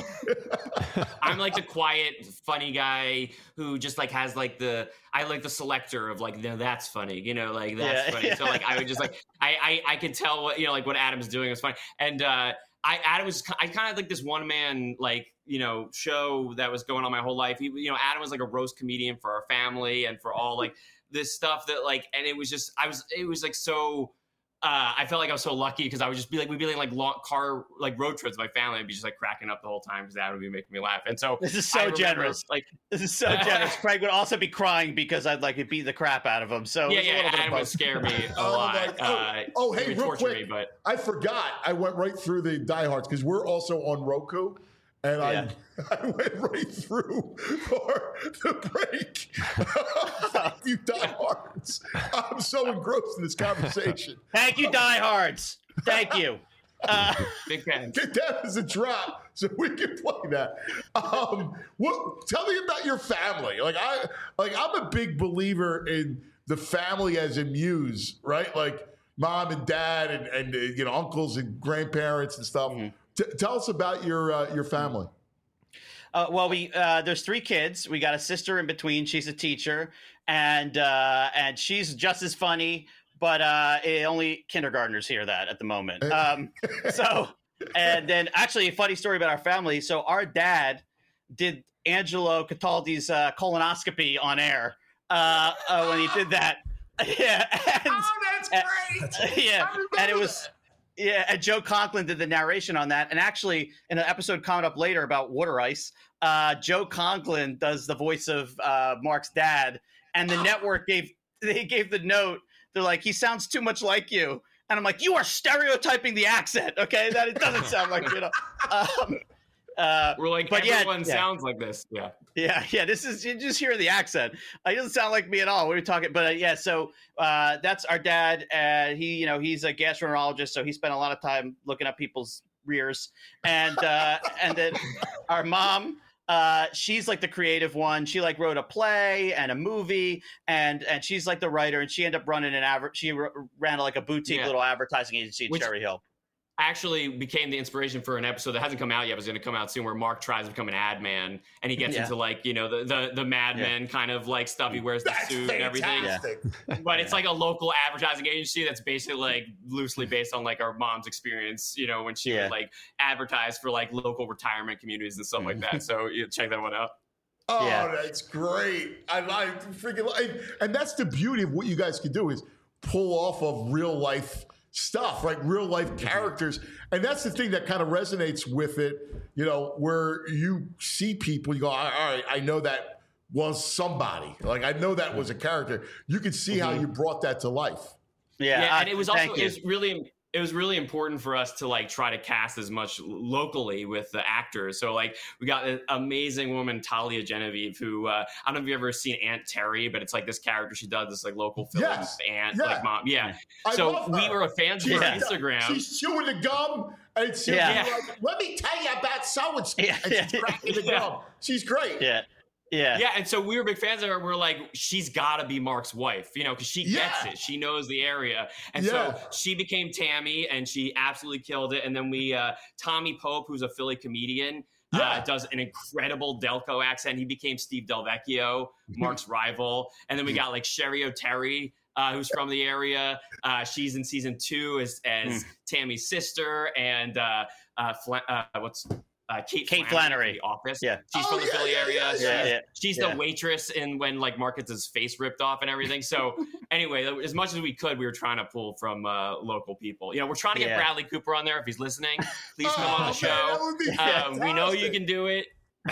I'm like the quiet, funny guy who just like has like the I like the selector of like, no, that's funny, you know, like that's Yeah. funny. So like I would just like I I I could tell what you know like what Adam's doing was funny, and uh, I Adam was I kind of like this one man like you know show that was going on my whole life. He, you know, Adam was like a roast comedian for our family and for all like this stuff that like, and it was just I was it was like so. Uh, I felt like I was so lucky because I would just be like, we'd be in like long car, like road trips with my family. I'd be just like cracking up the whole time because that would be making me laugh. And so this is I so remember, generous. Like, this is so generous. Craig would also be crying because I'd like to beat the crap out of him. So yeah, it was a yeah, little bit of Adam would both. scare me a Oh, lot. my- oh, uh, oh, he hey, would real torture quick. me, but I forgot. I went right through the diehards because we're also on Roku, and Yeah. I I went right through for the break. You diehards! I'm so engrossed in this conversation. Thank you, diehards. Thank you. Uh, big fan. Get that as a drop so we can play that. Um, what? Tell me about your family. Like I, like I'm a big believer in the family as a muse, right? Like mom and dad and and uh, you know uncles and grandparents and stuff. Mm-hmm. T- tell us about your uh, your family. Uh, well, we uh, there's three kids. We got a sister in between. She's a teacher, and uh, and she's just as funny, but uh, eh, only kindergartners hear that at the moment. Um, so, and then actually, a funny story about our family. So our dad did Angelo Cataldi's uh, colonoscopy on air uh, uh, when he did that. Yeah, and, Oh, that's great. yeah, I remember and it was. that. Yeah, and Joe Conklin did the narration on that. And actually, in an episode coming up later about water ice, uh, Joe Conklin does the voice of uh, Mark's dad. And the network gave they gave the note. They're like, he sounds too much like you. And I'm like, you are stereotyping the accent, okay? That it doesn't sound like you know. Um, uh, We're like, but yeah, everyone yeah. sounds like this. Yeah. Yeah, yeah. This is you just hear the accent. Uh, He doesn't sound like me at all. We were talking, but uh, yeah. So uh, that's our dad. Uh, he, you know, he's a gastroenterologist, so he spent a lot of time looking up people's rears. And uh, and then our mom, uh, she's like the creative one. She like wrote a play and a movie, and and she's like the writer. And she ended up running an adver- She r- ran like a boutique Yeah. little advertising agency in Which- Cherry Hill. Actually became the inspiration for an episode that hasn't come out yet, but is going to come out soon, where Mark tries to become an ad man, and he gets Yeah. into like you know the the, the Mad Yeah. Men kind of like stuff. He wears the That's suit and everything. fantastic. But it's like a local advertising agency that's basically like loosely based on like our mom's experience, you know, when she Yeah. would like advertise for like local retirement communities and stuff like that. So you check that one out. Oh, Yeah. that's great. I like freaking and, and that's the beauty of what you guys can do is pull off of real life stuff, right? Real life characters. And that's the thing that kind of resonates with it, you know, where you see people, you go, all right, I know that was somebody. Like, I know that was a character. You can see how you brought that to life. Yeah, Yeah, uh, and it was also thank it you. was really it was really important for us to like try to cast as much locally with the actors. So like we got an amazing woman, Talia Genevieve, who uh, I don't know if you've ever seen Aunt Terry, but it's like this character she does this like local film Yes. aunt Yeah. like mom. Yeah. I so love we her. were fans of her Yeah. Instagram. She's chewing the gum And she'll Yeah. be like, let me tell you about so-and-so. Yeah. And she's cracking the Yeah. gum. She's great. Yeah. Yeah. Yeah, and so we were big fans of her. We're like, she's got to be Mark's wife, you know, because she gets Yeah. it. She knows the area. And Yeah. so she became Tammy, and she absolutely killed it. And then we, uh, Tommy Pope, who's a Philly comedian, Yeah. uh, does an incredible Delco accent. He became Steve Del Vecchio, Mark's rival. And then we got like Sherry O'Terry, uh, who's from the area. Uh, she's in season two as, as Tammy's sister. And uh, uh, Fla- uh, what's... Uh, Kate, Kate Flannery, Flannery. from The Office. Yeah. She's Oh, from the yeah, Philly yeah, area. yeah, She's, yeah. Yeah. she's Yeah. the waitress in when like Mark gets his face ripped off and everything. So anyway, as much as we could, we were trying to pull from uh, local people. You know, we're trying to get Yeah. Bradley Cooper on there if he's listening. Please come Oh, on the man, show. that would be Uh, we know you fantastic. can do it.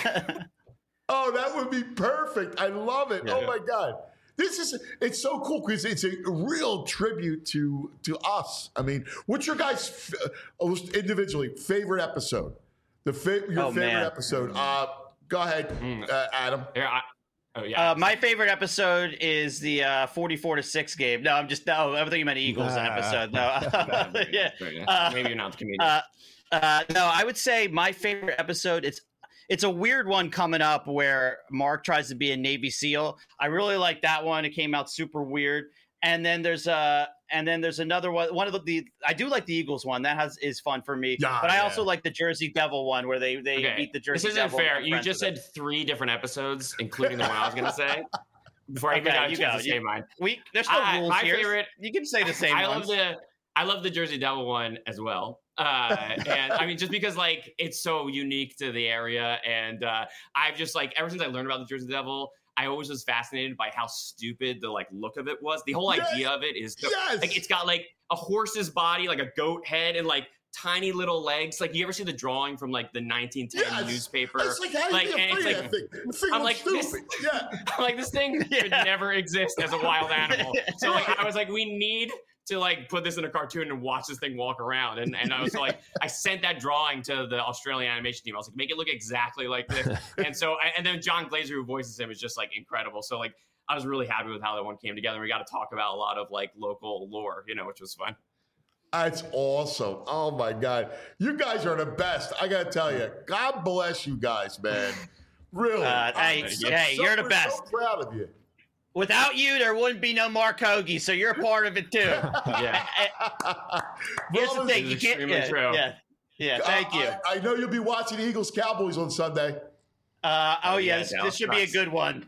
Oh, that would be perfect. I love it. Yeah. Oh my God. This is it's so cool because it's a real tribute to to us. I mean, what's your guys' uh, individually favorite episode? The fa- your Oh, favorite man. episode. Uh, go ahead, Mm. uh, Adam. Here, I, oh yeah. Uh, my favorite episode is the uh, forty-four to six game. No, I'm just no. I thought you meant Eagles Ah. episode. No, yeah. Uh, Maybe you're not the comedian. Uh, uh, no, I would say my favorite episode. It's it's a weird one coming up where Mark tries to be a Navy SEAL. I really like that one. It came out super weird. And then there's a and then there's another one. One of the, the I do like the Eagles one. That has is fun for me. Yeah, but I yeah. also like the Jersey Devil one where they they Okay. beat the Jersey This isn't Devil. fair. and You friends just with said three different episodes, including the one I was going to say. Before I even Okay, got a you chance go. to You- say mine. it. We there's no I- rules my here. favorite- You can say the same I ones. love the I love the Jersey Devil one as well. Uh, and I mean, just because like it's so unique to the area, and uh, I've just like ever since I learned about the Jersey Devil, I always was fascinated by how stupid the like look of it was. The whole Yes! idea of it is so, Yes! like it's got like a horse's body, like a goat head, and like tiny little legs. Like you ever see the drawing from like the nineteen ten Yes. newspaper? It's like how Like, you be and it's afraid of like- that thing? The thing I'm looks like, this- stupid. Yeah. I'm like this thing could never exist as a wild animal. So like I was like, we need to like put this in a cartoon and watch this thing walk around. And and I was like, I sent that drawing to the Australian animation team. I was like, make it look exactly like this. And so and then John Glazer, who voices him, is just like incredible. So like I was really happy with how that one came together. And we got to talk about a lot of like local lore, you know, which was fun. That's awesome. Oh my God. You guys are the best. I gotta tell you, God bless you guys, man. Really. Uh, hey, I'm so- hey, so- you're the we're best. So proud of you. Without you, there wouldn't be no Mark Hoagie, so you're a part of it too. Yeah. Here's the Brothers, thing: you is can't. extremely Yeah, true. yeah, yeah. Thank I- you. I, I know you'll be watching Eagles Cowboys on Sunday. Uh, oh Oh, yeah, yeah, this, no, this should be a nice. good one.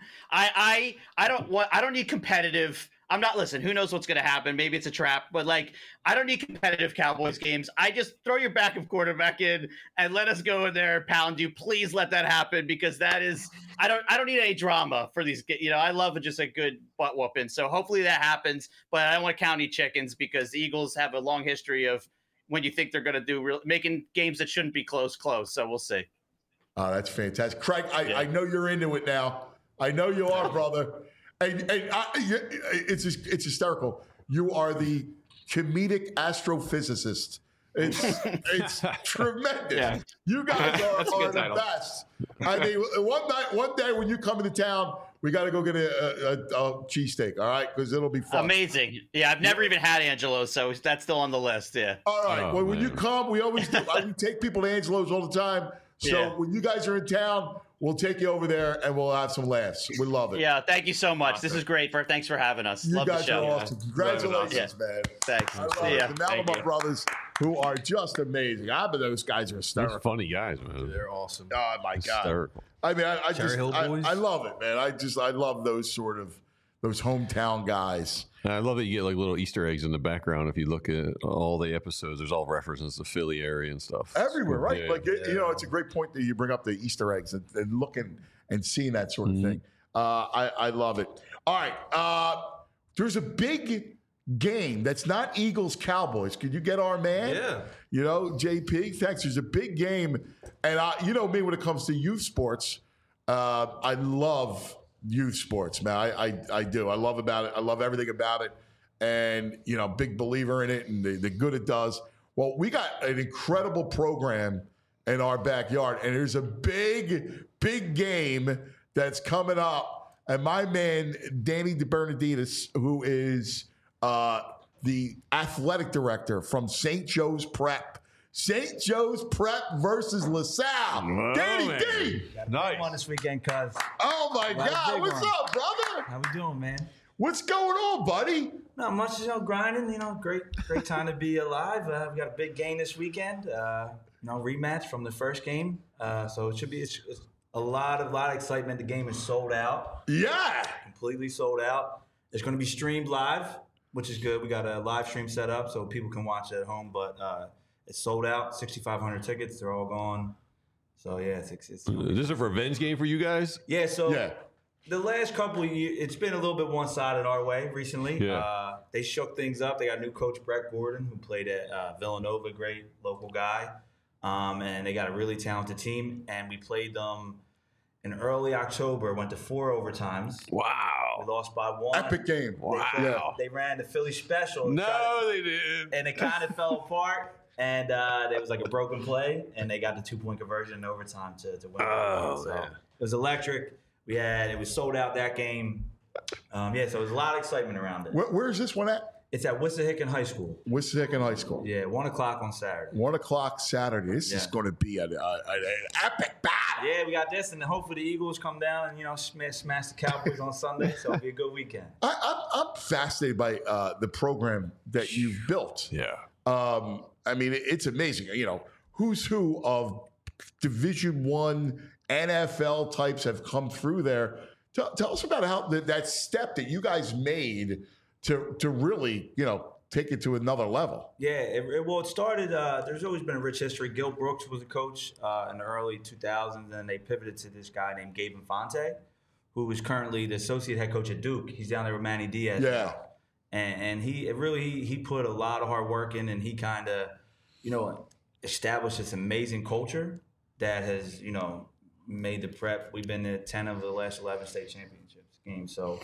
I I I don't want. I don't need competitive. I'm not. Listen, who knows what's going to happen? Maybe it's a trap, but like, I don't need competitive Cowboys games. I just throw your backup quarterback in and let us go in there and pound you. Please let that happen because that is. I don't. I don't need any drama for these. You know, I love just a good butt whooping. So hopefully that happens. But I don't want to count any chickens because the Eagles have a long history of when you think they're going to do real making games that shouldn't be close, close. So we'll see. Oh, that's fantastic. Craig, I, I know you're into it now. I know you are, brother. And, and I, you- it's just, it's hysterical. You are the comedic astrophysicist. It's it's tremendous. Yeah. You guys are, That's a good are the title. best. I mean, one night, one day when you come into town, we got to go get a, a, a cheesesteak, all right? Because it'll be fun. Amazing. Yeah, I've never even had Angelo, so that's still on the list. Yeah. All right. Oh, well, when you man. come, we always do. I, we take people to Angelo's all the time. So Yeah. when you guys are in town, we'll take you over there and we'll have some laughs. We love it. Yeah, thank you so much. This is great. For thanks for having us. You Love the guys show. are awesome. Congratulations, man. Thanks. I love See it. ya. The Thank Malama you. brothers, who are just amazing. I bet those guys are They're hysterical. funny guys, man. They're awesome. Oh my god! Hysterical. I mean, I, I Cherry just, Hill I, Boys? I love it, man. I just, I love those sort of, those hometown guys. And I love that you get like little Easter eggs in the background. If you look at all the episodes, there's all references to Philly area and stuff. Everywhere, right? Yeah. Like, it, you know, it's a great point that you bring up the Easter eggs and, and looking and seeing that sort of thing. Uh, I, I love it. All right. Uh, there's a big game that's not Eagles Cowboys. Could you get our man? Yeah. You know, J P, thanks. There's a big game. And I, you know me, when it comes to youth sports, uh, I love youth sports, man. I, I, I do. I love about it. I love everything about it. And, you know, big believer in it and the, the good it does. Well, we got an incredible program in our backyard. And there's a big, big game that's coming up. And my man, Danny DeBernardidis, who is uh, the athletic director from Saint Joe's Prep, Saint Joe's Prep versus LaSalle. Oh, Danny man. D. Nice. On this weekend, cuz. Oh my Last God. big What's one. up, brother? How we doing, man? What's going on, buddy? Not much, you know, grinding. You know, great, great time to be alive. Uh, we got a big game this weekend. Uh, you know, rematch from the first game. Uh, so it should be it's, it's a lot of lot of excitement. The game is sold out. Yeah. Completely sold out. It's going to be streamed live, which is good. We got a live stream set up so people can watch it at home. But uh, it's sold out. sixty-five hundred tickets. They're all gone. So yeah, it's, it's, it's Is this a revenge game for you guys? yeah. So. Yeah. The last couple of years, it's been a little bit one-sided our way recently. Yeah. Uh, they shook things up. They got new coach Brett Gordon, who played at uh, Villanova, great local guy. Um, and they got a really talented team. And we played them in early October, went to four overtimes. Wow. We lost by one. Epic game. Wow. They, Yeah. they ran the Philly special. No, tried- they didn't. and it kind of fell apart. And uh, there was like a broken play, and they got the two-point conversion in overtime to, to win. Oh, so man. it was electric. We had it was sold out that game. Um, yeah, so it was a lot of excitement around it. Where, where's this one at? It's at Wissahickon High School. Wissahickon High School. Yeah, one o'clock on Saturday. One o'clock Saturday. This is Yeah. going to be an, uh, an epic battle. Yeah, we got this, and then hopefully the Eagles come down and you know smash, smash the Cowboys on Sunday. So it'll be a good weekend. I, I'm, I'm fascinated by uh, the program that you've built. Yeah. Um, I mean, it, it's amazing. You know, who's who of Division One N F L types have come through there. Tell, tell us about how that, that step that you guys made to to really, you know, take it to another level. Yeah, it, it, well, it started. Uh, there's always been a rich history. Gil Brooks was a coach uh, in the early two thousands, and they pivoted to this guy named Gabe Infante, who is currently the associate head coach at Duke. He's down there with Manny Diaz. Yeah. now. And, and he it really he, he put a lot of hard work in, and he kind of, you know, established this amazing culture that has, you know, made the prep. We've been to ten of the last eleven state championships games, so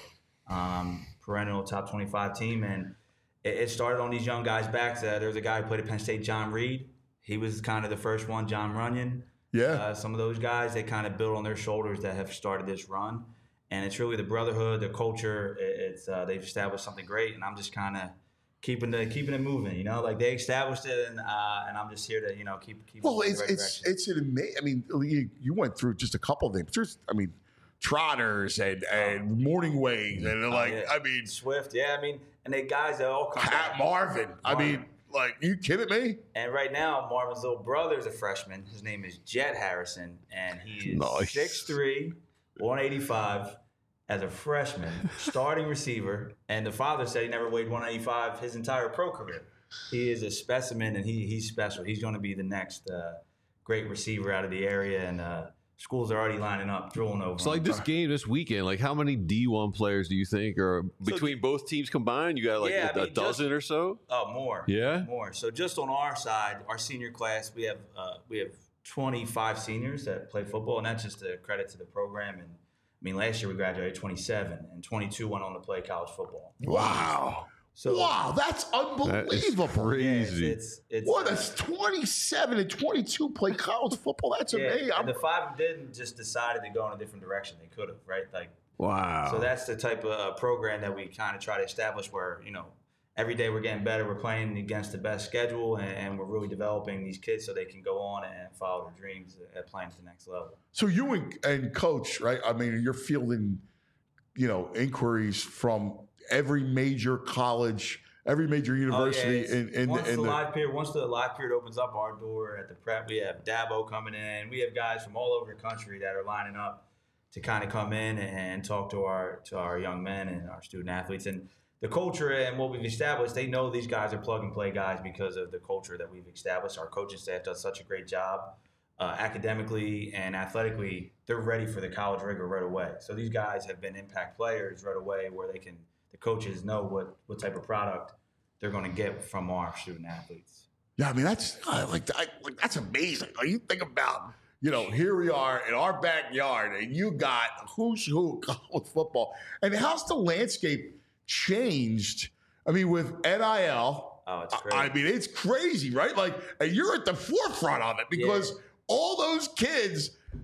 um, perennial top twenty-five team. And it, it started on these young guys' backs. Uh, there was a guy who played at Penn State, John Reed. He was kind of the first one. John Runyon. Yeah. Uh, some of those guys, they kind of built on their shoulders that have started this run. And it's really the brotherhood, the culture. It, it's uh, they've established something great, and I'm just kind of keeping the keeping it moving. You know, like they established it, and uh, and I'm just here to you know keep keep. Well, it in it's the right it's direction. it's an amazing. I mean, you, you went through just a couple of them. There's, I mean, trotters and and morning wings and Oh, like, yeah. I mean, Swift, yeah. I mean, and they guys that all come. Pat back. Marvin. I mean, like, you kidding me? And right now, Marvin's little brother is a freshman. His name is Jet Harrison, and he is Nice. six three, one eighty-five as a freshman, starting receiver. And the father said he never weighed one eighty-five his entire pro career. He is a specimen, and he he's special. He's going to be the next uh, great receiver out of the area, and uh, schools are already lining up, drooling over. So like him. this game this weekend, like how many D one players do you think are between both teams combined? You got like Yeah, a, I a mean, dozen just- or so? Oh, more. Yeah? more. So just on our side, our senior class, we have uh, we have twenty-five seniors that play football, and that's just a credit to the program. And I mean, last year we graduated twenty-seven, and twenty-two went on to play college football. Wow. So wow, that's unbelievable. crazy. Yeah, it's, it's, What, uh, that's twenty-seven and twenty-two play college football? That's yeah, amazing. and the five didn't just decided to go in a different direction. They could have, right? Like, Wow. so that's the type of uh, program that we kind of try to establish where, you know, every day we're getting better. We're playing against the best schedule, and, and we're really developing these kids so they can go on and follow their dreams at playing at the next level. So you and, and coach, right? I mean, you're fielding, you know, inquiries from every major college, every major university Oh, yeah, in, in, once in the, the live period, once the live period opens up our door at the prep, we have Dabo coming in. We have guys from all over the country that are lining up to kind of come in and talk to our to our young men and our student athletes. And the culture and what we've established, they know these guys are plug and play guys because of the culture that we've established. Our coaching staff does such a great job. Uh, academically and athletically, they're ready for the college rigor right away. So these guys have been impact players right away where they can, the coaches know what, what type of product they're going to get from our student athletes. Yeah, I mean, that's uh, like, I, like that's amazing. Like, you think about, you know, here we are in our backyard, and you got who's who of college football. And how's the landscape changed? I mean, with N I L, oh, it's crazy. I mean, it's crazy, right? Like, and you're at the forefront of it because Yeah. all those kids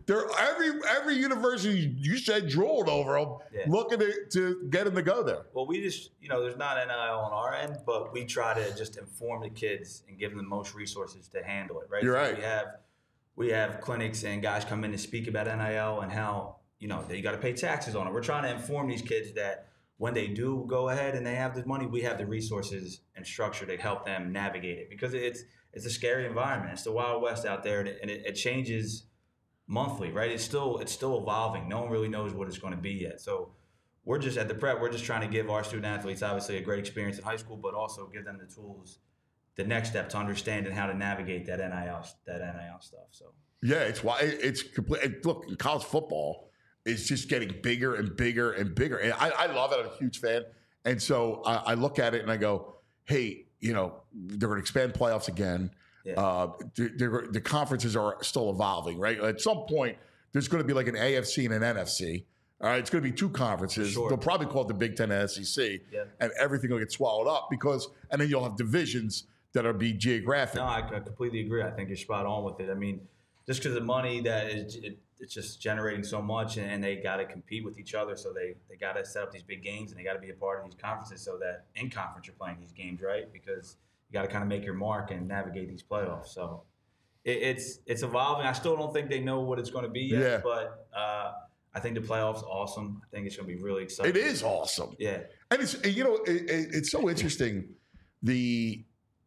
they're every every university you said drooled over them, Yeah. looking to, to get them to go there. Well, we just, you know, there's not N I L on our end, but we try to just inform the kids and give them the most resources to handle it, right? You're so right. We have we have clinics and guys come in to speak about N I L and how, you know, that you got to pay taxes on it. We're trying to inform these kids that when they do go ahead and they have the money, we have the resources and structure to help them navigate it, because it's it's a scary environment. It's the Wild West out there, and it, and it, it changes monthly, right? It's still it's still evolving. No one really knows what it's going to be yet. So we're just at the prep. We're just trying to give our student athletes obviously a great experience in high school, but also give them the tools, the next step to understand and how to navigate that N I L that N I L stuff. So yeah, it's why it's complete. Look, college football is just getting bigger and bigger and bigger, and I, I love it. I'm a huge fan, and so I, I look at it and I go, hey, you know, they're going to expand playoffs again. Yeah. Uh, they're, they're, the conferences are still evolving, right? At some point, there's going to be like an A F C and an N F C. All right, it's going to be two conferences. Sure. They'll probably call it the Big Ten and S E C, yeah. and everything will get swallowed up because, and then you'll have divisions that'll be geographic. No, I, I completely agree. I think you're spot on with it. I mean, just because the money that is, it, it's just generating so much, and, and they got to compete with each other, so they they got to set up these big games, and they got to be a part of these conferences, so that in conference you're playing these games, right? Because you got to kind of make your mark and navigate these playoffs. So it, it's it's evolving. I still don't think they know what it's going to be yet, yeah. but uh, I think the playoffs are awesome. I think it's going to be really exciting. It is awesome. Yeah. And it's, you know, it, it, it's so interesting, the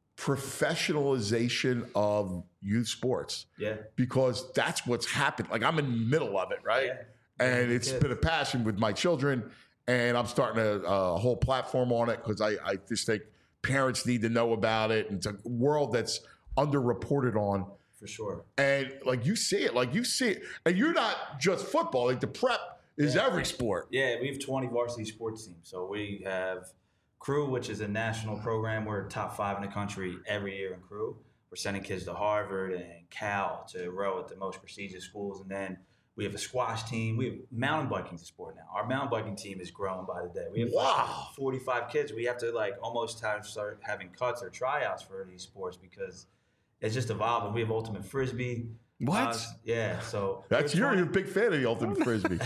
professionalization of youth sports. Yeah. Because that's what's happened. Like, I'm in the middle of it, right? Yeah. And it's yeah. been a passion with my children, and I'm starting a, a whole platform on it because I, I just think parents need to know about it. And it's a world that's underreported on. For sure. And like you see it, like you see it. And you're not just football. Like the prep is yeah. every sport. Yeah, we have twenty varsity sports teams. So we have Crew, which is a national program. We're top five in the country every year in Crew. We're sending kids to Harvard and Cal to row at the most prestigious schools. And then we have a squash team. We have mountain biking to sport now. Our mountain biking team is growing by the day. We have wow. like forty-five kids. We have to like almost have start having cuts or tryouts for these sports because it's just evolving. We have ultimate frisbee. What? Uh, yeah. So that's you're a big fan of the ultimate frisbee.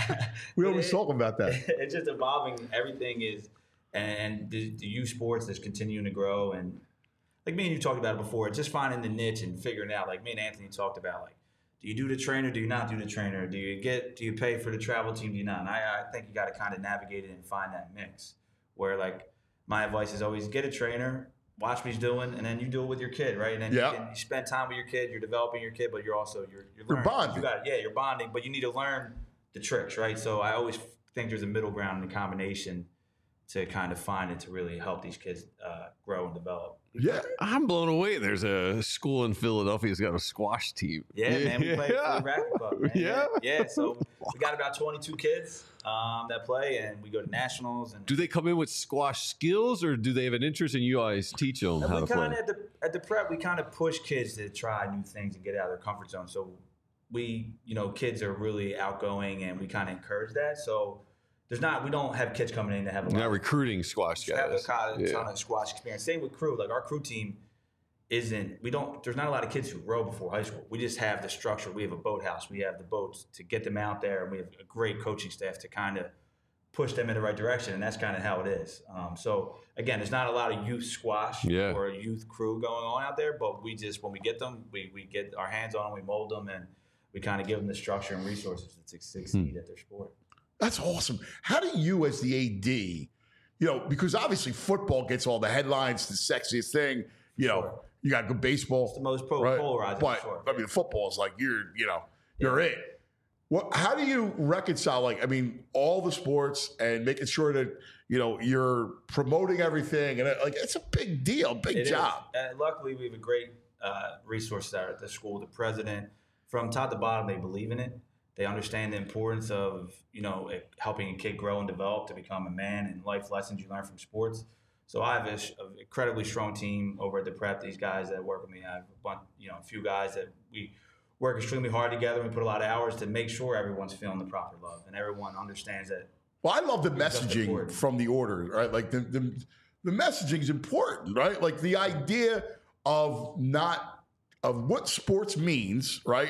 We always it, talk about that. It's just evolving. Everything is, and the, the youth sports is continuing to grow. And like me and you talked about it before, it's just finding the niche and figuring it out. Like me and Anthony talked about, like, do you do the trainer? Do you not do the trainer? Do you get? Do you pay for the travel team? Do you not? And I, I think you got to kind of navigate it and find that mix. Where like my advice is always get a trainer. Watch what he's doing, and then you do it with your kid, right? And then yep. you, can, you spend time with your kid. You're developing your kid, but you're also you're you're, you're bonding. You got, yeah, you're bonding, but you need to learn the tricks, right? So I always think there's a middle ground in the combination to kind of find it to really help these kids uh, grow and develop. Yeah, I'm blown away. There's a school in Philadelphia that's got a squash team. Yeah, man, we play yeah. for the Racket Club. Man. Yeah, yeah. So we got about twenty-two kids um, that play, and we go to nationals. And do they come in with squash skills, or do they have an interest in you guys teach them and how we to play? At the at the prep, we kind of push kids to try new things and get out of their comfort zone. So we, you know, kids are really outgoing, and we kind of encourage that. So. There's not, we don't have kids coming in to have a You're lot not recruiting squash guys. Have a ton yeah. of squash experience. Same with Crew. Like our Crew team isn't, we don't, there's not a lot of kids who row before high school. We just have the structure. We have a boathouse. We have the boats to get them out there. And we have a great coaching staff to kind of push them in the right direction. And that's kind of how it is. Um, so again, there's not a lot of youth squash yeah. or youth Crew going on out there, but we just, when we get them, we, we get our hands on them, we mold them, and we kind of give them the structure and resources to succeed hmm. at their sport. That's awesome. How do you, as the A D, you know, because obviously football gets all the headlines, the sexiest thing, you know, sure. you got good baseball. It's the most pro- right? polarizing. But, sure. I mean, football is like, you're, you know, you're yeah. it. What, how do you reconcile, like, I mean, all the sports and making sure that, you know, you're promoting everything? And, like, it's a big deal, big it job. Is. And luckily, we have a great uh, resource there at the school. The president, from top to bottom, they believe in it. They understand the importance of, you know, helping a kid grow and develop to become a man, and life lessons you learn from sports. So I have an incredibly strong team over at the prep. These guys that work with me, I have a bunch, you know, a few guys that we work extremely hard together. We put a lot of hours to make sure everyone's feeling the proper love and everyone understands that. Well, I love the messaging from the order, right? Like the, the the messaging is important, right? Like the idea of not of what sports means, right?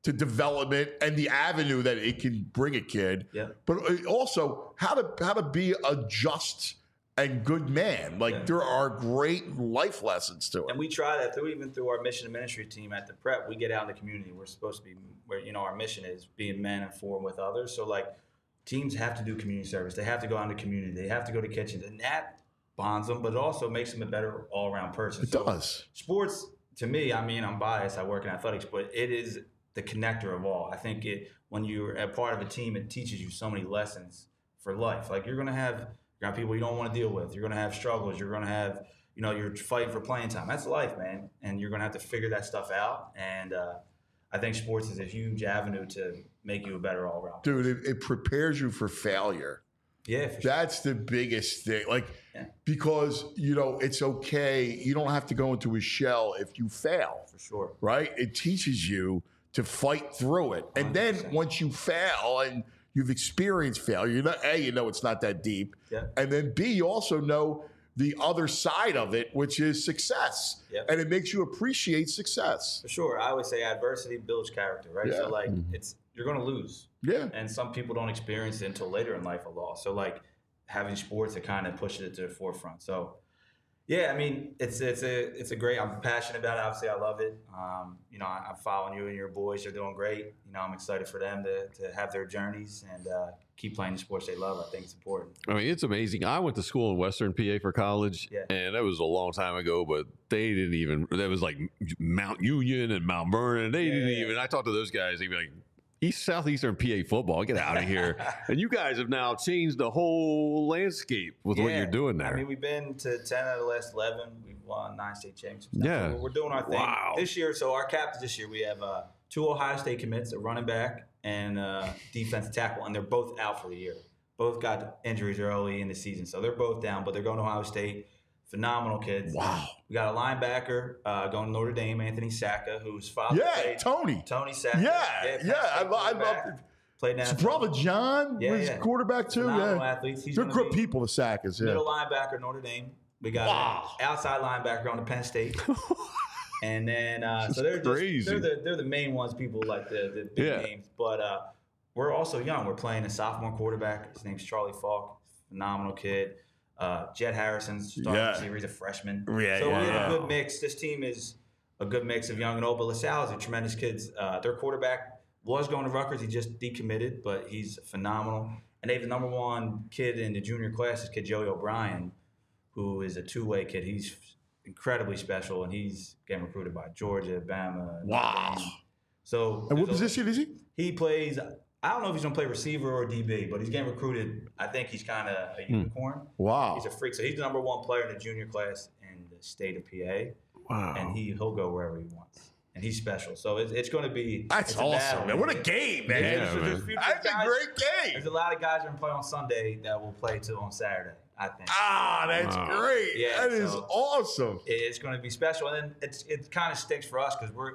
to development and the avenue that it can bring a kid. Yeah. But also how to how to be a just and good man. Like yeah. there are great life lessons to it. And we try that through even through our mission and ministry team at the prep. We get out in the community. We're supposed to be where, you know, our mission is being men and for and with others. So like teams have to do community service. They have to go out in the community. They have to go to kitchens. And that bonds them, but it also makes them a better all around person. It so does. Sports, to me, I mean, I'm biased. I work in athletics, but it is the connector of all. I think it when you're a part of a team, it teaches you so many lessons for life. Like you're gonna have you're gonna have people you don't want to deal with. You're gonna have struggles. You're gonna have, you know, you're fighting for playing time. That's life, man. And you're gonna have to figure that stuff out. And uh, I think sports is a huge avenue to make you a better all around. Dude, it, it prepares you for failure. Yeah, for that's sure. the biggest thing. Like yeah. because you know it's okay. You don't have to go into a shell if you fail. For sure. Right? It teaches you to fight through it. And then once you fail and you've experienced failure, you know, A, you know it's not that deep. Yeah. And then B, you also know the other side of it, which is success. Yeah. And it makes you appreciate success. For sure. I always say adversity builds character, right? Yeah. So like Mm-hmm. it's you're gonna lose. Yeah. And some people don't experience it until later in life, a loss. So like having sports that kind of pushes it to the forefront. So yeah, I mean, it's it's a it's a great. I'm passionate about it. Obviously, I love it. Um, you know, I, I'm following you and your boys. You're doing great. You know, I'm excited for them to to have their journeys and uh, keep playing the sports they love. I think it's important. I mean, it's amazing. I went to school in Western P A for college, yeah. and that was a long time ago. But they didn't even. That was like Mount Union and Mount Vernon. They yeah, didn't yeah. even. I talked to those guys. They'd be like, East Southeastern P A football, get out of here. And you guys have now changed the whole landscape with yeah. what you're doing there. I mean, we've been to ten out of the last eleven. We've won nine state championships. Yeah. So we're doing our thing. Wow. This year, so our captains this year, we have uh, two Ohio State commits, a running back and uh, defensive tackle, and they're both out for the year. Both got injuries early in the season, so they're both down, but they're going to Ohio State. Phenomenal kids. Wow. We got a linebacker uh, going to Notre Dame, Anthony Sacca, whose father Yeah, played. Tony. Tony Sacca. Yeah, Penn yeah. I, State lo- I quarterback. love it. Played His N F L. brother John Yeah, was yeah. quarterback too. Phenomenal Yeah, athletes. He's they're gonna good be people. The Sackers. Yeah. Middle linebacker, Notre Dame. We got Wow. an outside linebacker going to Penn State. And then, uh, so they're just, crazy. they're the they're the main ones. People like the the big Yeah. names, but uh, we're also young. We're playing a sophomore quarterback. His name's Charlie Falk. Phenomenal kid. Uh, Jed Harrison's starting Yeah. receiver. He's a freshman. Yeah, so yeah, we have yeah. a good mix. This team is a good mix of young and old. But LaSalle is a tremendous kid. Uh, their quarterback was going to Rutgers. He just decommitted, but he's phenomenal. And they have the number one kid in the junior class, this kid Joey O'Brien, who is a two-way kid. He's incredibly special, and he's getting recruited by Georgia, Bama. Wow. Notre Dame. So, And what there's a- position is he? He plays. I don't know if he's going to play receiver or D B, but he's getting recruited. I think he's kind of a unicorn. Wow. He's a freak. So he's the number one player in the junior class in the state of P A. Wow. And he he'll go wherever he wants. And he's special. So it's, it's going to be. That's it's a awesome, battle. man. What a game, man. Yeah, There's- man. there's future That's a guys- great game. There's a lot of guys that are going to play on Sunday that will play too on Saturday, I think. Ah, that's Wow. great. Yeah, that is so- awesome. It's going to be special. And then it's it kind of stinks for us because we're,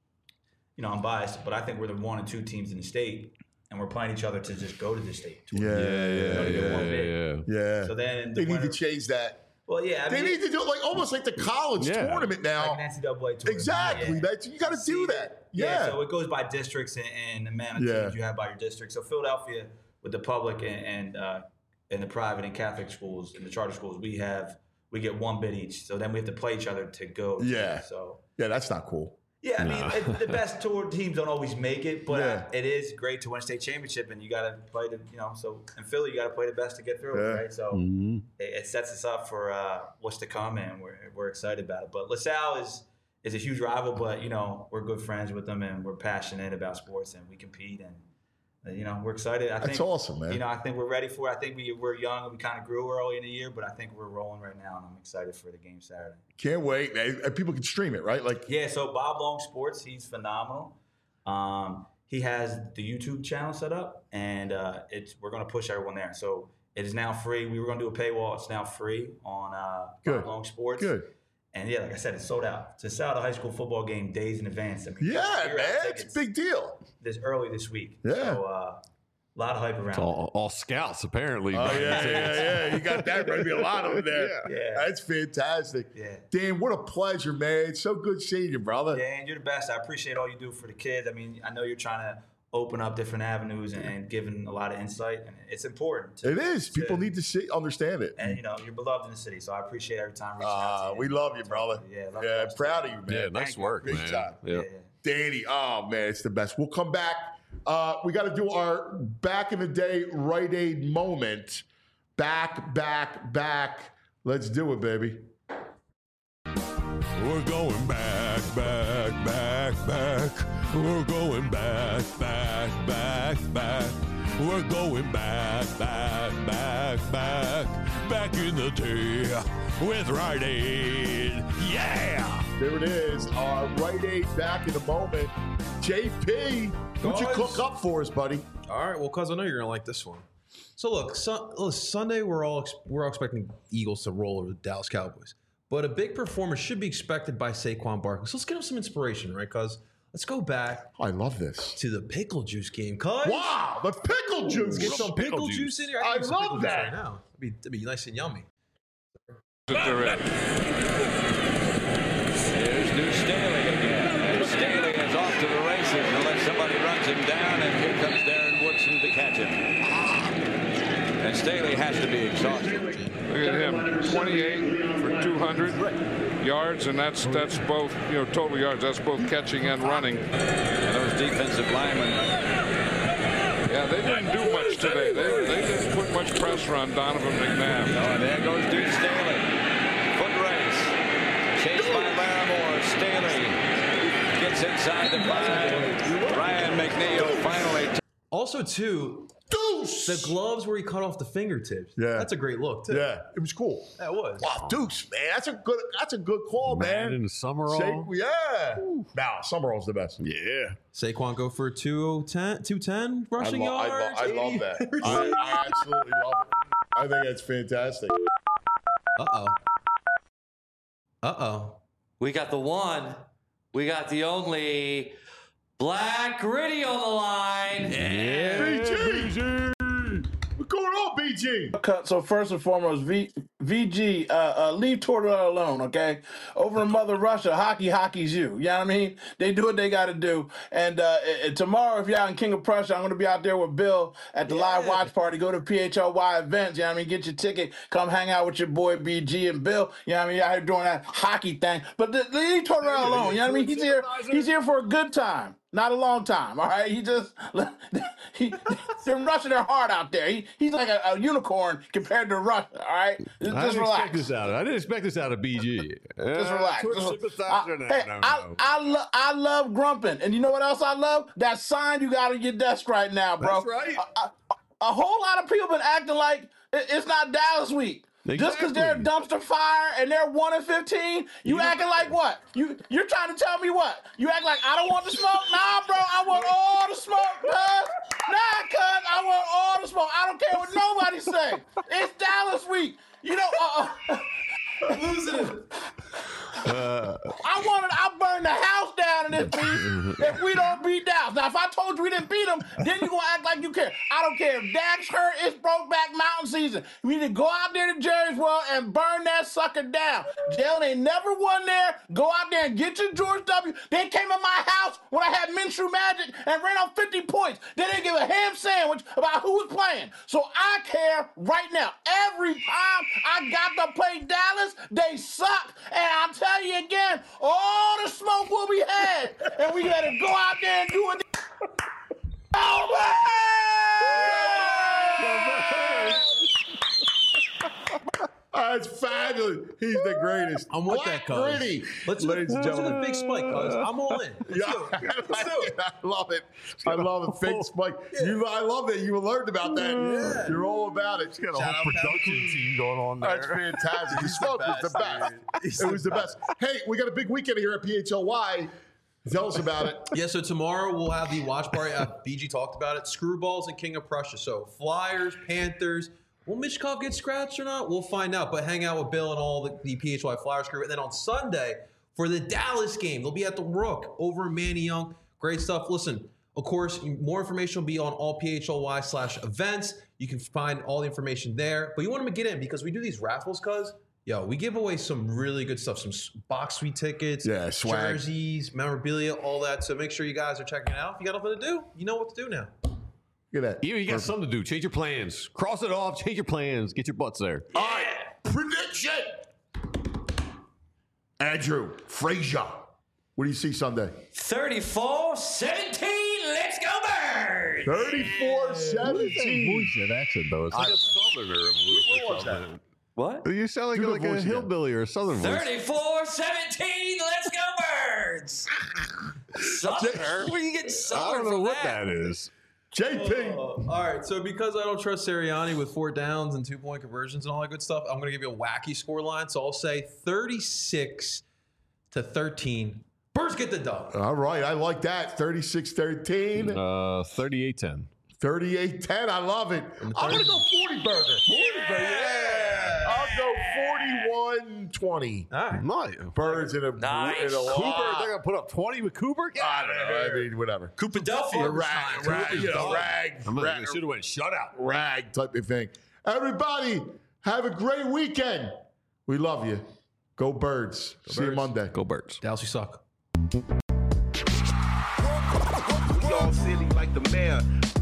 you know, I'm biased, but I think we're the one and two teams in the state, and we're playing each other to just go to the state. Yeah, yeah, yeah, yeah, Only get one yeah, bid. yeah. yeah. So then They the need winner, to change that. Well, yeah, I They mean, need to do it like almost like the college Yeah. tournament now. like an N C double A tournament. Exactly. Yeah. That's, you got to do See, that. Yeah. Yeah. So it goes by districts and, and the amount of Yeah. teams you have by your district. So Philadelphia, with the public and and, uh, and the private and Catholic schools and the charter schools, we have we get one bid each. So then we have to play each other to go. Yeah. So yeah, that's not cool. yeah, I mean, No. it, the best tour teams don't always make it, but Yeah. it is great to win a state championship, and you got to play the you know. So in Philly, you got to play the best to get through, Yeah. right? So Mhm. it, it sets us up for uh, what's to come, and we're we're excited about it. But LaSalle is is a huge rival, but you know we're good friends with them, and we're passionate about sports, and we compete, and uh, you know we're excited. I That's think, awesome, man. You know, I think we're ready for it. I think we we're young and we kind of grew early in the year, but I think we're rolling right now, and I'm excited for the game Saturday. Can't wait, man. And people can stream it, right? Like, Yeah, so Bob Long Sports, he's phenomenal. Um, he has the YouTube channel set up, and uh, it's we're going to push everyone there. So it is now free. We were going to do a paywall. It's now free on uh, Good. Bob Long Sports. good. And yeah, like I said, it's sold out. To sell out a high school football game days in advance. I mean, Yeah, figure out man. It's tickets a big deal. This early this week. Yeah. So uh, A lot of hype around. It's all, all scouts, apparently. Oh, yeah, yeah, yeah. You got that. Maybe a lot of them there. Yeah. yeah. That's fantastic. Yeah. Dan, what a pleasure, man. It's so good seeing you, brother. Dan, you're the best. I appreciate all you do for the kids. I mean, I know you're trying to open up different avenues and, and giving a lot of insight, and it's important. To, it is. to, People need to see, understand it. And, you know, you're beloved in the city, so I appreciate every time reaching uh, out to you. We love you, brother. Yeah, love yeah you proud of you, man. Yeah, nice Thank work, Big man. time. Yeah. Yeah. Danny, oh, man, it's the best. We'll come back. Uh, we got to do our back in the day Rite Aid moment. Back, back, back. Let's do it, baby. We're going back, back, back, back. We're going back, back, back, back. We're going back, back, back, back. Back in the day with Rite Aid. Yeah! There it is. Our Rite Aid back in the moment. J P, what'd you cook up for us, buddy? All right, well, cuz I know you're gonna like this one. So look, su- look Sunday we're all ex- we're all expecting Eagles to roll over the Dallas Cowboys, but a big performance should be expected by Saquon Barkley. So let's get him some inspiration, right? Cuz let's go back. I love this to the pickle juice game. Cuz wow, the pickle juice. Let's get some pickle, pickle juice. juice in here. I, I love love that right now. It'd be, it'd be nice and yummy. Here's New Staley again. And Staley is off to the races unless somebody runs him down, and here comes Darren Woodson to catch him. And Staley has to be exhausted. Look at him, twenty-eight for two hundred yards, and that's that's both, you know, total yards. That's both catching and running. And those defensive linemen. Yeah, they didn't do much today. They, they didn't put much pressure on Donovan McNabb. Oh, and there goes Duke Staley. Foot race. Chased by Larimore. Staley gets inside the five. Ryan McNeil finally. T- also, too, Deuce! The gloves where he cut off the fingertips. Yeah. That's a great look, too. Yeah, it was cool. That was. Wow, Deuce, man. That's a good that's a good call, man. Man in the Summerall. Shake, yeah. Nah, Summerall's the best. Yeah. Saquon go for two ten, two ten rushing I lo- I lo- yards. I love that. I, I absolutely love it. I think that's fantastic. Uh-oh. Uh-oh. We got the one. We got the only Black Gritty on the line. Yeah. B G. What's going on, B G? So first and foremost, v, VG, uh, uh, leave Tortorella alone, okay? Over in Mother Russia, hockey, hockey's you. You know what I mean? They do what they got to do. And uh, uh, tomorrow, if you're out in King of Prussia, I'm going to be out there with Bill at the yeah. live watch party. Go to P H L Y events, you know what I mean? Get your ticket. Come hang out with your boy B G and Bill. You know what I mean? Out here doing that hockey thing. But the, leave Tortorella alone. You know what I mean? He's here. He's here for a good time. Not a long time, all right? He just, he, they're rushing their heart out there. He, he's like a, a unicorn compared to Russia, all right? Just, I just didn't relax. expect this out of, I didn't expect this out of B G. Just relax. Uh, Just, sympathizer I, now. hey, no, I, no. I, lo- I love grumping. And you know what else I love? That sign you got on your desk right now, bro. That's right. A, a, a whole lot of people been acting like it, it's not Dallas week. Exactly. Just because they're a dumpster fire and they're one and fifteen, you, you acting like what? You you're trying to tell me what? You act like I don't want the smoke? Nah, bro, I want all the smoke, cuz. Nah, cuz, I want all the smoke. I don't care what nobody say. It's Dallas week. You know, uh, losing it. Uh, I wanted, I burned the house down in this beat if we don't beat Dallas. Now, if I told you we didn't beat them, then you gonna act like you care. I don't care. If Dak's hurt, it's Brokeback Mountain season. We need to go out there to Jerry's World and burn that sucker down. Jalen ain't never won there. Go out there and get your George W. They came in my house when I had Minshew Magic and ran off fifty points. They didn't give a ham sandwich about who was playing. So I care right now. Every time I got to play Dallas, they suck. And I'll tell you again, all the smoke will be had. And we got to go out there and do it. Oh, man! That's fabulous. He's the greatest. I'm with Black that, cuz. Gritty. Let's, Ladies and let's do gentlemen. the big spike, cuz. I'm all in. Let's Yeah, do it. Let's do it. I love it. I love it. Fake spike. You, I love that you learned about that. Yeah. You're all about it. got a whole production team going on there. That's fantastic. The smoke was the best. It was the best. Hey, we got a big weekend here at P H L Y. Tell us about it. Yeah, so tomorrow we'll have the watch party. Uh, B G talked about it. Screwballs and King of Prussia. So Flyers, Panthers. Will Michkov get scratched or not? We'll find out. But hang out with Bill and all the, the P H Y Flyers crew. And then on Sunday, for the Dallas game, they'll be at the Rook over in Manny Young. Great stuff. Listen, Of course, more information will be on all P H L Y slash events. You can find all the information there. But you want to get in because we do these raffles, cuz. Yo, we give away some really good stuff. Some box suite tickets, yeah, swag. jerseys, memorabilia, all that. So make sure you guys are checking it out. If you got nothing to do, you know what to do now. Look at that. You, you got something to do. Change your plans. Cross it off. Change your plans. Get your butts there. All right. Prediction. Andrew Frazier. What do you see Sunday? thirty-four seventeen. Let's go Birds. thirty-four seventeen. Bullshit accent, though. It's like a southerner voice or something. What? You sound like, Do the like a voice again. hillbilly or a southern voice. thirty-four seventeen. Let's go Birds. Southerner? Where you getting I Southern don't know from what that? that is. J P. Uh, all right, so because I don't trust Sirianni with four downs and two point conversions and all that good stuff, I'm going to give you a wacky score line. So I'll say thirty-six to thirteen. Birds get the dub. All right. I like that. thirty-six thirteen. Uh, thirty-eight ten. thirty-eight ten. I love it. I'm going to go forty burger. forty burger. Yeah. I'll go forty-one twenty. All right. Nice. Birds in a, Nice. in a Cooper, lot. they're going to put up twenty with Cooper? Get I out don't of know. I here. mean, whatever. Coopadelphia. Rag, rag, you know, rag, I'm like, rag, they should have went shutout. rag type of thing. Everybody, have a great weekend. We love you. Go Birds. See you Birds. Monday. Go Birds. Dallas, you suck. Y'all silly like the mayor.